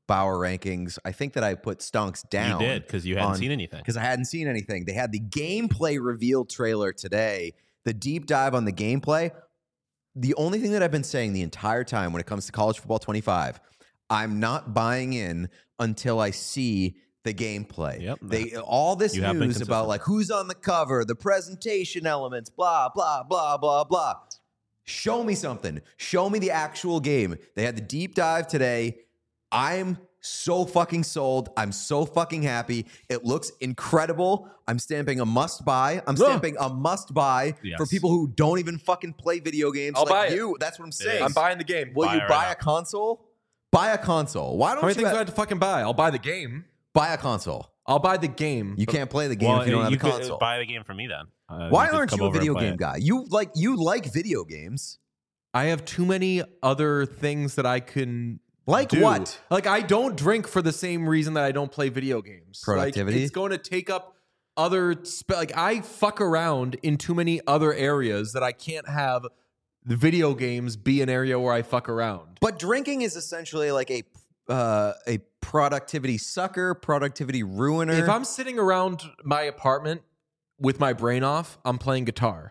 Speaker 2: Bauer rankings. I think that I put Stonks down.
Speaker 3: You did because you hadn't
Speaker 2: on-
Speaker 3: seen anything.
Speaker 2: Because I hadn't seen anything. They had the gameplay reveal trailer today. The deep dive on the gameplay. The only thing that I've been saying the entire time when it comes to College Football twenty-five, I'm not buying in until I see the gameplay.
Speaker 3: Yep.
Speaker 2: They all this
Speaker 3: You have been
Speaker 2: news
Speaker 3: consistent.
Speaker 2: about like who's on the cover, the presentation elements, blah blah blah blah blah. Show me something. Show me the actual game. They had the deep dive today. I'm so fucking sold. I'm so fucking happy. It looks incredible. I'm stamping a must buy. I'm stamping a must buy
Speaker 3: Yes.
Speaker 2: for people who don't even fucking play video games
Speaker 1: I'll
Speaker 2: like
Speaker 1: buy it.
Speaker 2: you. That's what I'm saying.
Speaker 1: I'm buying the game.
Speaker 2: Will
Speaker 3: Buy
Speaker 2: you
Speaker 3: it right
Speaker 2: buy
Speaker 3: now.
Speaker 2: a console? Buy a console. Why don't
Speaker 1: How many
Speaker 2: you
Speaker 1: things do I
Speaker 2: ha-
Speaker 1: have to fucking buy? I'll buy the game.
Speaker 2: buy a console?
Speaker 1: I'll buy the game.
Speaker 2: You can't play the game
Speaker 3: Well,
Speaker 2: if you don't have a
Speaker 3: could
Speaker 2: console.
Speaker 3: buy the game for me then. Uh,
Speaker 2: Why
Speaker 3: could
Speaker 2: aren't
Speaker 3: come
Speaker 2: you a
Speaker 3: over and
Speaker 2: video
Speaker 3: play
Speaker 2: game
Speaker 3: it.
Speaker 2: guy? You like you like video games.
Speaker 1: I have too many other things that I can
Speaker 2: Like
Speaker 1: do.
Speaker 2: what?
Speaker 1: Like I don't drink for the same reason that I don't play video games. Like,
Speaker 2: Productivity?
Speaker 1: it's going to take up other spe- like I fuck around in too many other areas that I can't have the video games be an area where I fuck around.
Speaker 2: But drinking is essentially like a uh, a productivity sucker, productivity ruiner.
Speaker 1: If I'm sitting around my apartment with my brain off, I'm playing guitar.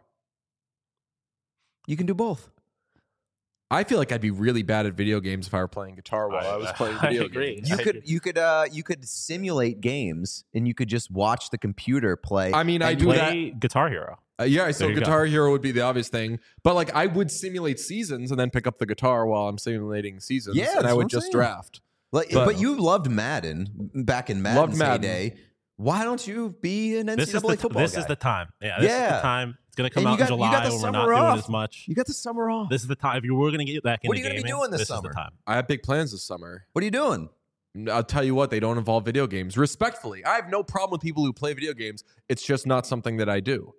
Speaker 2: you can do both.
Speaker 1: I feel like I'd be really bad at video games if I were playing guitar while I, was playing
Speaker 3: I
Speaker 1: video
Speaker 3: agree.
Speaker 1: games.
Speaker 2: You
Speaker 3: I
Speaker 2: could
Speaker 3: agree.
Speaker 2: you could uh you could simulate games and you could just watch the computer play.
Speaker 1: I mean, I
Speaker 2: and
Speaker 1: do
Speaker 2: you-
Speaker 1: that.
Speaker 3: Play Guitar Hero.
Speaker 1: Uh, yeah, so
Speaker 3: There you go.
Speaker 1: Guitar Hero would be the obvious thing, but like I would simulate seasons and then pick up the guitar while I'm simulating seasons.
Speaker 2: Yeah,
Speaker 1: and
Speaker 2: that's
Speaker 1: I
Speaker 2: what
Speaker 1: would
Speaker 2: I'm
Speaker 1: just
Speaker 2: saying.
Speaker 1: draft.
Speaker 2: Like,
Speaker 1: But-
Speaker 2: but, you loved Madden back in Madden's
Speaker 1: Loved Madden.
Speaker 2: heyday. Why don't you be an N
Speaker 3: This
Speaker 2: C double A
Speaker 3: is the
Speaker 2: football
Speaker 3: this
Speaker 2: guy?
Speaker 3: is the time. Yeah, this is
Speaker 2: Yeah.
Speaker 3: the time. It's gonna come
Speaker 2: And you
Speaker 3: out
Speaker 2: got-
Speaker 3: in
Speaker 2: you got
Speaker 3: July
Speaker 2: the
Speaker 3: when we're not
Speaker 2: summer
Speaker 3: doing
Speaker 2: off.
Speaker 3: as much.
Speaker 2: You got the summer off.
Speaker 3: This is the time. If you were gonna get back into
Speaker 2: What are you gonna be
Speaker 3: gaming,
Speaker 2: doing this
Speaker 3: this
Speaker 2: summer?
Speaker 3: is the time.
Speaker 1: I have big plans this summer.
Speaker 2: What are you doing?
Speaker 1: I'll tell you what, they don't involve video games. Respectfully, I have no problem with people who play video games. It's just not something that I do.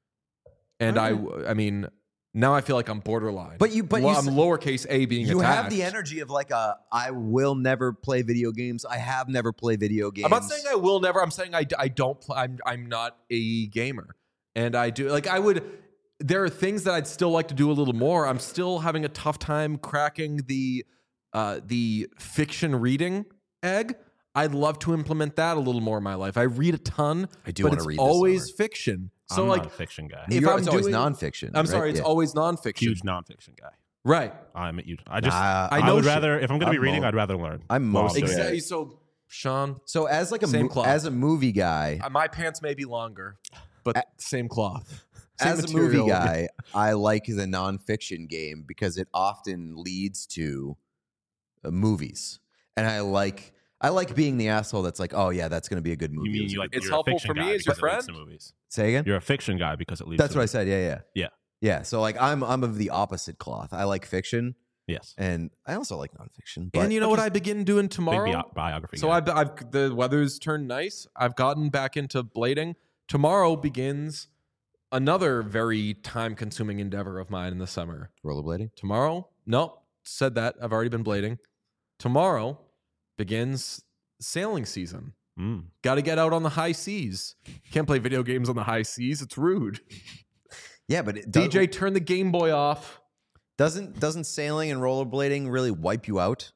Speaker 1: And I, I mean, now I feel like I'm borderline.
Speaker 2: But you- but
Speaker 1: well,
Speaker 2: you
Speaker 1: I'm
Speaker 2: s-
Speaker 1: lowercase a being
Speaker 2: You
Speaker 1: attacked.
Speaker 2: have the energy of like a I will never play video games. I have never played video games.
Speaker 1: I'm not saying I will never. I'm saying I, I don't. Pl- I'm I'm not a gamer, and I do like I would. There are things that I'd still like to do a little more. I'm still having a tough time cracking the uh, the fiction reading egg. I'd love to implement that a little more in my life. I read a ton.
Speaker 2: I do
Speaker 1: but
Speaker 2: wanna
Speaker 1: it's
Speaker 2: read this
Speaker 1: always
Speaker 2: summer.
Speaker 1: fiction. So
Speaker 3: I'm
Speaker 1: like,
Speaker 3: not a fiction guy.
Speaker 1: if
Speaker 2: You're-
Speaker 1: I'm
Speaker 2: it's always
Speaker 1: doing-
Speaker 2: nonfiction.
Speaker 1: I'm
Speaker 2: right?
Speaker 1: sorry, it's
Speaker 2: Yeah.
Speaker 1: always nonfiction.
Speaker 3: Huge nonfiction guy.
Speaker 1: Right.
Speaker 3: I'm at you. I just
Speaker 2: Nah,
Speaker 3: I,
Speaker 1: I know
Speaker 3: would
Speaker 1: shit.
Speaker 3: rather if I'm gonna be
Speaker 2: I'm
Speaker 3: reading,
Speaker 2: mo-
Speaker 3: I'd rather learn.
Speaker 2: I'm
Speaker 3: while
Speaker 2: most
Speaker 3: doing it.
Speaker 1: Exactly. So, Sean,
Speaker 2: So as like a
Speaker 1: Same
Speaker 2: mo-
Speaker 1: cloth.
Speaker 2: as a movie guy,
Speaker 1: uh, my pants may be longer, but same cloth. Same
Speaker 2: as a
Speaker 1: material.
Speaker 2: movie guy, I like the nonfiction game because it often leads to uh, movies, and I like I like being the asshole that's like, oh yeah, that's going to be a good movie.
Speaker 3: You
Speaker 2: It
Speaker 3: mean
Speaker 2: was a
Speaker 3: you
Speaker 2: good
Speaker 3: like
Speaker 2: movie.
Speaker 1: It's
Speaker 3: you're a
Speaker 1: helpful
Speaker 3: fiction
Speaker 1: for me
Speaker 3: guy
Speaker 1: as your
Speaker 3: because it leads
Speaker 1: friend?
Speaker 3: to movies.
Speaker 2: Say again?
Speaker 3: You're a fiction guy because it leads.
Speaker 2: That's
Speaker 3: to
Speaker 2: what I
Speaker 3: movies.
Speaker 2: said. Yeah, yeah,
Speaker 3: Yeah.
Speaker 2: yeah. So like, I'm I'm of the opposite cloth. I like fiction,
Speaker 3: Yes.
Speaker 2: and I also like nonfiction. But
Speaker 1: And you know what I begin doing
Speaker 3: Big
Speaker 1: tomorrow?
Speaker 3: bio- biography.
Speaker 1: So
Speaker 3: guy.
Speaker 1: I've, I've the weather's turned nice. I've gotten back into blading. Tomorrow begins another very time-consuming endeavor of mine in the summer.
Speaker 2: rollerblading.
Speaker 1: Tomorrow, no, said that. I've already been blading. Tomorrow begins sailing season.
Speaker 3: Mm.
Speaker 1: Got to get out on the high seas. Can't play video games on the high seas. It's rude.
Speaker 2: Yeah, but it
Speaker 1: D
Speaker 2: does,
Speaker 1: J, turn the Game Boy off.
Speaker 2: doesn't doesn't sailing and rollerblading really wipe you out?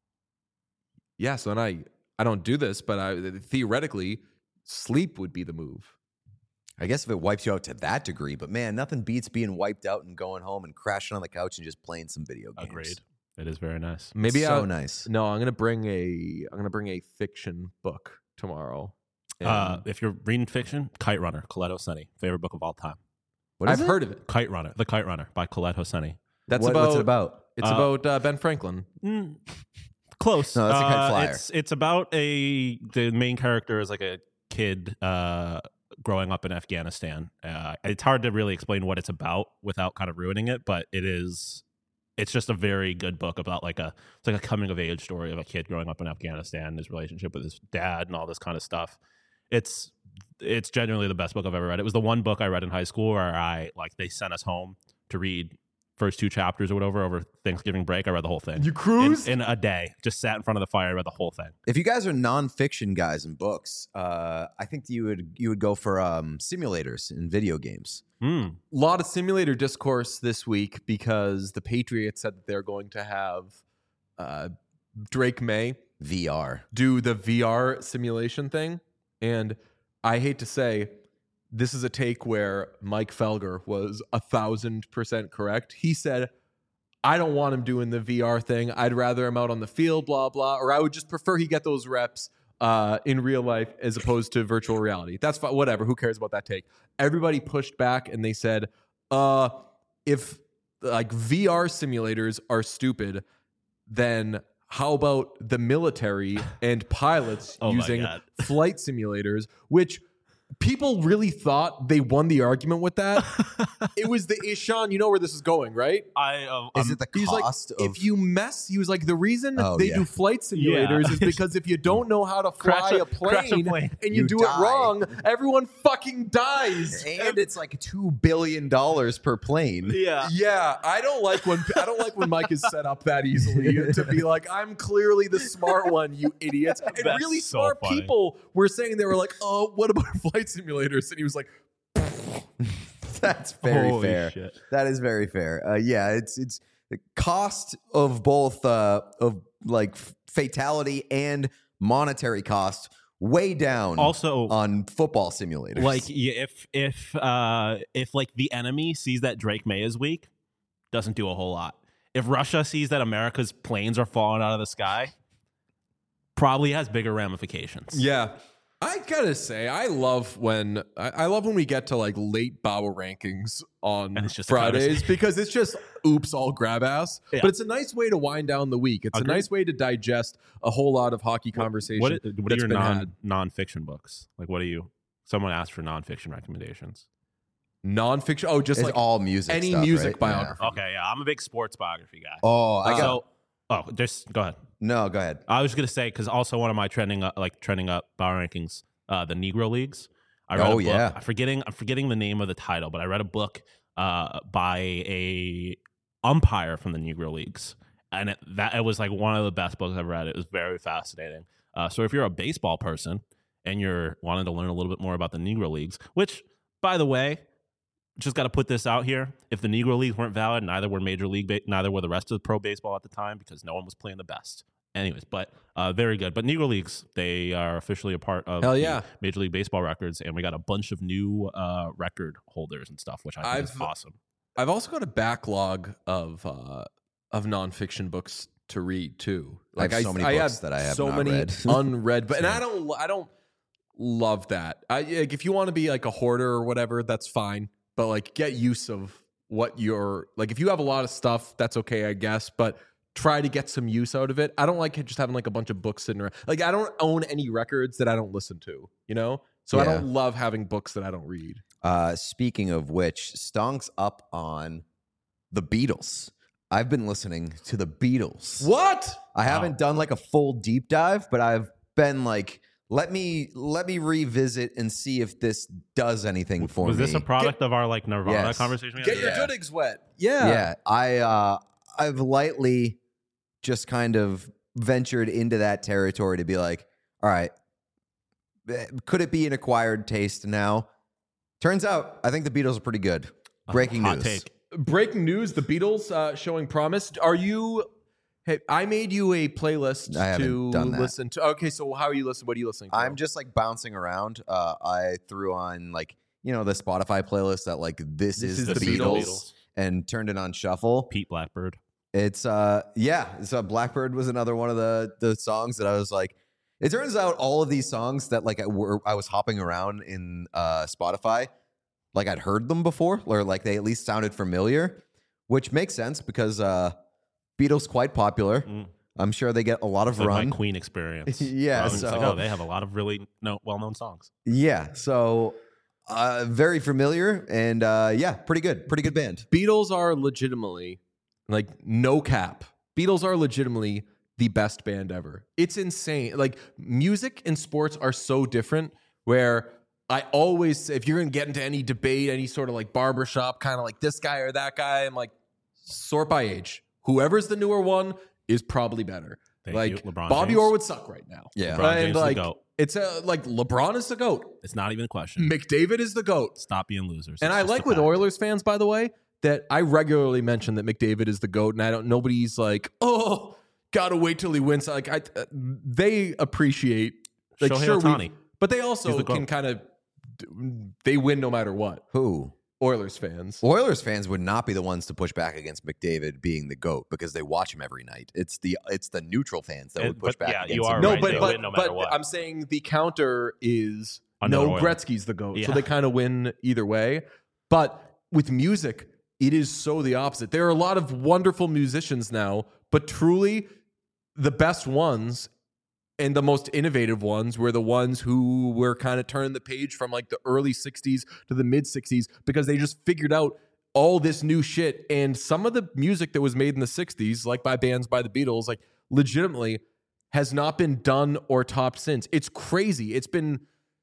Speaker 1: Yeah, so then I I don't do this, but I theoretically sleep would be the move.
Speaker 2: I guess if it wipes you out to that degree, but man, nothing beats being wiped out and going home and crashing on the couch and just playing some video games.
Speaker 3: Agreed. It is very nice.
Speaker 1: Maybe
Speaker 2: so
Speaker 1: I'll,
Speaker 2: nice.
Speaker 1: No, I'm gonna bring a I'm gonna bring a fiction book tomorrow.
Speaker 3: Uh,
Speaker 1: And
Speaker 3: if you're reading fiction, Kite Runner, Colette Hosseini, favorite book of all time.
Speaker 2: What is
Speaker 1: I've
Speaker 2: it?
Speaker 1: heard of it.
Speaker 3: Kite Runner, The Kite Runner by Colette Hosseini.
Speaker 1: That's
Speaker 2: What-
Speaker 1: about
Speaker 2: what's it about?
Speaker 1: It's
Speaker 3: Uh,
Speaker 1: about uh, Ben Franklin.
Speaker 3: Mm, close.
Speaker 2: No, that's a kite
Speaker 3: Uh,
Speaker 2: flyer.
Speaker 3: It's it's about a the main character is like a kid uh, growing up in Afghanistan. Uh, it's hard to really explain what it's about without kind of ruining it, but it is. It's just a very good book about like a it's like a coming of age story of a kid growing up in Afghanistan, his relationship with his dad, and all this kind of stuff. It's it's genuinely the best book I've ever read. It was the one book I read in high school where I like they sent us home to read first two chapters or whatever over Thanksgiving break. I read the whole thing.
Speaker 1: You
Speaker 3: in,
Speaker 1: cruise?
Speaker 3: in a day. Just sat in front of the fire, read the whole thing.
Speaker 2: If you guys are nonfiction guys in books, uh, I think you would you would go for um, simulators in video games.
Speaker 3: Mm.
Speaker 1: A lot of simulator discourse this week because the Patriots said that they're going to have uh, Drake May
Speaker 2: V R.
Speaker 1: do the V R simulation thing. And I hate to say, this is a take where Mike Felger was a thousand percent correct. He said, I don't want him doing the V R thing. I'd rather him out on the field, blah, blah. Or I would just prefer he get those reps uh, in real life as opposed to virtual reality. That's fine. Whatever. Who cares about that take? Everybody pushed back and they said, uh, if like V R simulators are stupid, then how about the military and pilots
Speaker 3: Oh my
Speaker 1: using
Speaker 3: God.
Speaker 1: flight simulators, which people really thought they won the argument with that. It was the Sean, you know where this is going, right?
Speaker 3: I um,
Speaker 2: Is
Speaker 3: um,
Speaker 2: it the
Speaker 1: He's like,
Speaker 2: cost of
Speaker 1: if you mess, he was like, the reason
Speaker 2: Oh,
Speaker 1: they
Speaker 2: yeah.
Speaker 1: do flight simulators is because if you don't know how to fly
Speaker 3: Crash a-
Speaker 1: a,
Speaker 3: crash a
Speaker 1: plane
Speaker 3: plane.
Speaker 1: and you,
Speaker 2: You
Speaker 1: do
Speaker 2: die.
Speaker 1: it wrong, everyone fucking dies.
Speaker 2: and it's like two billion dollars per plane.
Speaker 3: yeah.
Speaker 1: Yeah, I don't like when I don't like when Mike is set up that easily to be like, I'm clearly the smart one, you idiots. And
Speaker 3: That's
Speaker 1: really
Speaker 3: so
Speaker 1: smart
Speaker 3: funny.
Speaker 1: people were saying, they were like, oh, what about flight simulators? And he was like,
Speaker 2: That's very
Speaker 3: Holy
Speaker 2: fair.
Speaker 3: shit.
Speaker 2: That is very fair. Uh, yeah, it's it's the cost of both uh, of like f- fatality and monetary cost way down.
Speaker 3: Also,
Speaker 2: on football simulators,
Speaker 3: like yeah, if if uh if like the enemy sees that Drake May is weak, doesn't do a whole lot. If Russia sees that America's planes are falling out of the sky, probably has bigger ramifications.
Speaker 1: yeah. I gotta say, I love when I, I love when we get to like late Bauer rankings on
Speaker 3: And it's just a
Speaker 1: Fridays
Speaker 3: conversation.
Speaker 1: because it's just oops, all grab ass.
Speaker 3: Yeah.
Speaker 1: But it's a nice way to wind down the week. It's
Speaker 3: Agreed.
Speaker 1: a nice way to digest a whole lot of hockey conversation.
Speaker 3: What, what are
Speaker 1: that's
Speaker 3: your
Speaker 1: been
Speaker 3: non
Speaker 1: had.
Speaker 3: nonfiction books? Like, what are you? Someone asked for nonfiction recommendations.
Speaker 1: Nonfiction? Oh, just
Speaker 2: it's
Speaker 1: like
Speaker 2: all music.
Speaker 1: any
Speaker 2: stuff,
Speaker 1: music
Speaker 2: right?
Speaker 1: biography.
Speaker 2: Yeah.
Speaker 3: Okay, yeah, I'm a big sports biography guy.
Speaker 2: Oh, I got
Speaker 3: so, oh, just go ahead.
Speaker 2: no. Go ahead.
Speaker 3: I was gonna say because also one of my trending up, like trending up power rankings, uh, the Negro Leagues. I read
Speaker 2: Oh,
Speaker 3: a book.
Speaker 2: yeah.
Speaker 3: I'm forgetting I'm forgetting the name of the title, but I read a book uh, by a umpire from the Negro Leagues, and it, that it was like one of the best books I've read. It was very fascinating. Uh, so if you're a baseball person and you're wanting to learn a little bit more about the Negro Leagues, which by the way, just got to put this out here: if the Negro Leagues weren't valid, neither were Major League, ba- neither were the rest of the pro baseball at the time because no one was playing the best. Anyways, but uh, very good. But Negro Leagues, they are officially a part of
Speaker 1: Hell
Speaker 3: the
Speaker 1: yeah.
Speaker 3: Major League Baseball records, and we got a bunch of new uh, record holders and stuff, which I think is
Speaker 1: I've-
Speaker 3: awesome.
Speaker 1: I've also got a backlog of uh, of nonfiction books to read too.
Speaker 2: I have so many
Speaker 1: I
Speaker 2: books
Speaker 1: have
Speaker 2: that I have
Speaker 1: so
Speaker 2: not
Speaker 1: many
Speaker 2: read.
Speaker 1: unread, but and I don't I don't love that. I like, if you want to be like a hoarder or whatever, that's fine. But like get use of what you're like. If you have a lot of stuff, that's okay, I guess. But try to get some use out of it. I don't like just having like a bunch of books sitting around. Like I don't own any records that I don't listen to. You know, so I
Speaker 2: Yeah.
Speaker 1: don't love having books that I don't read.
Speaker 2: Uh, speaking of which, Stonk's up on the Beatles. I've been listening to the Beatles.
Speaker 1: What?
Speaker 2: I haven't done like a full deep dive, but I've been like, let me let me revisit and see if this does anything for
Speaker 3: Was
Speaker 2: me.
Speaker 3: this a product of our like Nirvana
Speaker 2: Yes.
Speaker 3: conversation? we
Speaker 1: Get
Speaker 3: had?
Speaker 1: your
Speaker 2: Yeah.
Speaker 1: goodigs wet. Yeah.
Speaker 2: Yeah, I uh, I've lightly just kind of ventured into that territory to be like, all right, eh, could it be an acquired taste now? Turns out, I think the Beatles are pretty good. Breaking
Speaker 3: Hot
Speaker 2: news.
Speaker 3: take.
Speaker 1: Breaking news: the Beatles uh, showing promise. Are you? Hey, I made you a playlist
Speaker 2: I haven't
Speaker 1: to
Speaker 2: done that.
Speaker 1: listen to. Okay, so how are you listening? What are you listening to?
Speaker 2: I'm just like bouncing around. Uh, I threw on like you know the Spotify playlist that like this,
Speaker 1: This
Speaker 2: is,
Speaker 1: is
Speaker 2: the,
Speaker 1: the
Speaker 2: Beatles,
Speaker 1: Beatles.
Speaker 2: and turned it on shuffle.
Speaker 3: Pete Blackbird.
Speaker 2: It's uh yeah, so Blackbird was another one of the the songs that I was like. It turns out all of these songs that like I were I was hopping around in uh Spotify, like I'd heard them before, or like they at least sounded familiar, which makes sense because uh Beatles quite popular.
Speaker 3: Mm.
Speaker 2: I'm sure they get a lot of
Speaker 3: It's like
Speaker 2: run.
Speaker 3: my Queen experience.
Speaker 2: Yeah,
Speaker 3: I was just like,
Speaker 2: so-
Speaker 3: oh, they have a lot of really no, well-known songs.
Speaker 2: Yeah, so uh very familiar and uh yeah, pretty good. Pretty good band.
Speaker 1: Beatles are legitimately, like, no cap. Beatles are legitimately the best band ever. It's insane. Like, music and sports are so different. Where I always, if you're gonna get into any debate, any sort of like barbershop, kind of like this guy or that guy, I'm like, sort by age. Whoever's the newer one is probably better.
Speaker 3: Thank
Speaker 1: like
Speaker 3: you, LeBron
Speaker 1: Bobby
Speaker 3: James.
Speaker 1: Orr would suck right now.
Speaker 2: Yeah.
Speaker 3: LeBron
Speaker 1: and
Speaker 3: James is the
Speaker 1: like
Speaker 3: GOAT.
Speaker 1: it's a, like LeBron is the GOAT.
Speaker 3: It's not even a question.
Speaker 1: McDavid is the GOAT.
Speaker 3: Stop being losers.
Speaker 1: And
Speaker 3: It's
Speaker 1: I
Speaker 3: just
Speaker 1: like
Speaker 3: a
Speaker 1: with
Speaker 3: fact.
Speaker 1: Oilers fans, by the way, that I regularly mention that McDavid is the GOAT, and I don't. Nobody's like, oh, gotta wait till he wins. Like I, uh, they appreciate like
Speaker 3: Shohei
Speaker 1: sure,
Speaker 3: Ohtani.
Speaker 1: we, but they
Speaker 3: He's
Speaker 1: also
Speaker 3: the
Speaker 1: can
Speaker 3: GOAT.
Speaker 1: kind of they win no matter what.
Speaker 2: Who?
Speaker 1: Oilers fans.
Speaker 2: Oilers fans would not be the ones to push back against McDavid being the GOAT because they watch him every night. It's the it's the neutral fans that
Speaker 3: It-
Speaker 2: would push
Speaker 3: but
Speaker 2: back
Speaker 3: yeah,
Speaker 2: against
Speaker 3: you
Speaker 2: him.
Speaker 3: are
Speaker 1: No,
Speaker 3: right.
Speaker 1: but
Speaker 3: They
Speaker 1: but,
Speaker 3: win no matter
Speaker 1: but
Speaker 3: what.
Speaker 1: I'm saying the counter is
Speaker 3: Another
Speaker 1: no,
Speaker 3: Oiler.
Speaker 1: Gretzky's the GOAT. So
Speaker 3: Yeah.
Speaker 1: they kind of win either way. But with music, it is so the opposite. There are a lot of wonderful musicians now, but truly the best ones and the most innovative ones were the ones who were kind of turning the page from like the early sixties to the mid sixties because they just figured out all this new shit. And some of the music that was made in the sixties, like by bands by the Beatles, like legitimately has not been done or topped since. It's crazy. It's been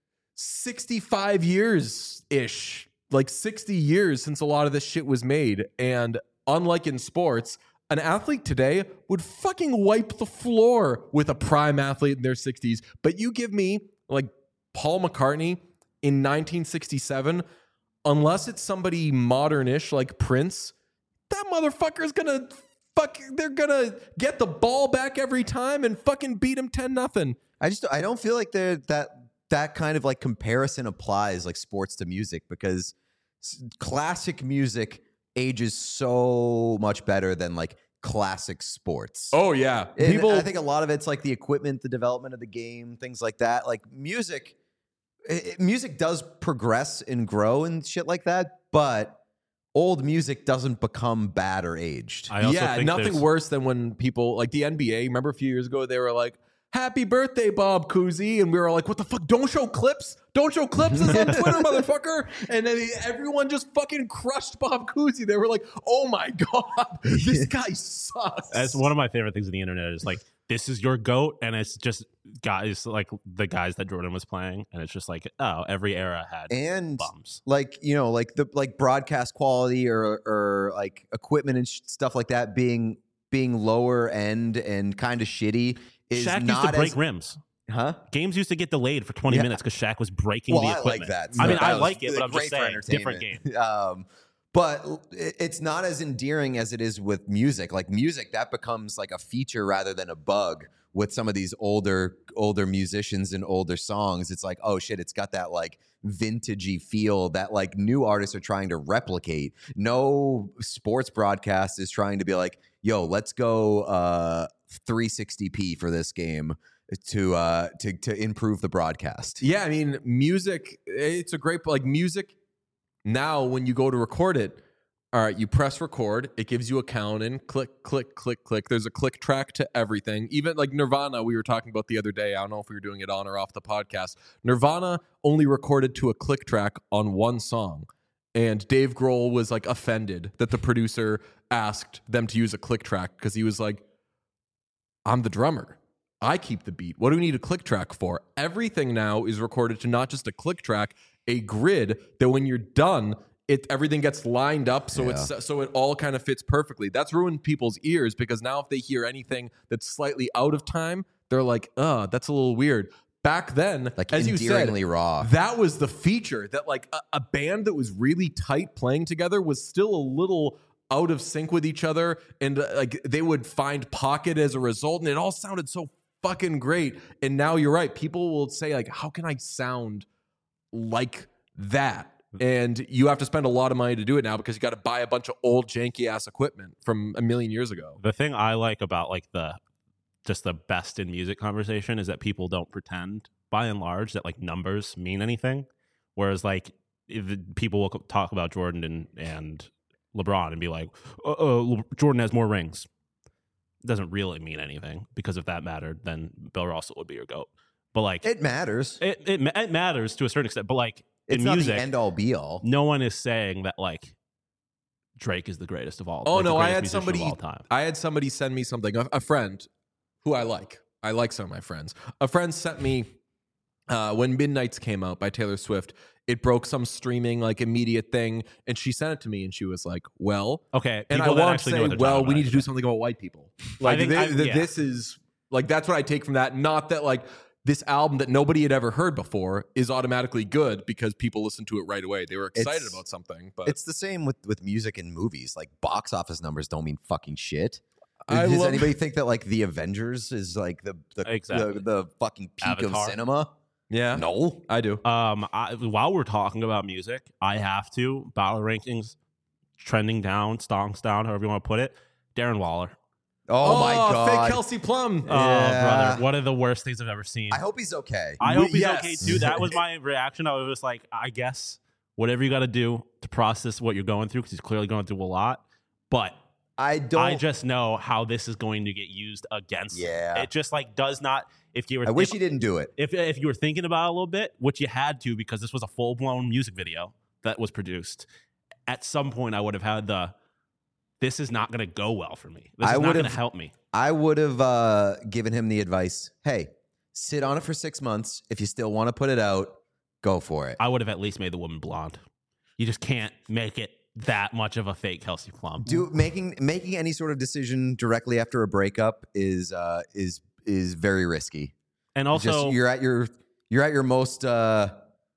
Speaker 1: sixty-five years ish, like sixty years since a lot of this shit was made. And unlike in sports, an athlete today would fucking wipe the floor with a prime athlete in their sixties. But you give me like Paul McCartney in nineteen sixty-seven, unless it's somebody modernish like Prince, that motherfucker's gonna fuck, they're gonna get the ball back every time and fucking beat him ten nothing.
Speaker 2: I just I don't feel like they're that that kind of like comparison applies like sports to music because s- classic music ages so much better than like classic sports.
Speaker 1: Oh yeah.
Speaker 2: And
Speaker 1: People
Speaker 2: I think a lot of it's like the equipment, the development of the game, things like that. Like music, i- i- music does progress and grow and shit like that, but old music doesn't become bad or aged.
Speaker 3: I also
Speaker 1: yeah,
Speaker 3: think
Speaker 1: nothing
Speaker 3: there's-
Speaker 1: worse than when people like the N B A. Remember a few years ago, they were like, "Happy birthday, Bob Cousy," and we were like, "What the fuck? Don't show clips! Don't show clips! It's on Twitter, motherfucker!" And then everyone just fucking crushed Bob Cousy. They were like, "Oh my god, this guy sucks."
Speaker 3: That's one of my favorite things on the internet is like, this is your GOAT, and it's just guys like the guys that Jordan was playing, and it's just like, oh, every era had
Speaker 2: and
Speaker 3: bums.
Speaker 2: like you know like the like broadcast quality or or like equipment and sh- stuff like that being being lower end and kind of shitty is
Speaker 3: Shaq used
Speaker 2: not
Speaker 3: to break
Speaker 2: as,
Speaker 3: rims.
Speaker 2: huh?
Speaker 3: Games used to get delayed for twenty
Speaker 2: Yeah.
Speaker 3: minutes because Shaq was breaking
Speaker 2: Well,
Speaker 3: the
Speaker 2: I like
Speaker 3: equipment.
Speaker 2: that.
Speaker 3: I mean,
Speaker 2: That
Speaker 3: I
Speaker 2: was
Speaker 3: like it, but I'm
Speaker 2: great
Speaker 3: just
Speaker 2: for
Speaker 3: saying, different game.
Speaker 2: entertainment. um, but it- it's not as endearing as it is with music. Like music, that becomes like a feature rather than a bug. With some of these older older musicians and older songs, it's like, oh shit, it's got that like vintagey feel that like new artists are trying to replicate. No sports broadcast is trying to be like, yo, let's go uh, three sixty p for this game to uh, to to improve the broadcast.
Speaker 1: Yeah, I mean, music, it's a great, like music now when you go to record it, all right, you press record, it gives you a count in, click, click, click, click. There's a click track to everything. Even like Nirvana, we were talking about the other day. I don't know if we were doing it on or off the podcast. Nirvana only recorded to a click track on one song. And Dave Grohl was like offended that the producer asked them to use a click track because he was like, I'm the drummer. I keep the beat. What do we need a click track for? Everything now is recorded to not just a click track, a grid that when you're done, it everything gets lined up so it's so it all kind of fits perfectly. That's ruined people's ears because now if they hear anything that's slightly out of time, they're like, "Uh, that's a little weird." Back then,
Speaker 2: Like
Speaker 1: as you said,
Speaker 2: endearingly raw.
Speaker 1: that was the feature that like a, a band that was really tight playing together was still a little out of sync with each other, and uh, like they would find pocket as a result, and it all sounded so fucking great. And now you're right, people will say like, how can I sound like that? And you have to spend a lot of money to do it now because you got to buy a bunch of old janky ass equipment from a million years ago.
Speaker 3: The thing I like about like the just the best in music conversation is that people don't pretend by and large that like numbers mean anything. Whereas like if people will talk about Jordan and, and LeBron and be like, uh, uh, Jordan has more rings. It doesn't really mean anything because if that mattered, then Bill Russell would be your GOAT. But like
Speaker 2: It matters.
Speaker 3: it, it, ma- it matters to a certain extent. But like
Speaker 2: It's
Speaker 3: in
Speaker 2: not
Speaker 3: music,
Speaker 2: the end all be all.
Speaker 3: no one is saying that like Drake is the greatest of all.
Speaker 1: Oh
Speaker 3: like, the
Speaker 1: no, I
Speaker 3: greatest
Speaker 1: had
Speaker 3: musician
Speaker 1: somebody
Speaker 3: of all time.
Speaker 1: I had somebody send me something. A, a friend who I like. I like some of my friends. A friend sent me uh, when Midnights came out by Taylor Swift. It broke some streaming like immediate thing, and she sent it to me, and she was like, "Well,"
Speaker 3: Okay,
Speaker 1: and I
Speaker 3: people that
Speaker 1: want to
Speaker 3: actually know
Speaker 1: say,
Speaker 3: what they're
Speaker 1: "Well,
Speaker 3: talking
Speaker 1: we
Speaker 3: about,
Speaker 1: need to do
Speaker 3: I
Speaker 1: something about white people." Like
Speaker 3: think
Speaker 1: thi-
Speaker 3: I-
Speaker 1: thi-
Speaker 3: yeah.
Speaker 1: this is like that's what I take from that. Not that like this album that nobody had ever heard before is automatically good because people listened to it right away. They were excited
Speaker 2: It's-
Speaker 1: about something, but
Speaker 2: It's the same with with music and movies. Like box office numbers don't mean fucking shit.
Speaker 1: I
Speaker 2: Does
Speaker 1: love-
Speaker 2: anybody think that like the Avengers is like the the
Speaker 3: Exactly.
Speaker 2: the, the fucking peak
Speaker 3: Avatar.
Speaker 2: of cinema?
Speaker 1: Yeah,
Speaker 2: No.
Speaker 1: I do.
Speaker 3: Um, I, while we're talking about music, I have to battle rankings trending down, stonks down, however you want to put it. Darren Waller.
Speaker 2: Oh, my god.
Speaker 1: fake Kelsey Plum.
Speaker 3: Oh,
Speaker 2: Yeah.
Speaker 3: brother, one of the worst things I've ever seen.
Speaker 2: I hope he's okay.
Speaker 3: I
Speaker 1: We-
Speaker 3: hope he's
Speaker 1: yes.
Speaker 3: okay too. That was my reaction. I was just like, I guess whatever you got to do to process what you're going through, because he's clearly going through a lot. But
Speaker 2: I don't.
Speaker 3: I just know how this is going to get used against him.
Speaker 2: Yeah.
Speaker 3: It just like does not. If you were,
Speaker 2: I wish
Speaker 3: if,
Speaker 2: he didn't do it.
Speaker 3: if if you were thinking about it a little bit, which you had to because this was a full blown music video that was produced. At some point, I would have had the. This is not going to go well for me. This
Speaker 2: I
Speaker 3: is not going to
Speaker 2: would've-
Speaker 3: help me.
Speaker 2: I would have uh, given him the advice. Hey, sit on it for six months. If you still want to put it out, go for it.
Speaker 3: I would have at least made the woman blonde. You just can't make it that much of a fake Kelsey Plum.
Speaker 2: Do making making any sort of decision directly after a breakup is uh, is is very risky.
Speaker 3: And
Speaker 2: Just-
Speaker 3: also,
Speaker 2: you're at your you're at your most uh,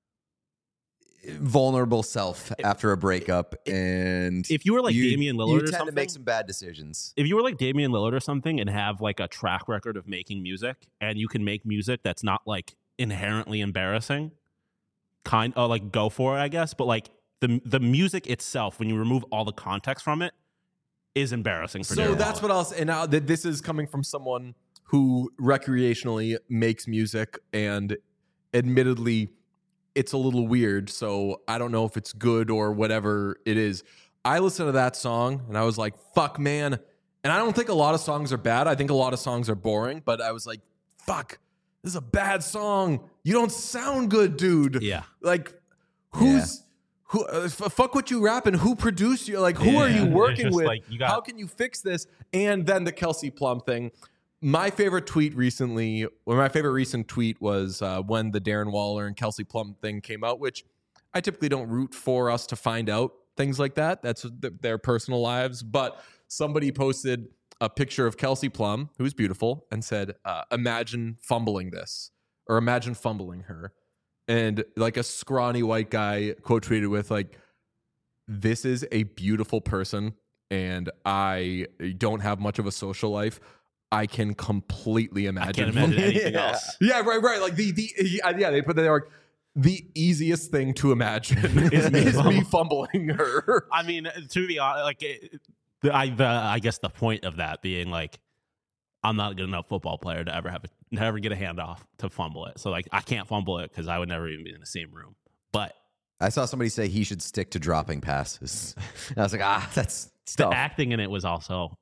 Speaker 2: vulnerable self after a breakup, and
Speaker 3: if you were like
Speaker 2: you,
Speaker 3: Damian Lillard
Speaker 2: you
Speaker 3: or
Speaker 2: tend
Speaker 3: something,
Speaker 2: to make some bad decisions.
Speaker 3: if you were like Damian Lillard or something and have like a track record of making music, and you can make music that's not like inherently embarrassing, kind of like go for it, I guess. But like the the music itself, when you remove all the context from it, is embarrassing. For
Speaker 1: So
Speaker 3: Darren
Speaker 1: that's
Speaker 3: Waller.
Speaker 1: what else. And now that this is coming from someone who recreationally makes music, and admittedly, it's a little weird. So I don't know if it's good or whatever it is. I listened to that song and I was like, fuck, man. And I don't think a lot of songs are bad. I think a lot of songs are boring, but I was like, fuck, this is a bad song. You don't sound good, dude.
Speaker 3: Yeah.
Speaker 1: Like, who's who? Uh, f- fuck what you rapping. Who produced you? Like, who are
Speaker 3: Yeah.
Speaker 1: you
Speaker 3: It's
Speaker 1: working
Speaker 3: just
Speaker 1: with?
Speaker 3: like, you got-
Speaker 1: How can you fix this? And then the Kelsey Plum thing. My favorite tweet recently, or my favorite recent tweet was uh, when the Darren Waller and Kelsey Plum thing came out, which I typically don't root for us to find out things like that. That's th- their personal lives. But somebody posted a picture of Kelsey Plum, who's beautiful, and said, uh, imagine fumbling this, or imagine fumbling her. And like a scrawny white guy quote tweeted with like, this is a beautiful person, and I don't have much of a social life. I can completely imagine.
Speaker 3: I can't imagine anything
Speaker 2: Yeah.
Speaker 3: else.
Speaker 1: Yeah, right, right. Like the the yeah, they put that there. Like, the easiest thing to imagine
Speaker 3: Is
Speaker 1: is
Speaker 3: me
Speaker 1: me,
Speaker 3: fumbling.
Speaker 1: fumbling her.
Speaker 3: I mean, to be honest, like it, the, I, the, I guess the point of that being like, I'm not a good enough football player to ever have a, to ever get a handoff to fumble it. So like, I can't fumble it because I would never even be in the same room. But
Speaker 2: I saw somebody say he should stick to dropping passes. And I was like, ah, that's
Speaker 3: the
Speaker 2: tough.
Speaker 3: acting in it was also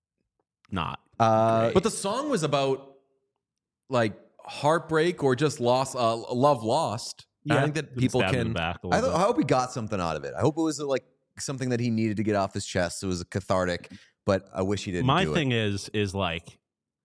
Speaker 3: not.
Speaker 2: Uh,
Speaker 1: But the song was about like heartbreak or just loss, uh, love lost. I think that people
Speaker 3: Stab him in
Speaker 1: can.
Speaker 3: the back a
Speaker 2: I,
Speaker 3: little
Speaker 2: th- I
Speaker 3: bit.
Speaker 2: hope he got something out of it. I hope it was like something that he needed to get off his chest. It was cathartic, but I wish he didn't.
Speaker 3: My
Speaker 2: do
Speaker 3: thing
Speaker 2: it.
Speaker 3: is, is like,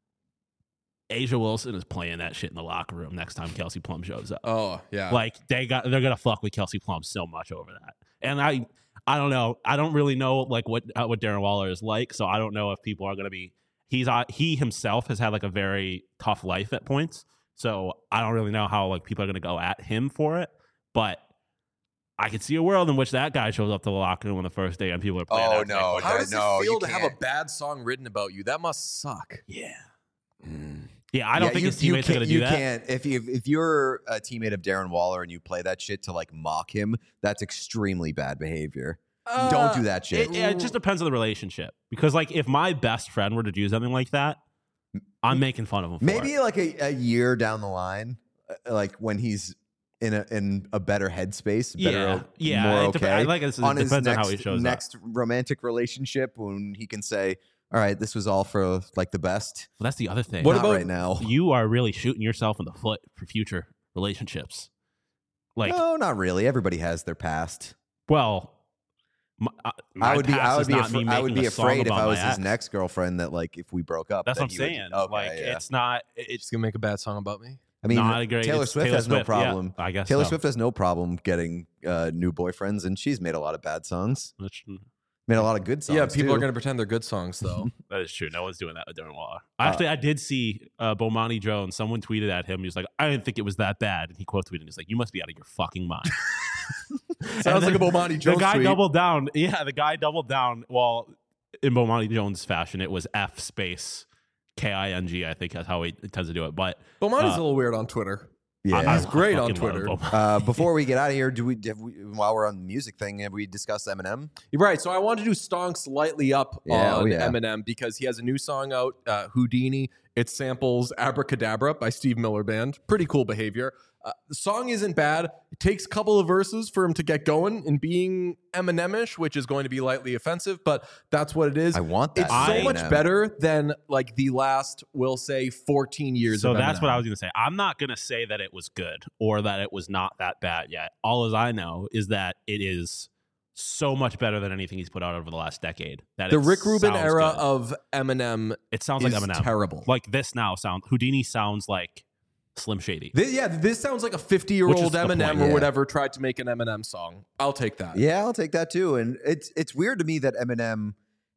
Speaker 3: Asia Wilson is playing that shit in the locker room next time Kelsey Plum shows up.
Speaker 1: Oh yeah.
Speaker 3: Like they got, they're gonna fuck with Kelsey Plum so much over that. And I, I don't know. I don't really know like what uh, what Darren Waller is like. So I don't know if people are gonna be. He's uh, he himself has had like a very tough life at points. So I don't really know how like people are gonna go at him for it. But I could see a world in which that guy shows up to the locker room on the first day and people are playing.
Speaker 2: Oh,
Speaker 3: that
Speaker 2: no,
Speaker 3: like,
Speaker 1: How
Speaker 2: I
Speaker 1: does
Speaker 2: know,
Speaker 1: it feel
Speaker 2: you
Speaker 1: to have a
Speaker 2: can't.
Speaker 1: bad song written about you? That must suck.
Speaker 3: yeah,
Speaker 2: Mm.
Speaker 3: yeah. I don't
Speaker 2: Yeah,
Speaker 3: think
Speaker 2: you,
Speaker 3: his teammates are
Speaker 2: you
Speaker 3: gonna
Speaker 2: can't,
Speaker 3: do
Speaker 2: you
Speaker 3: that.
Speaker 2: can't. If you if you're a teammate of Darren Waller and you play that shit to like mock him, that's extremely bad behavior. Don't do that shit.
Speaker 3: It, yeah, it just depends on the relationship. Because like if my best friend were to do something like that, I'm making fun of him. For
Speaker 2: Maybe
Speaker 3: it.
Speaker 2: like a, a year down the line, uh, like when he's in a in a better headspace, better,
Speaker 3: Yeah, yeah,
Speaker 2: more
Speaker 3: it
Speaker 2: okay.
Speaker 3: dep- I like it, it
Speaker 2: on his
Speaker 3: depends on
Speaker 2: next,
Speaker 3: how he shows up.
Speaker 2: next romantic relationship, when he can say, "All right, this was all for like the best."
Speaker 3: Well, that's the other thing.
Speaker 1: What
Speaker 2: Not
Speaker 1: about-
Speaker 2: right now?
Speaker 3: You are really shooting yourself in the foot for future relationships. Like,
Speaker 2: No, not really. Everybody has their past.
Speaker 3: well, my, uh, my
Speaker 2: I would be.
Speaker 3: past
Speaker 2: I would
Speaker 3: is
Speaker 2: be.
Speaker 3: not
Speaker 2: Afra-
Speaker 3: me
Speaker 2: I would
Speaker 3: making
Speaker 2: be
Speaker 3: a song
Speaker 2: afraid if
Speaker 3: about
Speaker 2: I
Speaker 3: my
Speaker 2: was his
Speaker 3: ex.
Speaker 2: next girlfriend that like if we broke up.
Speaker 3: That's
Speaker 2: that
Speaker 3: what I'm
Speaker 2: he would-
Speaker 3: saying.
Speaker 2: okay,
Speaker 3: like,
Speaker 2: yeah.
Speaker 3: it's not. It's
Speaker 1: She's gonna make a bad song about me.
Speaker 2: I mean,
Speaker 3: not a great.
Speaker 2: Taylor
Speaker 3: it's
Speaker 2: Swift
Speaker 3: Taylor
Speaker 2: has no
Speaker 3: Swift, yeah,
Speaker 2: problem.
Speaker 3: I guess
Speaker 2: Taylor
Speaker 3: so.
Speaker 2: Swift has no problem getting uh, new boyfriends, and she's made a lot of bad songs.
Speaker 3: Which,
Speaker 2: Made a lot of good songs.
Speaker 1: Yeah, people
Speaker 2: too.
Speaker 1: are gonna pretend they're good songs though.
Speaker 3: that is true. No one's doing that with Darren Waller.
Speaker 2: Uh,
Speaker 3: Actually, I did see uh, Bomani Jones. Someone tweeted at him. He was like, "I didn't think it was that bad," and he quote tweeted. He's like, "You must be out of your fucking mind."
Speaker 1: Sounds like a Bomani
Speaker 3: The
Speaker 1: Jones
Speaker 3: guy
Speaker 1: tweet.
Speaker 3: doubled down. Yeah, the guy doubled down. Well, in Bomani Jones fashion, it was F space K I N G. I think that's how he tends to do it. But
Speaker 1: Bomani's
Speaker 3: uh,
Speaker 1: a little weird on Twitter.
Speaker 2: Yeah.
Speaker 3: I- I
Speaker 1: He's great on
Speaker 3: fucking love
Speaker 1: Twitter.
Speaker 3: Bomani.
Speaker 2: Uh, before we get out of here, do we, have we while we're on the music thing, have we discussed Eminem?
Speaker 1: Right. So I want to do Stonks Lightly Up
Speaker 2: Yeah,
Speaker 1: on
Speaker 2: oh yeah.
Speaker 1: Eminem because he has a new song out, uh, Houdini. It samples Abracadabra by Steve Miller Band. Pretty cool behavior. Uh, the song isn't bad. It takes a couple of verses for him to get going and being Eminem-ish, which is going to be lightly offensive, but that's what it is.
Speaker 2: I want that.
Speaker 1: It's so
Speaker 3: I-
Speaker 1: much
Speaker 2: Eminem.
Speaker 1: better than like the last, we'll say, fourteen years
Speaker 3: So
Speaker 1: of
Speaker 3: that's what
Speaker 1: Eminem.
Speaker 3: I was going to say. I'm not going to say that it was good or that it was not that bad yet. All as I know is that it is so much better than anything he's put out over the last decade. That
Speaker 1: The
Speaker 3: it
Speaker 1: Rick Rubin
Speaker 3: sounds
Speaker 1: era
Speaker 3: good.
Speaker 1: of Eminem
Speaker 3: it sounds
Speaker 1: is
Speaker 3: like Eminem.
Speaker 1: terrible.
Speaker 3: Like this now sounds Houdini sounds like Slim Shady.
Speaker 1: Thi- yeah, this sounds like a fifty-year-old
Speaker 3: Which is the
Speaker 1: Eminem
Speaker 3: point.
Speaker 1: or
Speaker 2: Yeah.
Speaker 1: whatever tried to make an Eminem song. I'll take that.
Speaker 2: Yeah, I'll take that too. And it's it's weird to me that Eminem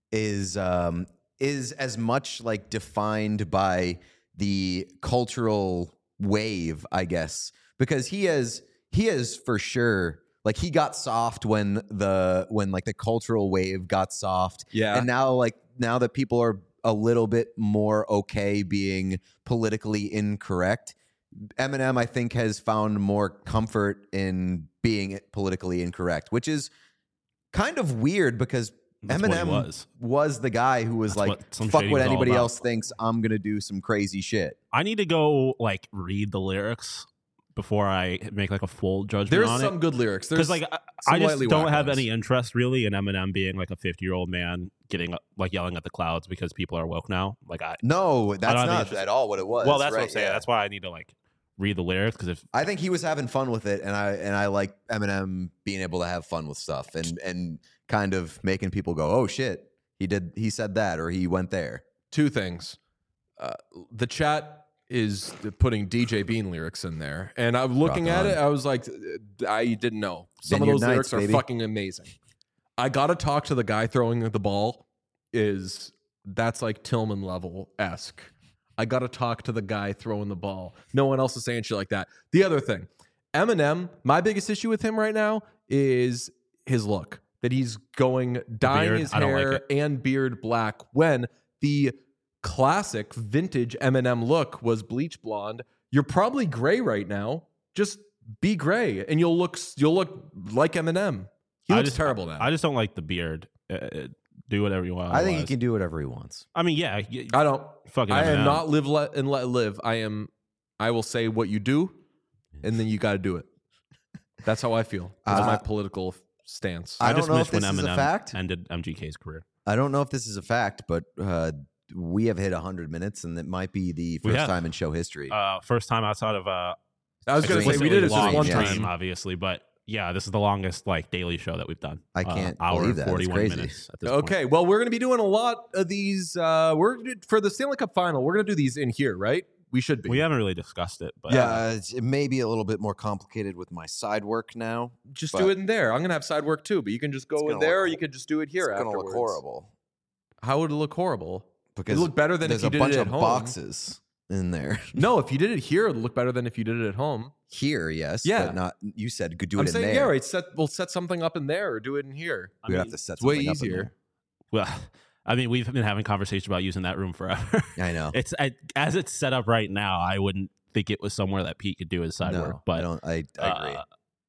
Speaker 2: is um is as much like defined by the cultural wave, I guess, because he has he has for sure like he got soft when the when like the cultural wave got soft.
Speaker 1: Yeah.
Speaker 2: And now like now that people are a little bit more okay being politically incorrect, Eminem, I think, has found more comfort in being politically incorrect, which is kind of weird because
Speaker 3: That's what he
Speaker 2: Eminem
Speaker 3: was.
Speaker 2: was the guy who was
Speaker 3: That's
Speaker 2: like,
Speaker 3: what Slim
Speaker 2: fuck
Speaker 3: Shady
Speaker 2: what
Speaker 3: was all
Speaker 2: anybody
Speaker 3: about.
Speaker 2: else thinks, I'm going to do some crazy shit.
Speaker 3: I need to go like read the lyrics before I make like a full judgment
Speaker 1: There's
Speaker 3: on
Speaker 1: some
Speaker 3: it.
Speaker 1: good lyrics. There's
Speaker 3: Because like I,
Speaker 1: some
Speaker 3: I just
Speaker 1: lightly
Speaker 3: don't
Speaker 1: whack
Speaker 3: have
Speaker 1: ones.
Speaker 3: any interest really in Eminem being like a fifty year old man getting like yelling at the clouds because people are woke now. Like I,
Speaker 2: No, that's
Speaker 3: have any
Speaker 2: not
Speaker 3: interest-
Speaker 2: at all what it was.
Speaker 3: well, that's
Speaker 2: right?
Speaker 3: what I'm saying.
Speaker 2: Yeah.
Speaker 3: That's why I need to like read the lyrics because if
Speaker 2: I think he was having fun with it, and I and I like Eminem being able to have fun with stuff and and kind of making people go, oh shit, he did, he said that, or he went there.
Speaker 1: two things. Uh, the chat is putting D J Bean lyrics in there, and I'm looking
Speaker 2: Rock
Speaker 1: at
Speaker 2: on.
Speaker 1: it. I was like, I didn't know. Some
Speaker 2: Vineyard
Speaker 1: of those
Speaker 2: Nights,
Speaker 1: lyrics are
Speaker 2: baby.
Speaker 1: fucking amazing. I gotta talk to the guy throwing the ball. Is that's like Tillman level esque. I gotta talk to the guy throwing the ball. No one else is saying shit like that. The other thing, Eminem. My biggest issue with him right now is his look. That he's going dyeing
Speaker 3: beard,
Speaker 1: his
Speaker 3: I don't like
Speaker 1: hair
Speaker 3: it.
Speaker 1: and beard black when the classic vintage Eminem look was bleach blonde. You're probably gray right now. Just be gray, and you'll look you'll look like Eminem. He
Speaker 3: I
Speaker 1: looks
Speaker 3: just,
Speaker 1: terrible now.
Speaker 3: I just don't like the beard. Uh, uh, do whatever you want.
Speaker 2: I think he
Speaker 3: otherwise.
Speaker 2: can do whatever he wants.
Speaker 3: I mean, yeah, y-
Speaker 1: I don't.
Speaker 3: fucking.
Speaker 1: I am
Speaker 3: Eminem.
Speaker 1: not live let and let live. I am. I will say what you do, and then you got to do it. That's how I feel. That's
Speaker 2: Uh,
Speaker 1: my political stance.
Speaker 2: I
Speaker 3: I,
Speaker 2: don't
Speaker 3: just
Speaker 2: know
Speaker 3: miss
Speaker 2: if this
Speaker 3: when
Speaker 2: is a
Speaker 3: Eminem
Speaker 2: fact.
Speaker 3: ended M G K's career.
Speaker 2: I don't know if this is a fact, but uh, we have hit one hundred minutes, and it might be the
Speaker 3: We
Speaker 2: first
Speaker 3: have.
Speaker 2: time in show history.
Speaker 3: Uh, first time outside of uh,
Speaker 1: I was going to say we
Speaker 3: explicitly
Speaker 1: did it just
Speaker 3: long
Speaker 1: one
Speaker 2: yeah.
Speaker 3: stream,
Speaker 1: time.
Speaker 3: obviously, but yeah, this is the longest like daily show that we've done.
Speaker 2: I
Speaker 3: Uh,
Speaker 2: can't
Speaker 3: hour
Speaker 2: believe
Speaker 3: and
Speaker 2: that. That's
Speaker 3: forty-one
Speaker 2: crazy.
Speaker 3: minutes at this point.
Speaker 1: Okay, well, we're going to be doing a lot of these. Uh, we're gonna do- for the Stanley Cup Final. We're going to do these in here, right? We should be.
Speaker 3: We haven't really discussed it, but
Speaker 2: yeah, uh, it's- it may be a little bit more complicated with my side work now.
Speaker 1: just
Speaker 2: but-
Speaker 1: do it in there. I'm going to have side work too, but you can just go
Speaker 2: It's
Speaker 1: in
Speaker 2: gonna
Speaker 1: there,
Speaker 2: look
Speaker 1: or you
Speaker 2: hor-
Speaker 1: could just do it here.
Speaker 2: It's gonna
Speaker 1: afterwards.
Speaker 2: look horrible
Speaker 1: How would it look horrible?
Speaker 2: because
Speaker 1: It look better than
Speaker 2: there's
Speaker 1: if you
Speaker 2: a
Speaker 1: did
Speaker 2: bunch
Speaker 1: it
Speaker 2: of
Speaker 1: at home.
Speaker 2: boxes in there.
Speaker 1: No, if you did it here, it'd look better than if you did it at home.
Speaker 2: Here, yes,
Speaker 1: Yeah.
Speaker 2: but not. You said could do
Speaker 1: I'm
Speaker 2: it in
Speaker 1: saying,
Speaker 2: there.
Speaker 1: yeah, right. Set we'll set something up in there or do it in here.
Speaker 3: I
Speaker 2: We'd
Speaker 3: mean,
Speaker 2: have to set
Speaker 1: It's way
Speaker 2: something up in
Speaker 1: easier.
Speaker 3: well, I mean, we've been having conversations about using that room forever.
Speaker 2: there. I know.
Speaker 3: it's I, as it's set up right now. I wouldn't think it was somewhere that Pete could do his side
Speaker 2: no,
Speaker 3: work,
Speaker 2: I
Speaker 3: but
Speaker 2: don't. I, I agree.
Speaker 3: uh,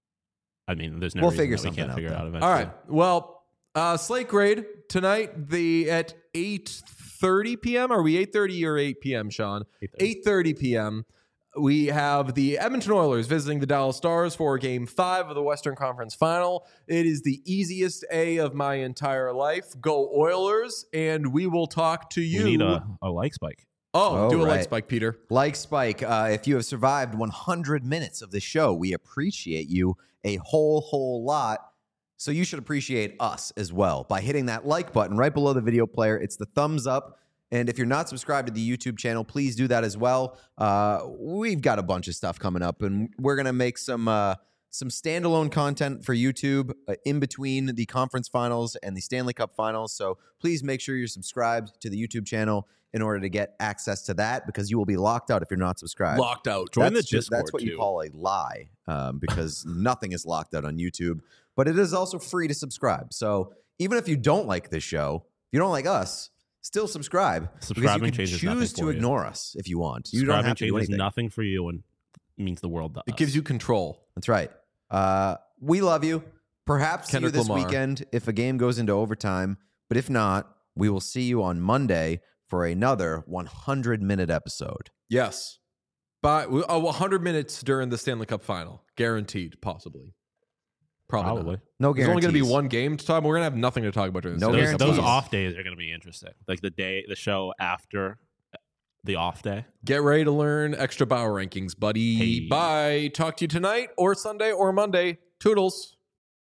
Speaker 3: I mean, there's no
Speaker 2: We'll
Speaker 3: reason
Speaker 2: figure
Speaker 3: that we
Speaker 2: something
Speaker 3: can't
Speaker 2: out,
Speaker 3: figure it
Speaker 2: though.
Speaker 3: out eventually.
Speaker 1: All right. Well, uh, Slate Grade tonight. The at eight thirty p.m. Are we eight thirty or eight p.m. Sean? eight thirty p.m. We have the Edmonton Oilers visiting the Dallas Stars for Game Five of the Western Conference Final. It is the easiest A of my entire life. Go Oilers, and we will talk to you.
Speaker 3: We need a, a like spike.
Speaker 1: oh,
Speaker 2: Oh,
Speaker 1: do a like
Speaker 2: right.
Speaker 1: spike, Peter.
Speaker 2: Like Spike, uh, if you have survived one hundred minutes of the show, we appreciate you a whole, whole lot. So you should appreciate us as well by hitting that like button right below the video player. It's the thumbs up. And if you're not subscribed to the YouTube channel, please do that as well. Uh, we've got a bunch of stuff coming up, and we're going to make some uh, some standalone content for YouTube uh, in between the conference finals and the Stanley Cup finals. So please make sure you're subscribed to the YouTube channel in order to get access to that, because you will be locked out if you're not subscribed.
Speaker 1: Locked out.
Speaker 3: Join the
Speaker 2: That's ju-
Speaker 3: Discord
Speaker 2: That's what you
Speaker 3: too.
Speaker 2: call a lie, um, because nothing is locked out on YouTube. But it is also free to subscribe. So even if you don't like this show, you don't like us, still subscribe.
Speaker 3: Subscribing
Speaker 2: because you
Speaker 3: changes
Speaker 2: can
Speaker 3: nothing
Speaker 2: choose to
Speaker 3: for you.
Speaker 2: ignore us if you want. You don't
Speaker 3: Subscribing
Speaker 2: have to do
Speaker 3: changes
Speaker 2: anything.
Speaker 3: nothing for you and means the world to
Speaker 1: It
Speaker 3: us.
Speaker 1: gives you control.
Speaker 2: That's right. Uh, we love you. Perhaps see
Speaker 1: Kendrick
Speaker 2: you this
Speaker 1: Lamar.
Speaker 2: weekend if a game goes into overtime. But if not, we will see you on Monday for another one hundred minute episode.
Speaker 1: Yes. By oh, one hundred minutes during the Stanley Cup final. Guaranteed, possibly. Probably.
Speaker 3: Probably.
Speaker 1: Not.
Speaker 2: No
Speaker 1: There's
Speaker 2: guarantees.
Speaker 1: only going to be one game to talk. We're going to have nothing to talk about during the
Speaker 2: No
Speaker 1: Stanley
Speaker 3: Those,
Speaker 1: Cup
Speaker 3: those
Speaker 2: guarantees.
Speaker 1: final.
Speaker 3: off days are going to be interesting. Like the day, the show after the off day.
Speaker 1: Get ready to learn extra Bauer rankings, buddy.
Speaker 3: Hey.
Speaker 1: Bye. Talk to you tonight or Sunday or Monday. Toodles.